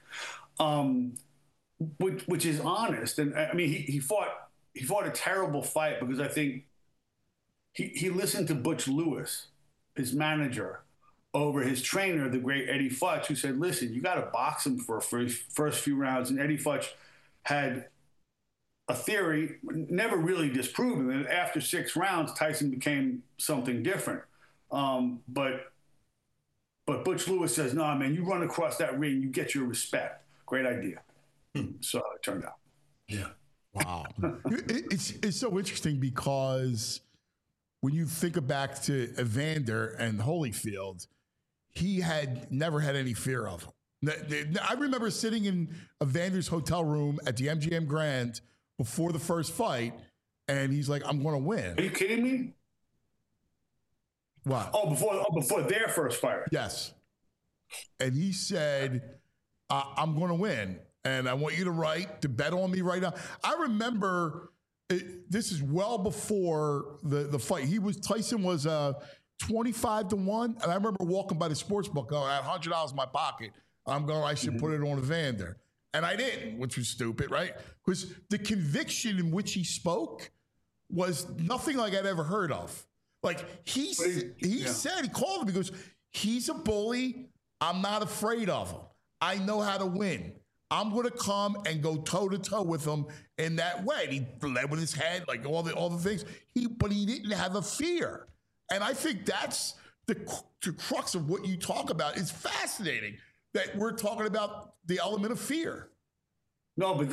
which is honest. And I mean, he fought a terrible fight because I think he listened to Butch Lewis, his manager, over his trainer, the great Eddie Futch, who said, listen, you got to box him for first few rounds. And Eddie Futch had a theory, never really disproven, that after 6 rounds, Tyson became something different. But Butch Lewis says, no, man, you run across that ring, you get your respect. Great idea. So it turned out. Yeah. Wow. It's so interesting because when you think back to Evander and Holyfield, he had never had any fear of him. I remember sitting in Evander's hotel room at the MGM Grand before the first fight, and he's like, I'm going to win. Are you kidding me? What? Before their first fight. Yes. And he said, I'm going to win, and I want you to bet on me right now. I remember this is well before the fight. Tyson was 25-1. And I remember walking by the sports book going, I had $100 in my pocket. I'm going, I should put it on Evander. And I didn't, which was stupid, right? Because the conviction in which he spoke was nothing like I'd ever heard of. Like he said, he called him because he's a bully. I'm not afraid of him. I know how to win. I'm going to come and go toe-to-toe with him in that way. And he led with his head, like all the things. But he didn't have a fear. And I think that's the crux of what you talk about. It's fascinating that we're talking about the element of fear. No, but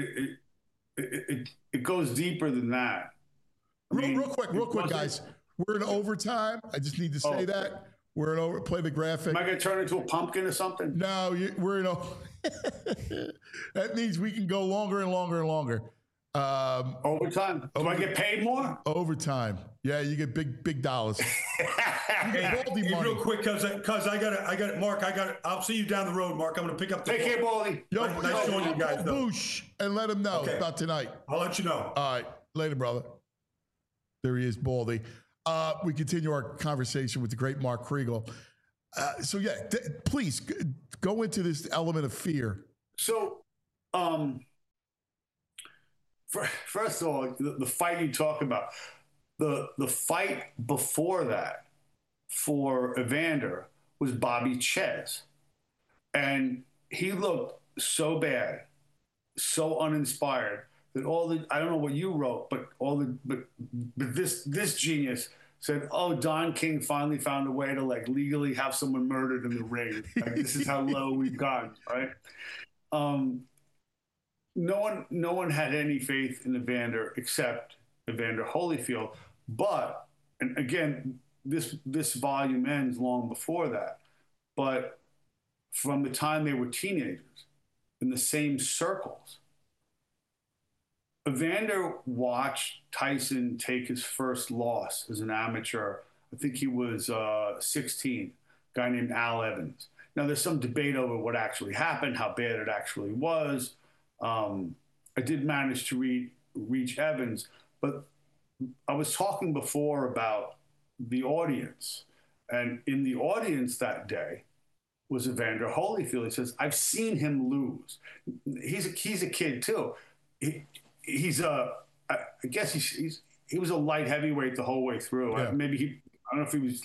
it goes deeper than that. Real quick, guys. We're in overtime. I just need to say that. We're in play the graphic. Am I going to turn into a pumpkin or something? No, we're in that means we can go longer and longer and longer. Overtime. Do I get paid more? Overtime. Yeah, you get big dollars. You get Baldy money. Real quick, cause I got it, Mark. I'll see you down the road, Mark. I'm gonna pick up the. Take care, Baldy. Nice showing you guys. Boosh, and let him know about tonight. I'll let you know. All right, later, brother. There he is, Baldy. We continue our conversation with the great Mark Kriegel. Please go into this element of fear. So, first of all, the fight you talk about, the fight before that for Evander was Bobby Ches. And he looked so bad, so uninspired that I don't know what you wrote, but this genius said, "Oh, Don King finally found a way to like legally have someone murdered in the ring. Like, this is how low we've gone, right?" No one had any faith in Evander except Evander Holyfield. But, and again, this volume ends long before that. But from the time they were teenagers, in the same circles, Evander watched Tyson take his first loss as an amateur. I think he was 16, a guy named Al Evans. Now, there's some debate over what actually happened, how bad it actually was. I did manage to reach Evans, but I was talking before about the audience. And in the audience that day was Evander Holyfield. He says, "I've seen him lose." He's a kid, too. I guess he was a light heavyweight the whole way through. Yeah. I don't know if he was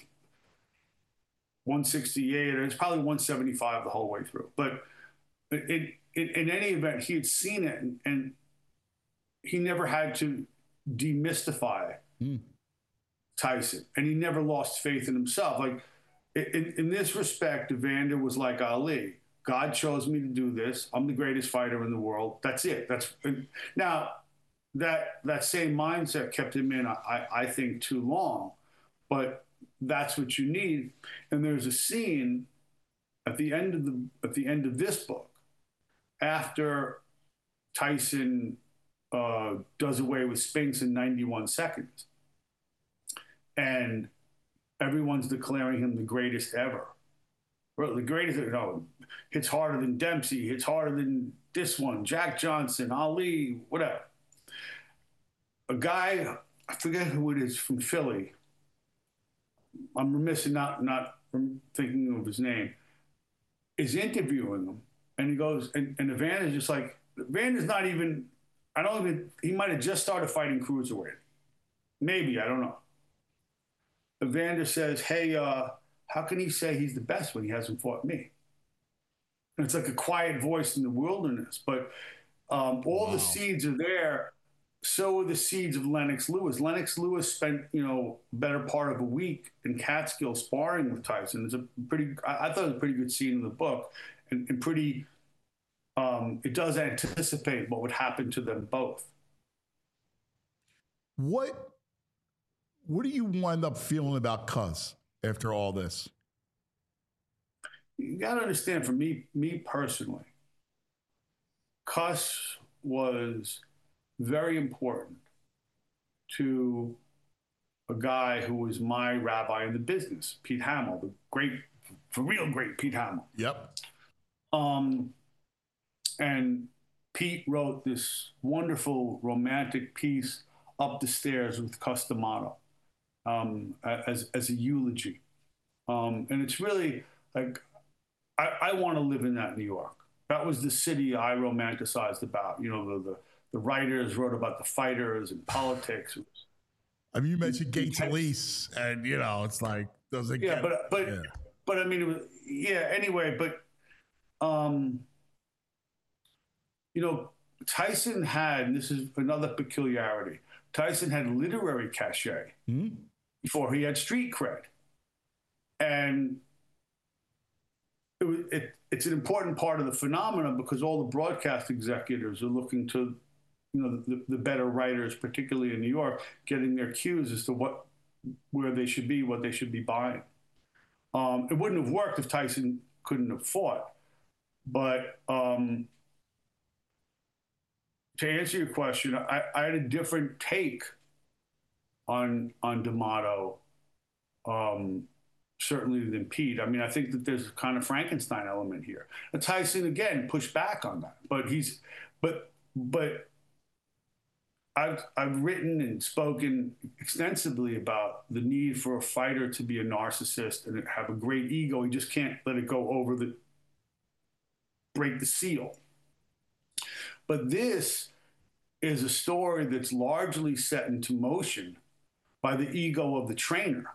168 or it's probably 175 the whole way through. But in any event, he had seen it and he never had to demystify Tyson, and he never lost faith in himself. Like in this respect, Evander was like Ali. God chose me to do this. I'm the greatest fighter in the world. That's it. Now that same mindset kept him in, I think, too long, but that's what you need. And there's a scene at the end of this book after Tyson does away with Spinks in 91 seconds, and everyone's declaring him the greatest ever. The greatest, hits harder than Dempsey, hits harder than this one, Jack Johnson, Ali, whatever. A guy, I forget who it is, from Philly. I'm remiss in not thinking of his name, is interviewing him. And he goes, and Evander's just like, Evander's not even, he might have just started fighting cruiserweight. Maybe, I don't know. Evander says, "Hey, how can he say he's the best when he hasn't fought me?" And it's like a quiet voice in the wilderness. But all the seeds are there. So are the seeds of Lennox Lewis. Lennox Lewis spent, better part of a week in Catskill sparring with Tyson. I thought it was a pretty good scene in the book, and pretty. It does anticipate what would happen to them both. What do you wind up feeling about Cuz after all this? You got to understand, for me personally, Cus was very important to a guy who was my rabbi in the business, Pete Hamill, the real great Pete Hamill. Yep. And Pete wrote this wonderful romantic piece, Up the Stairs with Cus D'Amato. as a eulogy. And it's really like, I want to live in that New York. That was the city I romanticized about. You know, the writers wrote about the fighters and politics. I mean, you mentioned Gay Talese, and you know, it's like those are but I mean, it was, anyway, but you know, Tyson had, and this is another peculiarity, Tyson had literary cachet before he had street cred. And it's an important part of the phenomenon because all the broadcast executives are looking to, you know, the better writers, particularly in New York, getting their cues as to where they should be, what they should be buying. It wouldn't have worked if Tyson couldn't have fought. But to answer your question, I had a different take on D'Amato, certainly than Pete. I mean, I think that there's a kind of Frankenstein element here. And Tyson again pushed back on that, but I've written and spoken extensively about the need for a fighter to be a narcissist and have a great ego. He just can't let it go break the seal. But this is a story that's largely set into motion by the ego of the trainer.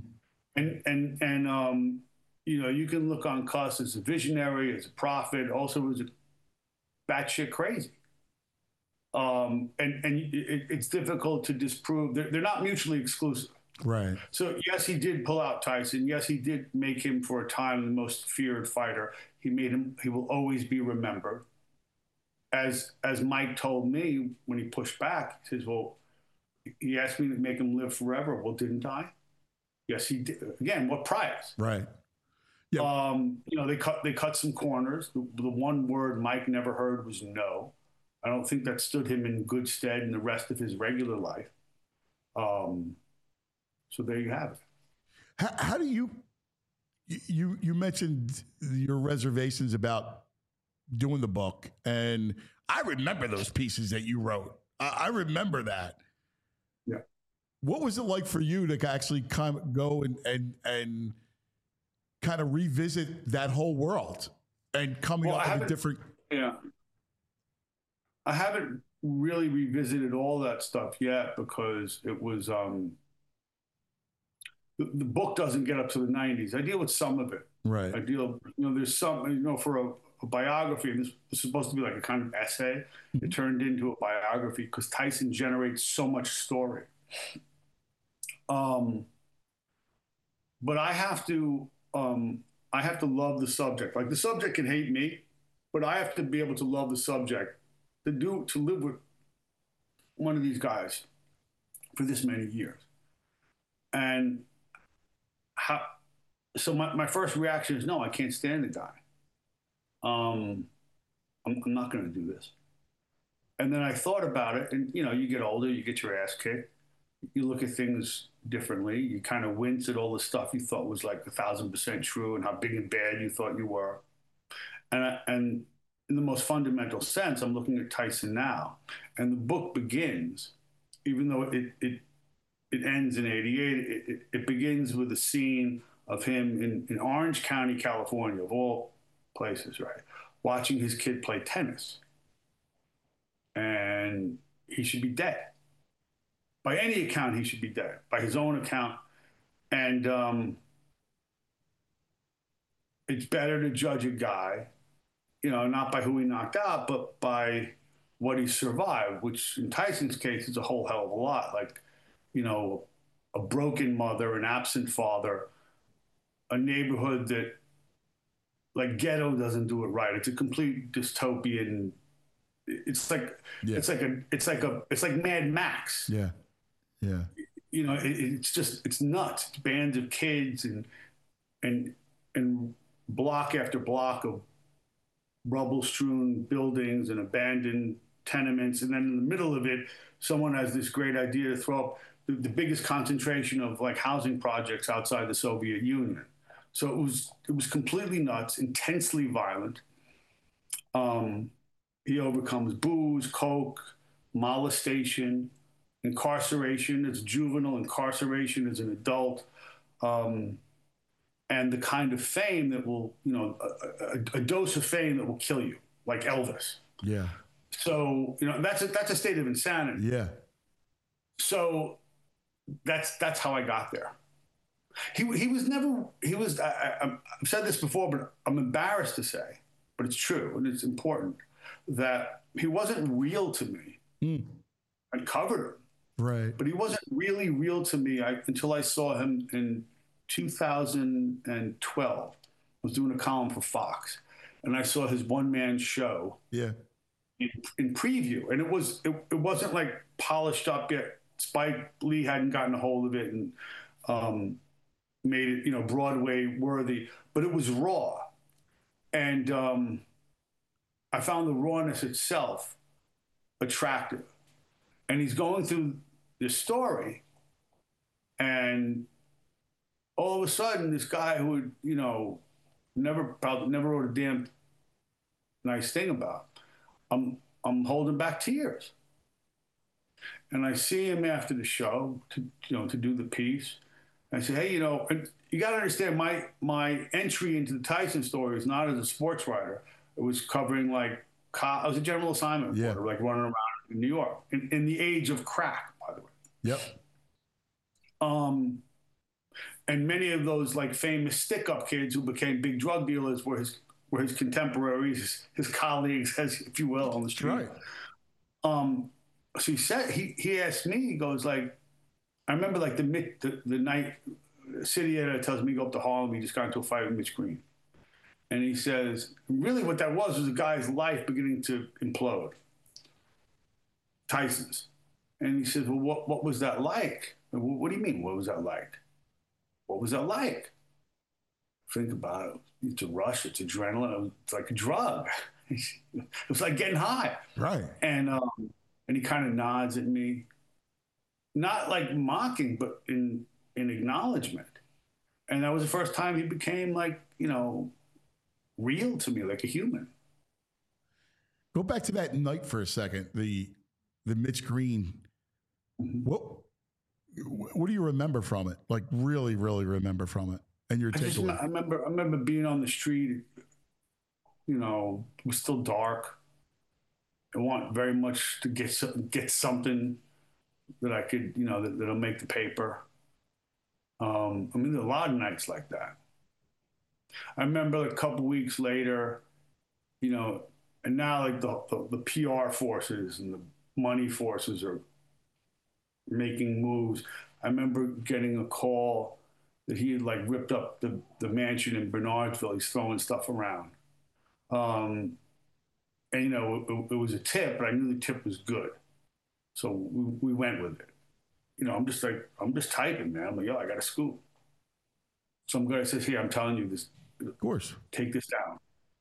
And you know, you can look on Cuss as a visionary, as a prophet, also as a batshit crazy. And it's difficult to disprove. They're not mutually exclusive. Right. So yes, he did pull out Tyson. Yes, he did make him for a time the most feared fighter. He will always be remembered. As Mike told me when he pushed back, he says, well, he asked me to make him live forever. Well, didn't I? Yes, he did. Again, what price? Right. Yeah. You know, they cut some corners. The one word Mike never heard was no. I don't think that stood him in good stead in the rest of his regular life. So there you have it. How do you mentioned your reservations about doing the book, and I remember those pieces that you wrote. I remember that. Yeah. What was it like for you to actually kind of go and kind of revisit that whole world and coming up with a different? Yeah. I haven't really revisited all that stuff yet because it was the book doesn't get up to the 90s. I deal with some of it. Right. I deal, you know, there's some, you know, for a biography, and this was supposed to be like a kind of essay. It turned into a biography because Tyson generates so much story. But I have to love the subject. Like the subject can hate me, but I have to be able to love the subject to live with one of these guys for this many years. And so my first reaction is, no, I can't stand the guy. I'm not going to do this. And then I thought about it, and you know, you get older, you get your ass kicked, you look at things differently, you kind of wince at all the stuff you thought was like 1,000% true and how big and bad you thought you were. And in the most fundamental sense, I'm looking at Tyson now, and the book begins, even though it ends in '88, it begins with a scene of him in Orange County, California, of all places, right, watching his kid play tennis. And he should be dead. By any account, he should be dead. By his own account. And it's better to judge a guy, you know, not by who he knocked out, but by what he survived, which in Tyson's case is a whole hell of a lot. Like, you know, a broken mother, an absent father, a neighborhood that, like, Ghetto doesn't do it right. It's a complete dystopian. It's like Mad Max. Yeah, yeah. You know, it's nuts. It's bands of kids and block after block of rubble-strewn buildings and abandoned tenements, and then in the middle of it, someone has this great idea to throw up the biggest concentration of like housing projects outside the Soviet Union. So it was completely nuts, intensely violent. He overcomes booze, coke, molestation, incarceration as juvenile, incarceration as an adult, and the kind of fame that will, a dose of fame that will kill you, like Elvis. Yeah. So, that's a state of insanity. Yeah. So that's how I got there. I've said this before, but I'm embarrassed to say, but it's true and it's important, that he wasn't real to me. I covered him. Right. But he wasn't really real to me until I saw him in 2012. I was doing a column for Fox, and I saw his one-man show. Yeah. In preview, and it wasn't like polished up yet. Spike Lee hadn't gotten a hold of it and made it, Broadway worthy, but it was raw, and I found the rawness itself attractive. And he's going through this story, and all of a sudden, this guy who had, never wrote a damn nice thing about, I'm holding back tears. And I see him after the show to do the piece. And I say, hey, and you got to understand, my entry into the Tyson story is not as a sports writer. It was covering I was a general assignment reporter, like running around in New York in the age of crack, by the way. Yep. And many of those famous stick-up kids who became big drug dealers were his contemporaries, his colleagues, if you will, on the street. Right. So he asked me, he goes I remember the night city editor tells me to go up to Harlem. He just got into a fight with Mitch Green. And he says, really what that was a guy's life beginning to implode. Tyson's. And he says, well, what was that like? What do you mean, what was that like? What was that like? Think about it. It's a rush. It's adrenaline. It's like a drug. It was like getting high. Right. And he kind of nods at me, not like mocking, but in acknowledgement. And that was the first time he became real to me, like a human. Go back to that night for a second. The Mitch Green. Mm-hmm. What do you remember from it? Like really, really remember from it? And your takeaway? I remember being on the street. It was still dark. I want very much to get something that I could, that'll make the paper. There are a lot of nights like that. I remember a couple weeks later, and now the PR forces and the money forces are making moves. I remember getting a call that he had ripped up the mansion in Bernardsville. He's throwing stuff around. And it was a tip, but I knew the tip was good. So we went with it. I'm just typing, man. I'm like, yo, I got a scoop. Some guy says, here, I'm telling you this. Of course. Take this down.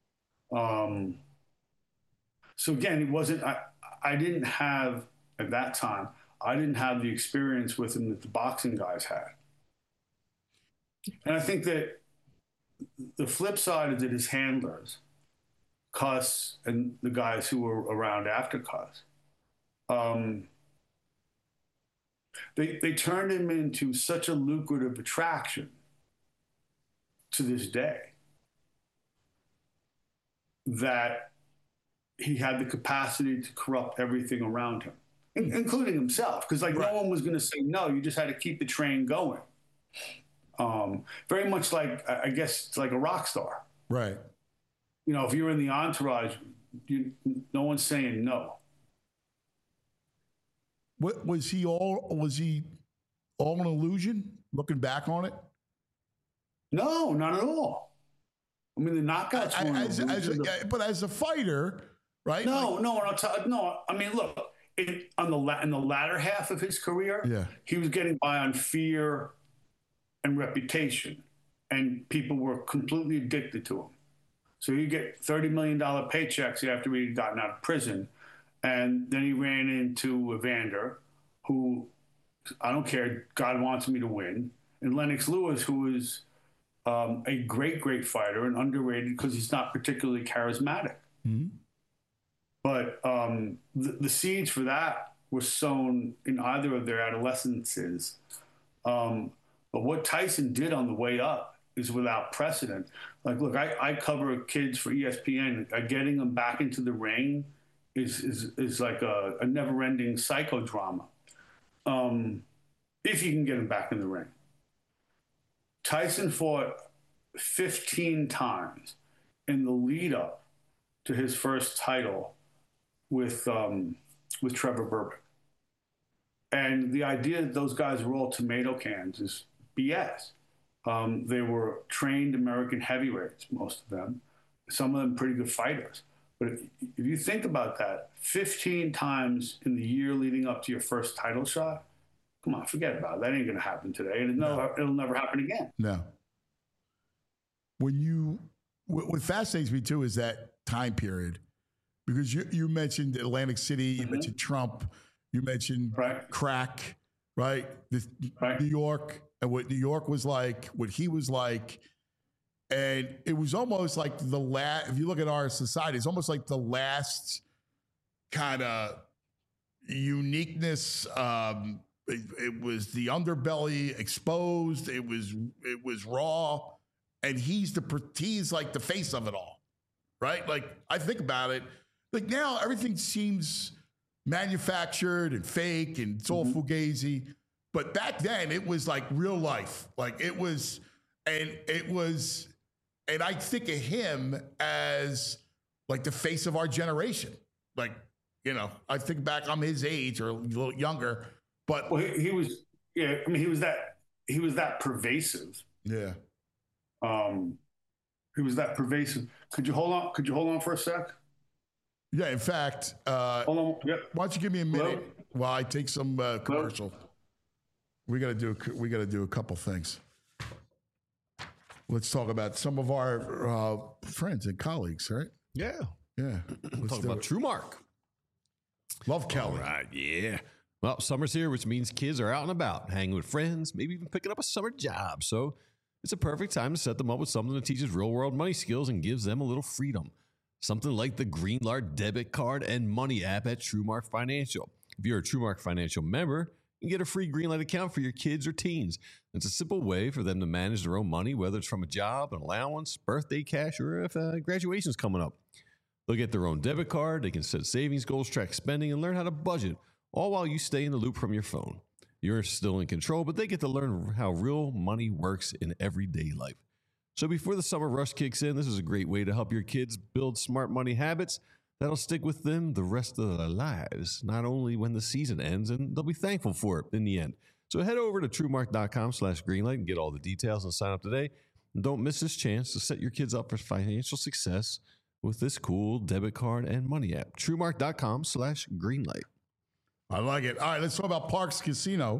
So again, it wasn't, I didn't have, at that time, I didn't have the experience with him that the boxing guys had. And I think that the flip side is that his handlers, Cuss and the guys who were around after Cuss, they turned him into such a lucrative attraction to this day that he had the capacity to corrupt everything around him, including himself. Because no one was going to say no. You just had to keep the train going. Very much like, I guess, it's like a rock star. Right. If you're in the entourage, no one's saying no. What was he all an illusion looking back on it? No, not at all. The knockouts were but as a fighter, right? No. Look, in the latter half of his career, he was getting by on fear and reputation, and people were completely addicted to him. So he'd get $30 million paychecks after he'd gotten out of prison. And then he ran into Evander, who, I don't care, God wants me to win. And Lennox Lewis, who is a great, great fighter and underrated because he's not particularly charismatic. Mm-hmm. But the seeds for that were sown in either of their adolescences. But what Tyson did on the way up is without precedent. Like, look, I cover kids for ESPN. Getting them back into the ring is like a never-ending psychodrama. If you can get them back in the ring. Tyson fought 15 times in the lead up to his first title with Trevor Berbick. And the idea that those guys were all tomato cans is BS. They were trained American heavyweights, most of them, some of them pretty good fighters. But if you think about that, 15 times in the year leading up to your first title shot, come on, forget about it. That ain't going to happen today. And it'll never happen again. No. What fascinates me, too, is that time period. Because you mentioned Atlantic City, you mentioned Trump, you mentioned crack, right? New York, and what New York was like, what he was like. And it was almost like if you look at our society, it's almost like the last kind of uniqueness. It was the underbelly exposed. It was raw, and he's like the face of it all, right? Like, I think about it, like now everything seems manufactured and fake, and it's all fugazi. But back then, it was like real life. Like it was, and I think of him as like the face of our generation. Like, I think back, I'm his age or a little younger. But he was that pervasive. Yeah. He was that pervasive. Could you hold on for a sec? Yeah. In fact, hold on. Yep. Why don't you give me a minute while I take some commercial? We got to do a couple things. Let's talk about some of our friends and colleagues, right? Yeah. Yeah. Let's talk about TrueMark. Love Kelly. All right. Yeah. Well, summer's here, which means kids are out and about, hanging with friends, maybe even picking up a summer job. So it's a perfect time to set them up with something that teaches real-world money skills and gives them a little freedom. Something like the Greenlight debit card and money app at TrueMark Financial. If you're a TrueMark Financial member, you can get a free Greenlight account for your kids or teens. It's a simple way for them to manage their own money, whether it's from a job, an allowance, birthday cash, or if graduation's coming up. They'll get their own debit card, they can set savings goals, track spending, and learn how to budget, all while you stay in the loop from your phone. You're still in control, but they get to learn how real money works in everyday life. So before the summer rush kicks in, this is a great way to help your kids build smart money habits that'll stick with them the rest of their lives, not only when the season ends, and they'll be thankful for it in the end. So head over to TrueMark.com/Greenlight and get all the details and sign up today. And don't miss this chance to set your kids up for financial success with this cool debit card and money app. TrueMark.com/Greenlight. I like it. All right, let's talk about Parx Casino.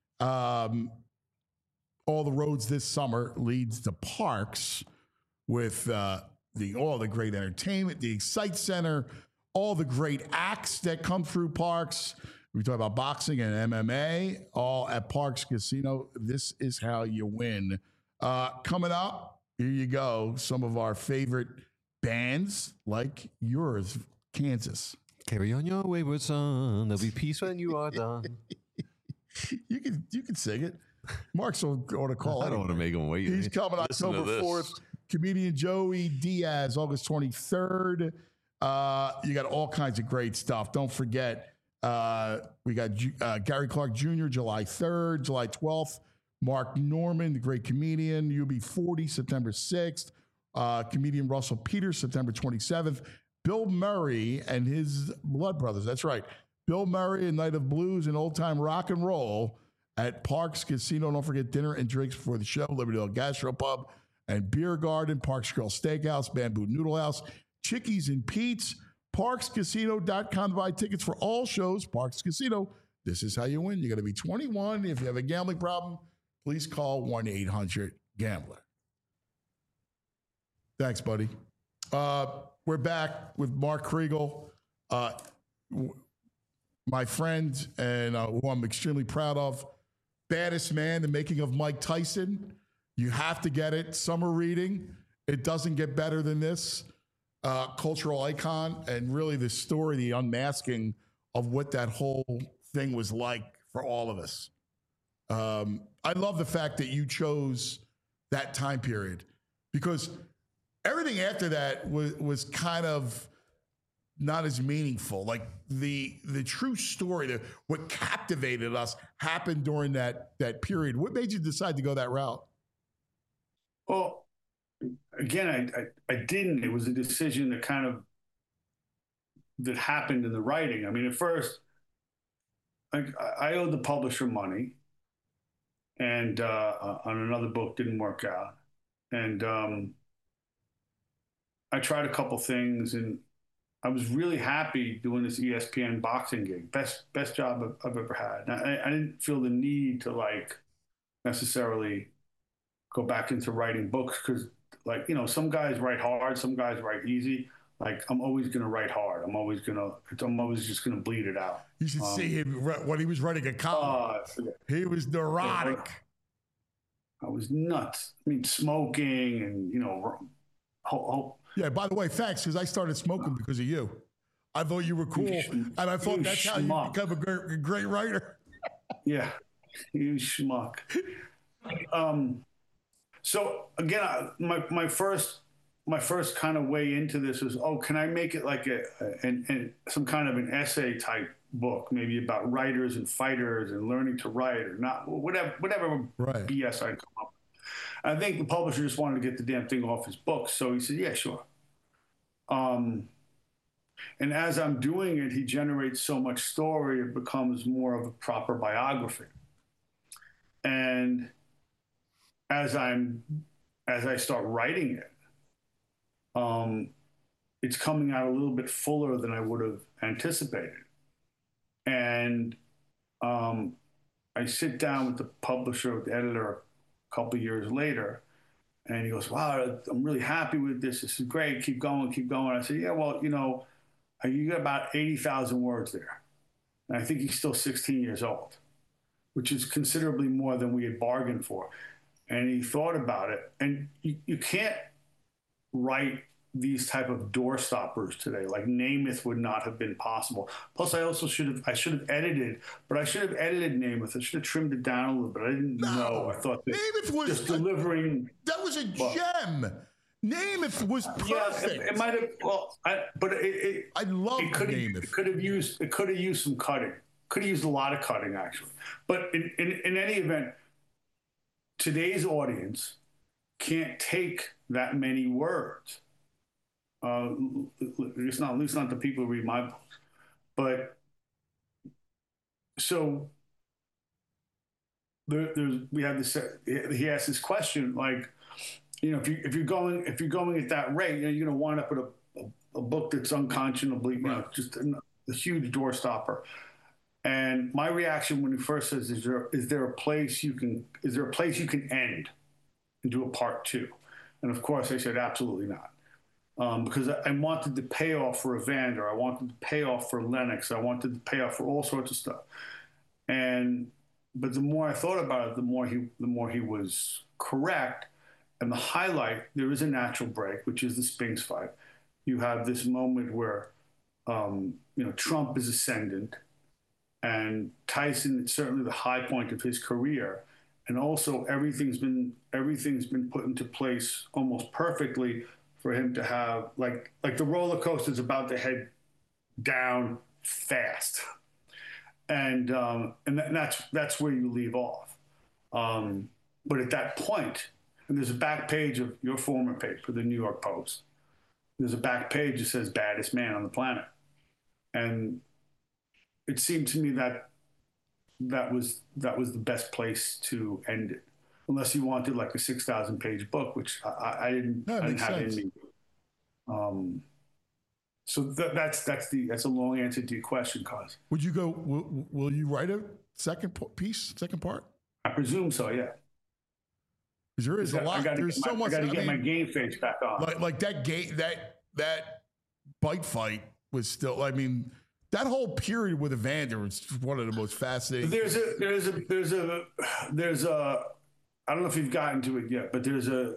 All the roads this summer leads to Parx with all the great entertainment, the Excite Center, all the great acts that come through Parx. We talk about boxing and MMA, all at Parx Casino. This is how you win. Coming up, here you go. Some of our favorite bands, like yours, Kansas. Carry on your wayward son. There'll be peace when you are done. You can sing it. Mark's on to call. I don't want to make him wait. He's coming October 4th. Comedian Joey Diaz, August 23rd. You got all kinds of great stuff. Don't forget, we got Gary Clark Jr. July 3rd, July 12th. Mark Norman, the great comedian, UB40, September 6th. Comedian Russell Peters, September 27th. Bill Murray and his Blood Brothers. That's right. Bill Murray and Night of Blues and Old Time Rock and Roll at Parx Casino. Don't forget dinner and drinks before the show. Libertyville Gastropub and Beer Garden, Parx Grill Steakhouse, Bamboo Noodle House, Chickies and Pete's, ParxCasino.com to buy tickets for all shows. Parx Casino, this is how you win. You got to be 21. If you have a gambling problem, please call 1-800-GAMBLER. Thanks, buddy. We're back with Mark Kriegel, my friend, and who I'm extremely proud of. Baddest Man, The Making of Mike Tyson. You have to get it. Summer reading. It doesn't get better than this. Cultural icon, and really the story, the unmasking of what that whole thing was like for all of us. I love the fact that you chose that time period because everything after that was kind of not as meaningful. Like the true story, what captivated us happened during that period. What made you decide to go that route? Well, again, I didn't. It was a decision that happened in the writing. I mean, at first, I owed the publisher money, and on another book didn't work out, and I tried a couple things, and I was really happy doing this ESPN boxing gig. Best job I've ever had. I didn't feel the need to necessarily go back into writing books because, some guys write hard, some guys write easy. I'm always going to write hard. I'm always just going to bleed it out. You should see him when he was writing a column. He was neurotic. I was nuts. I mean, smoking and, yeah, by the way, thanks, because I started smoking because of you. I thought you were cool, and I thought that's how you become a great writer. Yeah, you schmuck. So again, my first kind of way into this was, can I make it like some kind of an essay type book, maybe about writers and fighters and learning to write or not, whatever right. BS I'd come up with. I think the publisher just wanted to get the damn thing off his books, so he said, yeah, sure. And as I'm doing it, he generates so much story, it becomes more of a proper biography. And as I start writing it, it's coming out a little bit fuller than I would have anticipated. And I sit down with the publisher, with the editor, a couple of years later, and he goes, wow, I'm really happy with this. This is great. Keep going, keep going. I said, yeah, well, you got about 80,000 words there. And I think he's still 16 years old, which is considerably more than we had bargained for. And he thought about it. And you can't write these type of door stoppers today. Like Namath would not have been possible. Plus, I should have edited, but I should have edited Namath. I should have trimmed it down a little bit. I didn't know. I thought that Namath was just delivering. That was a gem. Namath was perfect. Yeah, it might have. Well, I love Namath. It could have used some cutting. Could have used a lot of cutting actually. But in any event, today's audience can't take that many words. At least not the people who read my books. But so we have this. He asked this question, if you're going at that rate, you're going to wind up with a book that's unconscionably, just a huge door stopper. And my reaction when he first says, "Is there a place you can end and do a part 2?" And of course, I said, absolutely not. Because I wanted the payoff for Evander. I wanted the payoff for Lennox. I wanted the payoff for all sorts of stuff. But the more I thought about it, the more he was correct. And the highlight, there is a natural break, which is the Spinks fight. You have this moment where, Trump is ascendant, and Tyson is certainly the high point of his career. And also everything's been put into place almost perfectly for him to have like the roller coaster is about to head down fast, and that's where you leave off. But at that point, and there's a back page of your former paper, the New York Post. There's a back page that says "baddest man on the planet," and it seemed to me that was the best place to end it. Unless you wanted like a 6,000-page book, which I didn't have in me. So that's a long answer to your question, Cos. Would you go? Will you write a second part? I presume so. Yeah. Because there is a lot. There's so much. I got to get my game face back on. Like that game, that bite fight was still. I mean, that whole period with Evander was one of the most fascinating. There's a. I don't know if you've gotten to it yet, but there's a,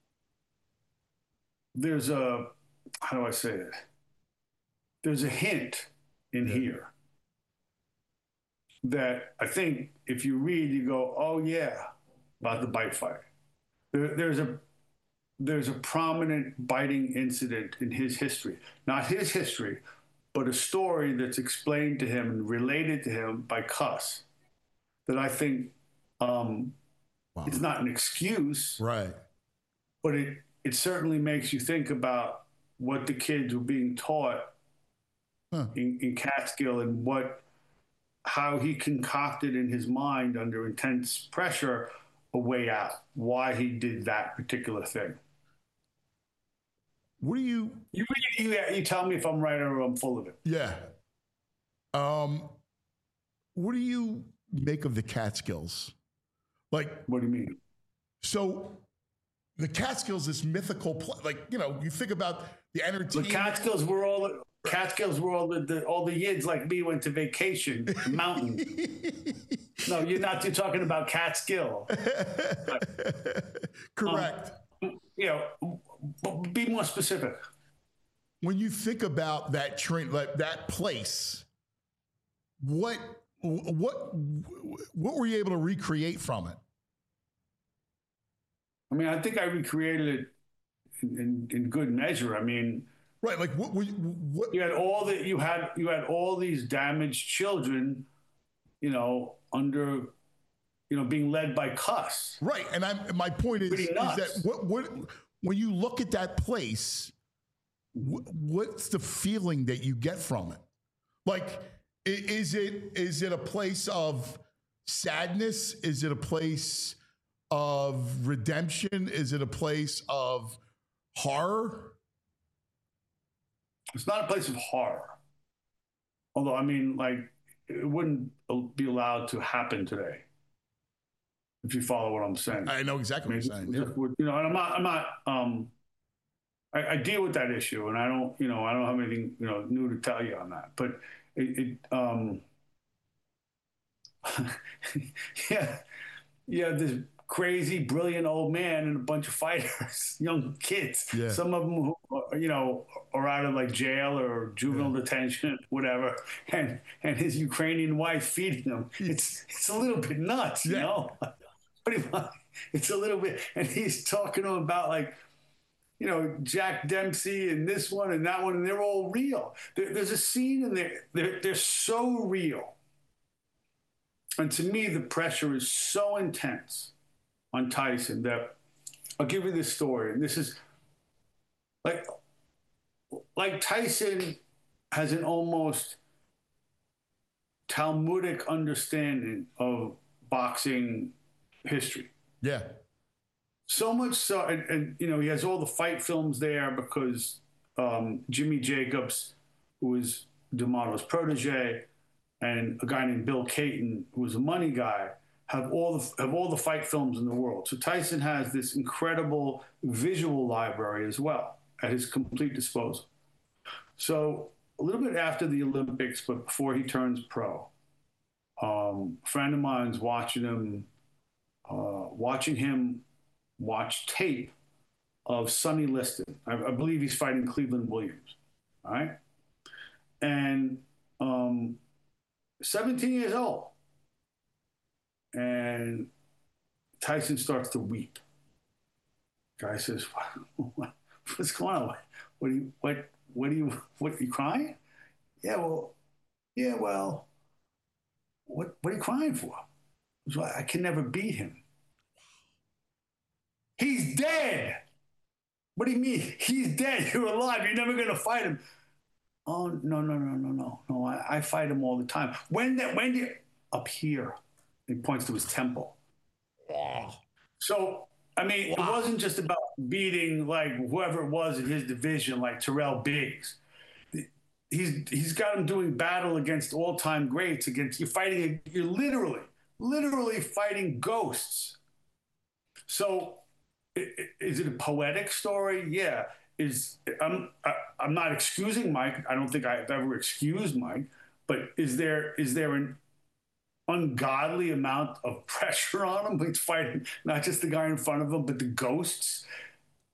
how do I say it? There's a hint in here that I think if you read, you go, oh yeah, about the bite fight. There's a prominent biting incident in his history, not his history, but a story that's explained to him and related to him by Cuss that I think it's not an excuse, right? But it certainly makes you think about what the kids were being taught in Catskill and how he concocted in his mind under intense pressure a way out, why he did that particular thing. What do you tell me if I'm right or I'm full of it? Yeah. What do you make of the Catskills? Like, what do you mean? So the Catskills, this mythical, you think about the entertainment. The Catskills were all the yids like me went to vacation mountain. No, you're not. You're talking about Catskill. Correct. Be more specific. When you think about that train, like that place, what were you able to recreate from it? I mean, I think I recreated it in good measure. I mean, right? Like what you had all these damaged children, under, being led by Cuss. Right, and my point is that what when you look at that place, what's the feeling that you get from it? Like, is it a place of sadness? Is it a place of redemption? Is it a place of horror? It's not a place of horror. Although, I mean, like, it wouldn't be allowed to happen today. If you follow what I'm saying. I know exactly what you're saying. And I'm not, I deal with that issue, and I don't have anything, new to tell you on that. But this crazy, brilliant old man and a bunch of fighters, young kids. Yeah. Some of them, who, are out of like jail or juvenile detention, whatever, and his Ukrainian wife feeding them. It's a little bit nuts, Pretty much, it's a little bit, and he's talking to him about like, Jack Dempsey and this one and that one, and they're all real. There's a scene in there. They're so real, and to me, the pressure is so intense on Tyson that I'll give you this story, and this is like Tyson has an almost Talmudic understanding of boxing history. Yeah. So much so, and he has all the fight films there because Jimmy Jacobs, who was D'Amato's protege, and a guy named Bill Caton, who was a money guy, have all the fight films in the world. So Tyson has this incredible visual library as well at his complete disposal. So a little bit after the Olympics, but before he turns pro, a friend of mine's watching him watch tape of Sonny Liston. I believe he's fighting Cleveland Williams, all right? And 17 years old. And Tyson starts to weep. Guy says, what's going on? What are you crying? Yeah, well, what are you crying for? I can never beat him. He's dead. What do you mean? He's dead. You're alive. You're never going to fight him. Oh, no. I fight him all the time. When do you? Up here. He points to his temple. Wow. So, I mean, It wasn't just about beating like whoever it was in his division, like Terrell Biggs. He's got him doing battle against all-time greats. You're literally fighting ghosts. So, is it a poetic story? Yeah. I'm not excusing Mike. I don't think I've ever excused Mike. But is there an ungodly amount of pressure on him? He's fighting not just the guy in front of him, but the ghosts.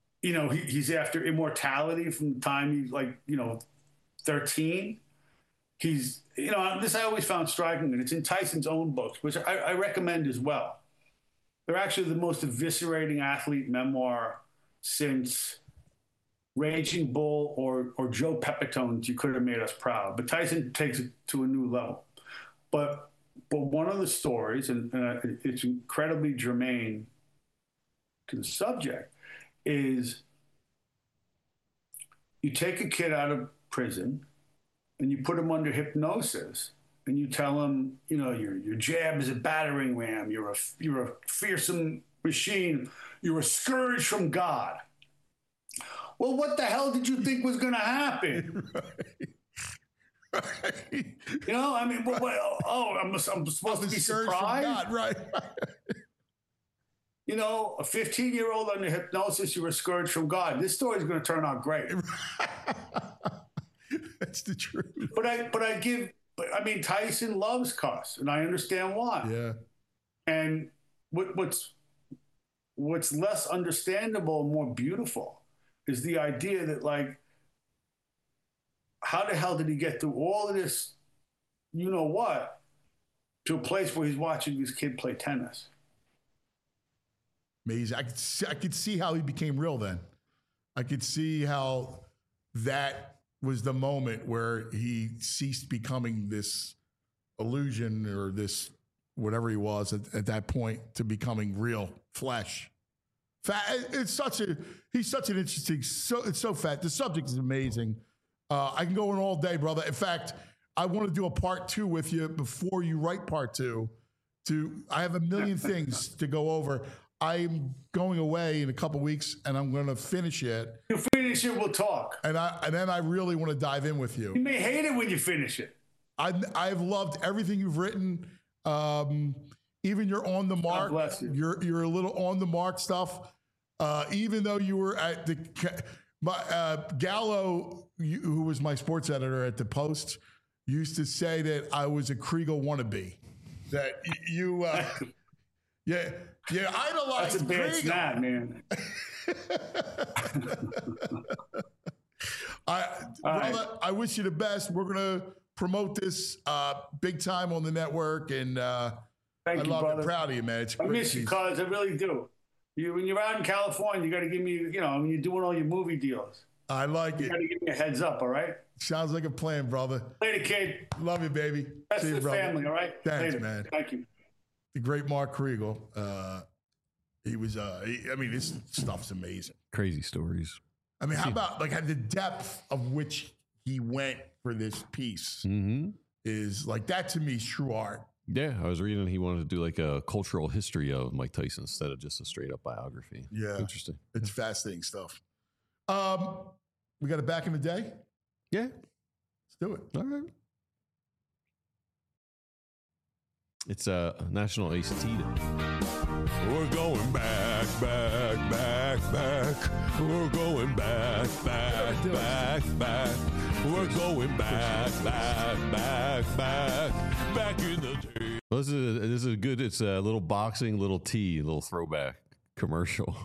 He's after immortality from the time he's 13. he's, you know, this I always found striking, and it's in Tyson's own books, which I recommend as well. They're actually the most eviscerating athlete memoir since Raging Bull or Joe Pepitone's You Could Have Made Us Proud. But Tyson takes it to a new level. But one of the stories, and it's incredibly germane to the subject, is you take a kid out of prison and you put him under hypnosis and you tell him, you know, your jab is a battering ram, you're a fearsome machine, you're a scourge from God. Well, what the hell did you think was going to happen? Right. You know, I mean, I'm supposed to be surprised? God, right. You know, a 15-year-old under hypnosis, you're a scourge from God. This story is going to turn out great. That's the truth. But I mean, Tyson loves cuss, and I understand why. Yeah. And what's less understandable and more beautiful is the idea that, like, how the hell did he get through all of this, you know what, to a place where he's watching this kid play tennis? Amazing. I could see how he became real then. I could see how that was the moment where he ceased becoming this illusion or this whatever he was at that point to becoming real flesh. He's such an interesting, it's so fat. The subject is amazing. I can go in all day, brother. In fact, I want to do a part 2 with you before you write part 2. I have a million things to go over. I'm going away in a couple weeks, and I'm going to finish it. You finish it, we'll talk. And then I really want to dive in with you. You may hate it when you finish it. I've loved everything you've written. Even your on the mark, your a little on the mark stuff. Even though you were at the Gallo, who was my sports editor at the Post, used to say that I was a Kriegel wannabe. That you, yeah, idolized. That's a bad Kriegel. snap, man. Brother, I wish you the best. We're gonna promote this big time on the network, and Thank you, love brother. it. Proud of you, man. It's I miss you, cuz. I really do. When you're out in California, you got to give me, you know, when you're doing all your movie deals. I like it. You got to give me a heads up, all right? Sounds like a plan, brother. Later, kid. Love you, baby. Best See to you, the brother. family, all right? Thanks, Later. man. Thank you. The great Mark Kriegel. He was, I mean, this stuff's amazing. Crazy stories. I mean, how about like the depth of which he went for this piece is like, that to me is true art. Yeah, I was reading he wanted to do like a cultural history of Mike Tyson instead of just a straight up biography. Yeah. Interesting. It's fascinating stuff. We got it back in the day? Yeah. Let's do it. All right. It's a National Ace Tea Day. We're going back. We're going back. We're going back in the day. Well, this is a good. It's a little boxing, little tea, little throwback commercial.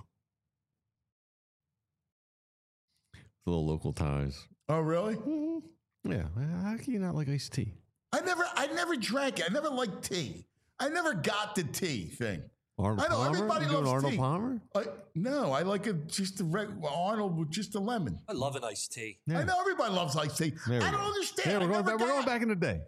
Little local ties. Oh, really? Mm-hmm. Yeah. How can you not like iced tea? I never drank it. I never liked tea. I never got the tea thing. Arnold I know Palmer? everybody You loves doing Arnold tea. Palmer? No, I like just Arnold with just a lemon. I love an iced tea. Yeah. I know everybody loves iced tea. I don't understand. Yeah, we're going back in the day.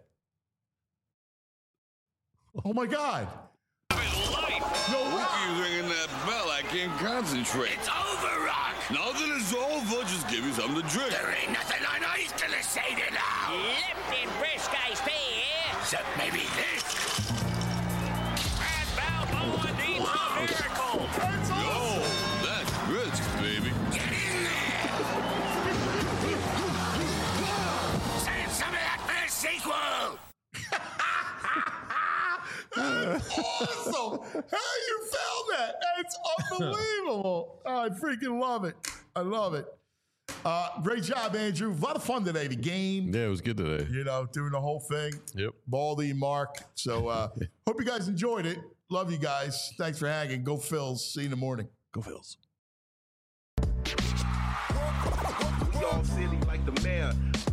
Oh my God! No way! Keep ringing that bell. I can't concentrate. It's over, Rock. Now that it's over, just give me something to drink. There ain't nothing on ice gonna save it now. Lipton brisk iced tea here. Except maybe this. And Balboa needs a miracle. Yo, that's brisk, baby. Get in there. Save some of that for the sequel. That's awesome! How you found that? It's unbelievable. Oh, I freaking love it. I love it. Great job, Andrew. A lot of fun today. The game. Yeah, it was good today. You know, doing the whole thing. Yep. Baldy, Mark. So hope you guys enjoyed it. Love you guys. Thanks for hanging. Go Phils. See you in the morning. Go Phils. We all silly like the mayor.